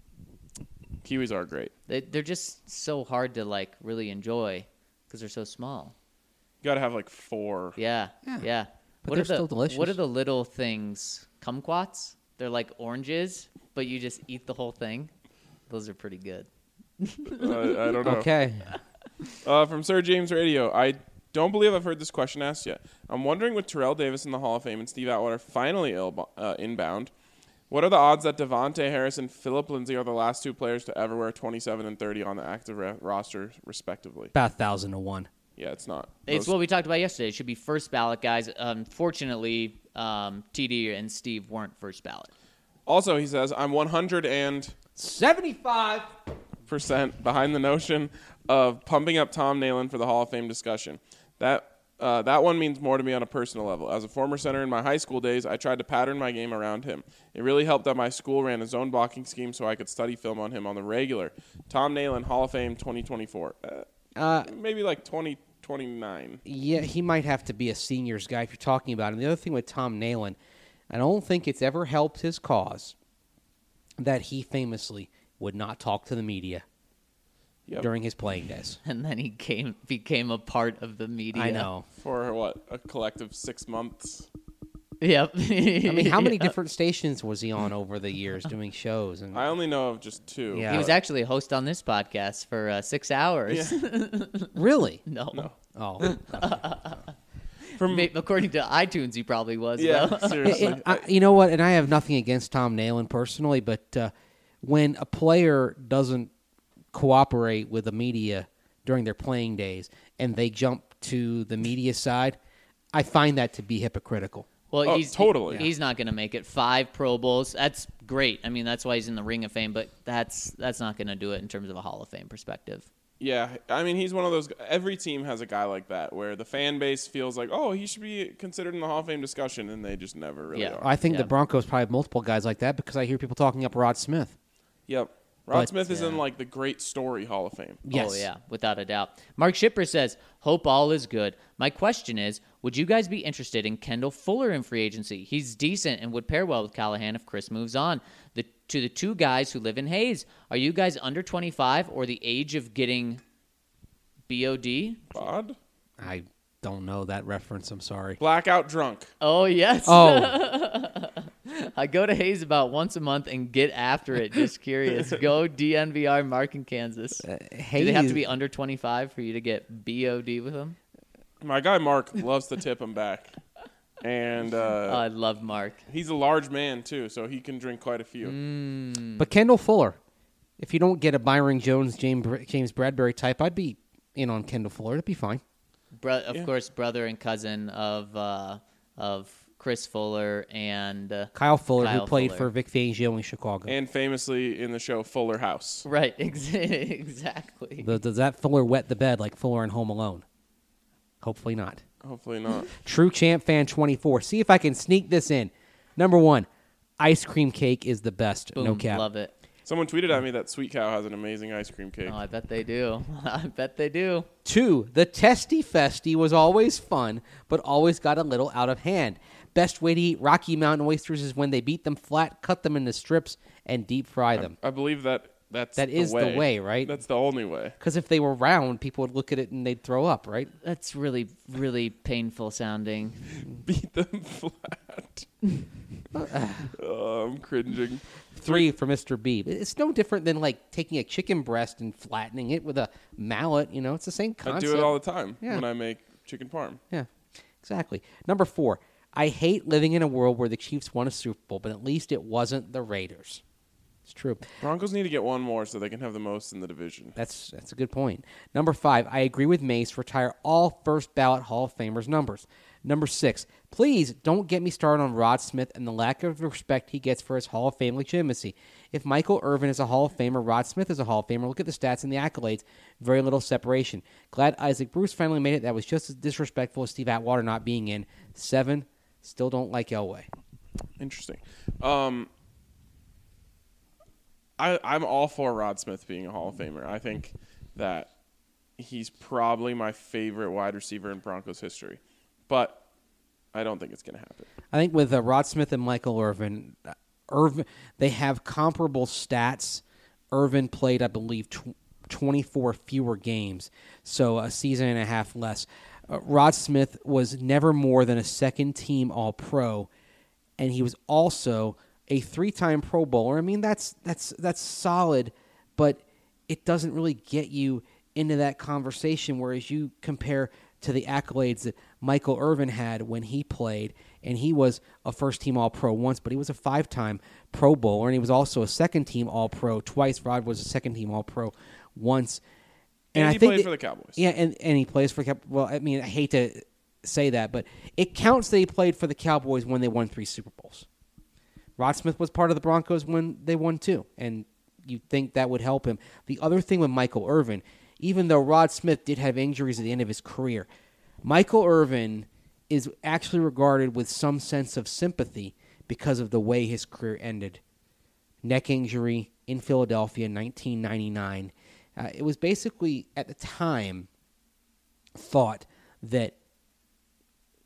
Kiwis are great. They, they're just so hard to like really enjoy because they're so small. You got to have like four. Yeah, Yeah. yeah. But what they're are the, still delicious. What are the little things? Kumquats? They're like oranges, but you just eat the whole thing. Those are pretty good. Uh, I don't know. Okay. Uh, from Sir James Radio, I don't believe I've heard this question asked yet. I'm wondering with Terrell Davis in the Hall of Fame and Steve Atwater finally Ill, uh, inbound, what are the odds that Devontae Harris and Philip Lindsay are the last two players to ever wear twenty-seven and thirty on the active ra- roster, respectively? About a thousand to one. Yeah, it's not. It's Those- what we talked about yesterday. It should be first ballot guys. Unfortunately, um, T D and Steve weren't first ballot. Also, he says, I'm one hundred and Seventy-five. percent behind the notion of pumping up Tom Nalen for the Hall of Fame discussion. That uh, that one means more to me on a personal level. As a former center in my high school days, I tried to pattern my game around him. It really helped that my school ran a zone blocking scheme so I could study film on him on the regular. Tom Nalen, Hall of Fame twenty twenty-four. Uh, Uh, maybe like twenty twenty-nine. Yeah, he might have to be a seniors guy if you're talking about him. The other thing with Tom Nalen, I don't think it's ever helped his cause that he famously would not talk to the media Yep. during his playing days. And then he came became a part of the media. I know. For what, a collective six months? Yep. I mean, how many different stations was he on over the years doing shows? And I only know of just two. Yeah. He was actually a host on this podcast for uh, six hours. really? no. No. Oh, From Ma- According to iTunes, he probably was. yeah, though. seriously. And I, you know what? And I have nothing against Tom Nalen personally, but uh, when a player doesn't cooperate with the media during their playing days and they jump to the media side, I find that to be hypocritical. Well, Oh, he's totally. He's not going to make it. Five Pro Bowls. That's great. I mean, that's why he's in the Ring of Fame. But that's that's not going to do it in terms of a Hall of Fame perspective. Yeah, I mean, he's one of those. Every team has a guy like that where the fan base feels like, oh, he should be considered in the Hall of Fame discussion, and they just never really Yeah. are. I think Yeah. the Broncos probably have multiple guys like that because I hear people talking up Rod Smith. Yep. Rod But- Smith is in yeah. like the Great Story Hall of Fame. Yes. Oh, yeah, without a doubt. Mark Shipper says, hope all is good. My question is, would you guys be interested in Kendall Fuller in free agency? He's decent and would pair well with Callahan if Chris moves on. The, to the two guys who live in Hayes, are you guys under twenty-five or the age of getting B O D? Bod? I don't know that reference. I'm sorry. Blackout drunk. Oh, yes. Oh, I go to Hayes about once a month and get after it. Just curious. Go D N V R Mark in Kansas. Uh, Do they have to Hayes- be under twenty-five for you to get B O D with them? My guy Mark loves to tip him back. And uh, Oh, I love Mark. he's a large man, too, so he can drink quite a few. Mm. But Kendall Fuller, if you don't get a Byron Jones, James James Bradbury type, I'd be in on Kendall Fuller. It'd be fine. Bro- of Yeah. course, brother and cousin of uh, of Chris Fuller and uh, Kyle Fuller, Kyle who played Fuller. for Vic Fangio in Chicago. And famously in the show Fuller House. right, ex- exactly. The- does that Fuller wet the bed like Fuller in Home Alone? Hopefully not. Hopefully not. True Champ Fan twenty-four. See if I can sneak this in. Number one, ice cream cake is the best. Boom, no cap. love it. Someone tweeted at me that Sweet Cow has an amazing ice cream cake. Oh, I bet they do. I bet they do. Two, the Testy Festy was always fun, but always got a little out of hand. Best way to eat Rocky Mountain oysters is when they beat them flat, cut them into strips, and deep fry them. I believe that that's That the is the way. way, right? That's the only way. Because if they were round, people would look at it and they'd throw up, right? That's really, really painful sounding. Beat them flat. oh, I'm cringing. Three for Mister B. It's no different than like taking a chicken breast and flattening it with a mallet. You know, it's the same I concept. do it all the time Yeah. when I make chicken parm. Yeah, exactly. Number four, I hate living in a world where the Chiefs won a Super Bowl, but at least it wasn't the Raiders. It's true. Broncos need to get one more so they can have the most in the division. That's that's a good point. Number five, I agree with Mace. Retire all first ballot Hall of Famers numbers. Number six, please don't get me started on Rod Smith and the lack of respect he gets for his Hall of Fame legitimacy. If Michael Irvin is a Hall of Famer, Rod Smith is a Hall of Famer. Look at the stats and the accolades. Very little separation. Glad Isaac Bruce finally made it. That was just as disrespectful as Steve Atwater not being in. Seven, still don't like Elway. Interesting. Um, I, I'm all for Rod Smith being a Hall of Famer. I think that he's probably my favorite wide receiver in Broncos history. But I don't think it's going to happen. I think with uh, Rod Smith and Michael Irvin, uh, Irvin, they have comparable stats. Irvin played, I believe, tw- twenty-four fewer games, so a season and a half less. Uh, Rod Smith was never more than a second-team All-Pro, and he was also a three-time Pro Bowler. I mean, that's that's that's solid, but it doesn't really get you into that conversation. Whereas you compare to the accolades that Michael Irvin had when he played, and he was a first-team All-Pro once, but he was a five-time Pro Bowler, and he was also a second-team All-Pro twice. Rod was a second-team All-Pro once. And, I he think played that- for the Cowboys. Yeah, and, and he plays for Cow- well, I mean, I hate to say that, but it counts that he played for the Cowboys when they won three Super Bowls. Rod Smith was part of the Broncos when they won two, and you'd think that would help him. The other thing with Michael Irvin, even though Rod Smith did have injuries at the end of his career, Michael Irvin is actually regarded with some sense of sympathy because of the way his career ended. Neck injury in Philadelphia in nineteen ninety-nine. Uh, it was basically, at the time, thought that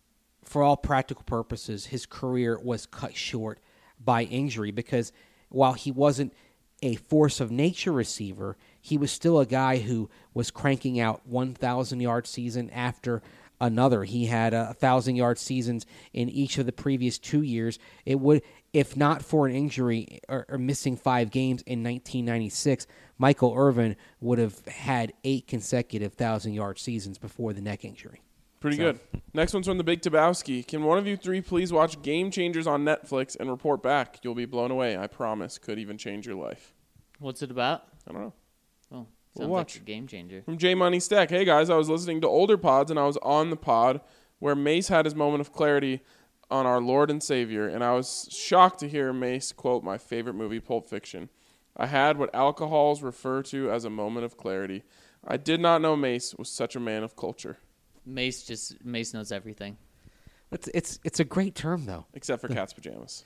for all practical purposes, his career was cut short by injury because while he wasn't a force of nature receiver, he was still a guy who was cranking out one thousand yard season after another. He had a one thousand yard seasons in each of the previous two years. It would, if not for an injury or, or missing five games in nineteen ninety-six, Michael Irvin would have had eight consecutive one thousand yard seasons before the neck injury. Pretty So- good. Next one's from the Big Tabowski. Can one of you three please watch Game Changers on Netflix and report back? You'll be blown away. I promise. Could even change your life. What's it about? I don't know. Oh, sounds We'll like watch. a game changer. From J Money Stack. Hey guys, I was listening to older pods and I was on the pod where Mace had his moment of clarity on our Lord and Savior, and I was shocked to hear Mace quote my favorite movie, Pulp Fiction. I had what alcohols refer to as a moment of clarity. I did not know Mace was such a man of culture, Mace just Mace knows everything. It's it's it's a great term though. except for cat's pajamas.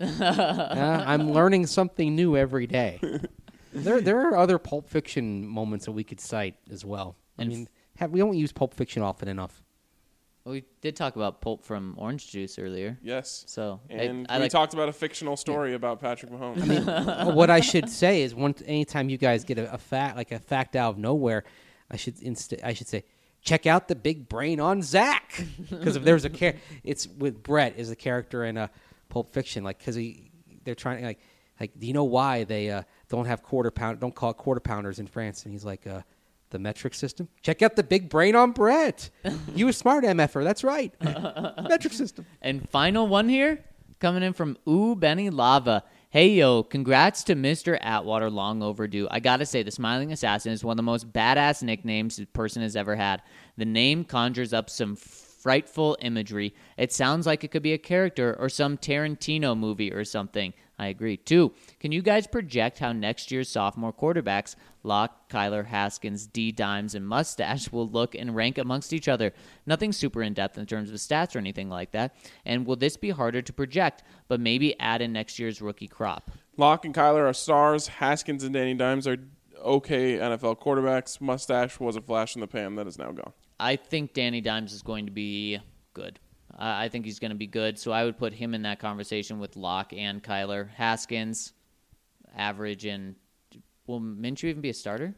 Uh, I'm learning something new every day. There there are other Pulp Fiction moments that we could cite as well. I And mean, have, we don't use Pulp Fiction often enough. Well, we did talk about pulp from Orange Juice earlier. Yes. So I- And I, we like talked about a fictional story about Patrick Mahomes. What I should say is, one anytime you guys get a, a fact like a fact out of nowhere, I should inst- I should say, check out the big brain on Zach, because if there's a char- it's with Brett is a character in a Pulp Fiction, like because he they're trying like like do you know why they uh, don't have quarter pound don't call it quarter pounders in France, and he's like uh, the metric system. Check out the big brain on Brett. You a smart M F er, that's right. Metric system. And final one here, coming in from Ooh Benny Lava. Hey yo, congrats to Mister Atwater, long overdue. I gotta say, the Smiling Assassin is one of the most badass nicknames a person has ever had. The name conjures up some frightful imagery. It sounds like it could be a character or some Tarantino movie or something. I agree. Two, can you guys project how next year's sophomore quarterbacks, Locke, Kyler, Haskins, D. Dimes, and Mustache, will look and rank amongst each other? Nothing super in-depth in terms of stats or anything like that. And will this be harder to project, but maybe add in next year's rookie crop? Locke and Kyler are stars. Haskins and Danny Dimes are okay N F L quarterbacks. Mustache was a flash in the pan that is now gone. I think Danny Dimes is going to be good. I I think he's going to be good, so I would put him in that conversation with Locke and Kyler. Haskins, average, and will Minshew even be a starter?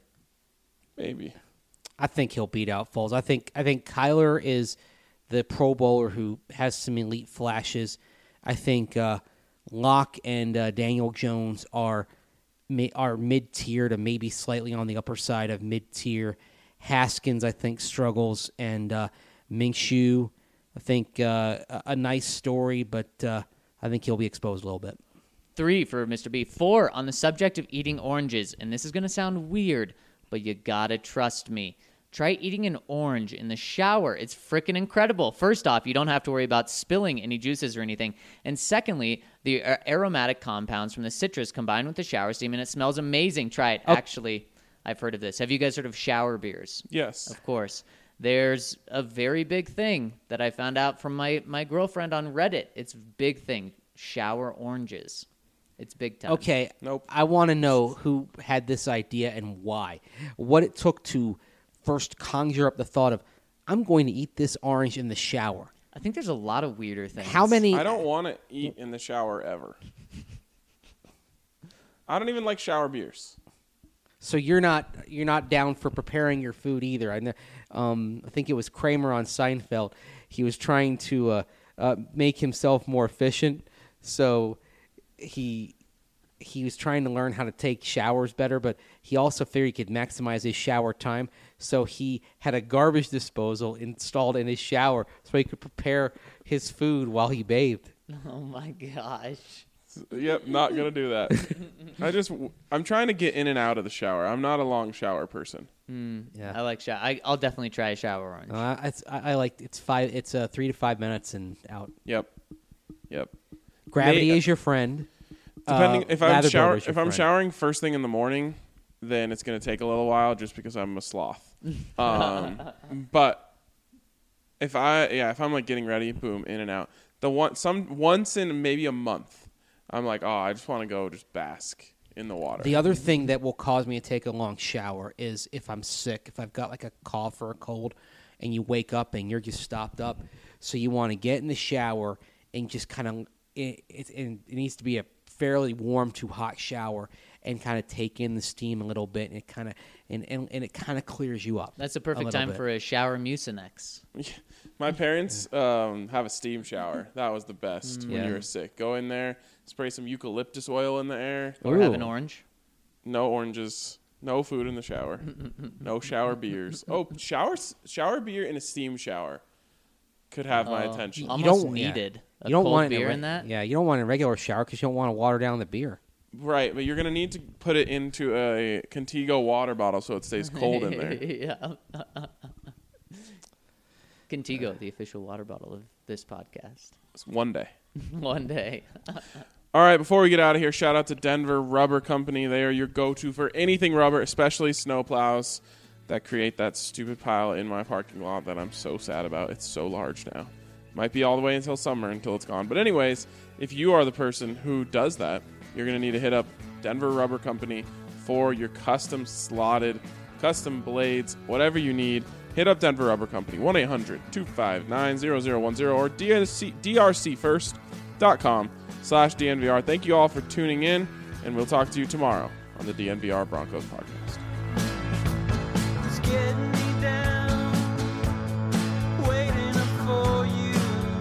Maybe. I think he'll beat out Foles. I think I think Kyler is the Pro Bowler who has some elite flashes. I think uh, Locke and uh, Daniel Jones are ma- are mid tier to maybe slightly on the upper side of mid tier. Haskins, I think, struggles, and uh, Minshew, I think uh, a, a nice story, but uh, I think he'll be exposed a little bit. Three for Mister B. Four, on the subject of eating oranges, and this is going to sound weird, but you gotta trust me. Try eating an orange in the shower. It's freaking incredible. First off, you don't have to worry about spilling any juices or anything. And secondly, the a- aromatic compounds from the citrus combine with the shower steam, and it smells amazing. Try it. Actually, I've heard of this. Have you guys heard of shower beers? Yes. Of course. There's a very big thing that I found out from my, my girlfriend on Reddit. It's a big thing. Shower oranges. It's big time. Okay, Nope. I want to know who had this idea and why. What it took to first conjure up the thought of, I'm going to eat this orange in the shower. I think there's a lot of weirder things. How many? I don't want to eat in the shower ever. I don't even like shower beers. So you're not you're not down for preparing your food either. I know. Um, I think it was Kramer on Seinfeld. He was trying to uh, uh, make himself more efficient, so he he was trying to learn how to take showers better. But he also figured he could maximize his shower time. So he had a garbage disposal installed in his shower, so he could prepare his food while he bathed. Oh my gosh. Yep, not gonna do that. I just I'm trying to get in and out of the shower. I'm not a long shower person. Yeah. I like shower. I, I'll definitely try a shower orange. Uh, it's, I, I like it's five. It's uh, three to five minutes and out. Yep. Yep. Gravity May- is your friend. Depending Uh, if I'm lather shower builder is your if I'm friend. showering first thing in the morning, then it's gonna take a little while just because I'm a sloth. Um, but if I yeah if I'm like getting ready, boom, in and out. The one some once in maybe a month, I'm like, oh, I just want to go just bask in the water. The other thing that will cause me to take a long shower is if I'm sick, if I've got like a cough or a cold, and you wake up and you're just stopped up. So you want to get in the shower and just kind of, it, it, it needs to be a fairly warm to hot shower and kind of take in the steam a little bit, and it kind of and, and, and it kind of clears you up. That's a perfect a time bit. for a shower Mucinex. My parents um, have a steam shower. That was the best when Yeah. you were sick. Go in there, spray some eucalyptus oil in the air. Or have an Ooh. orange. No oranges. No food in the shower. No shower beers. Oh, shower shower beer in a steam shower could have my Oh, attention. Almost don't- yeah. needed a You don't cold want it in, beer a, re- in that. Yeah, you don't want it in a regular shower because you don't want to water down the beer. Right, but you're gonna need to put it into a Contigo water bottle so it stays cold in there. yeah. Contigo, the official water bottle of this podcast. It's one day. One day. All right, before we get out of here, shout out to Denver Rubber Company. They are your go-to for anything rubber, especially snowplows that create that stupid pile in my parking lot that I'm so sad about. It's so large now. Might be all the way until summer until it's gone. But anyways, if you are the person who does that, you're going to need to hit up Denver Rubber Company for your custom slotted, custom blades, whatever you need. Hit up Denver Rubber Company, one eight hundred two five nine zero zero one zero or D R C first dot com slash D N V R. Thank you all for tuning in, and we'll talk to you tomorrow on the D N V R Broncos podcast. It's getting me down, waiting up for you.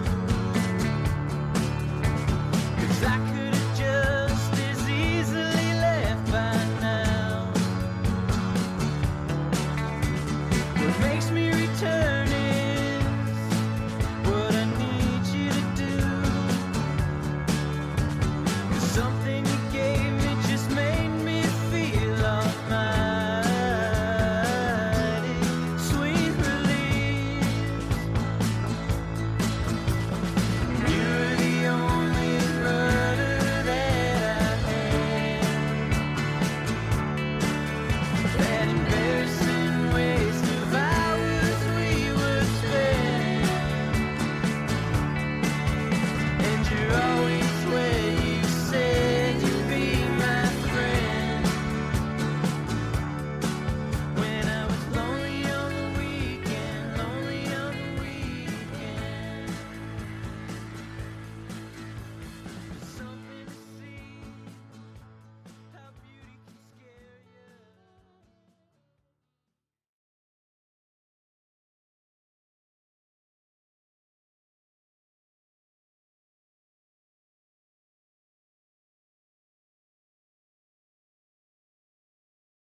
'Cause I could have just as easily left by now. What makes me return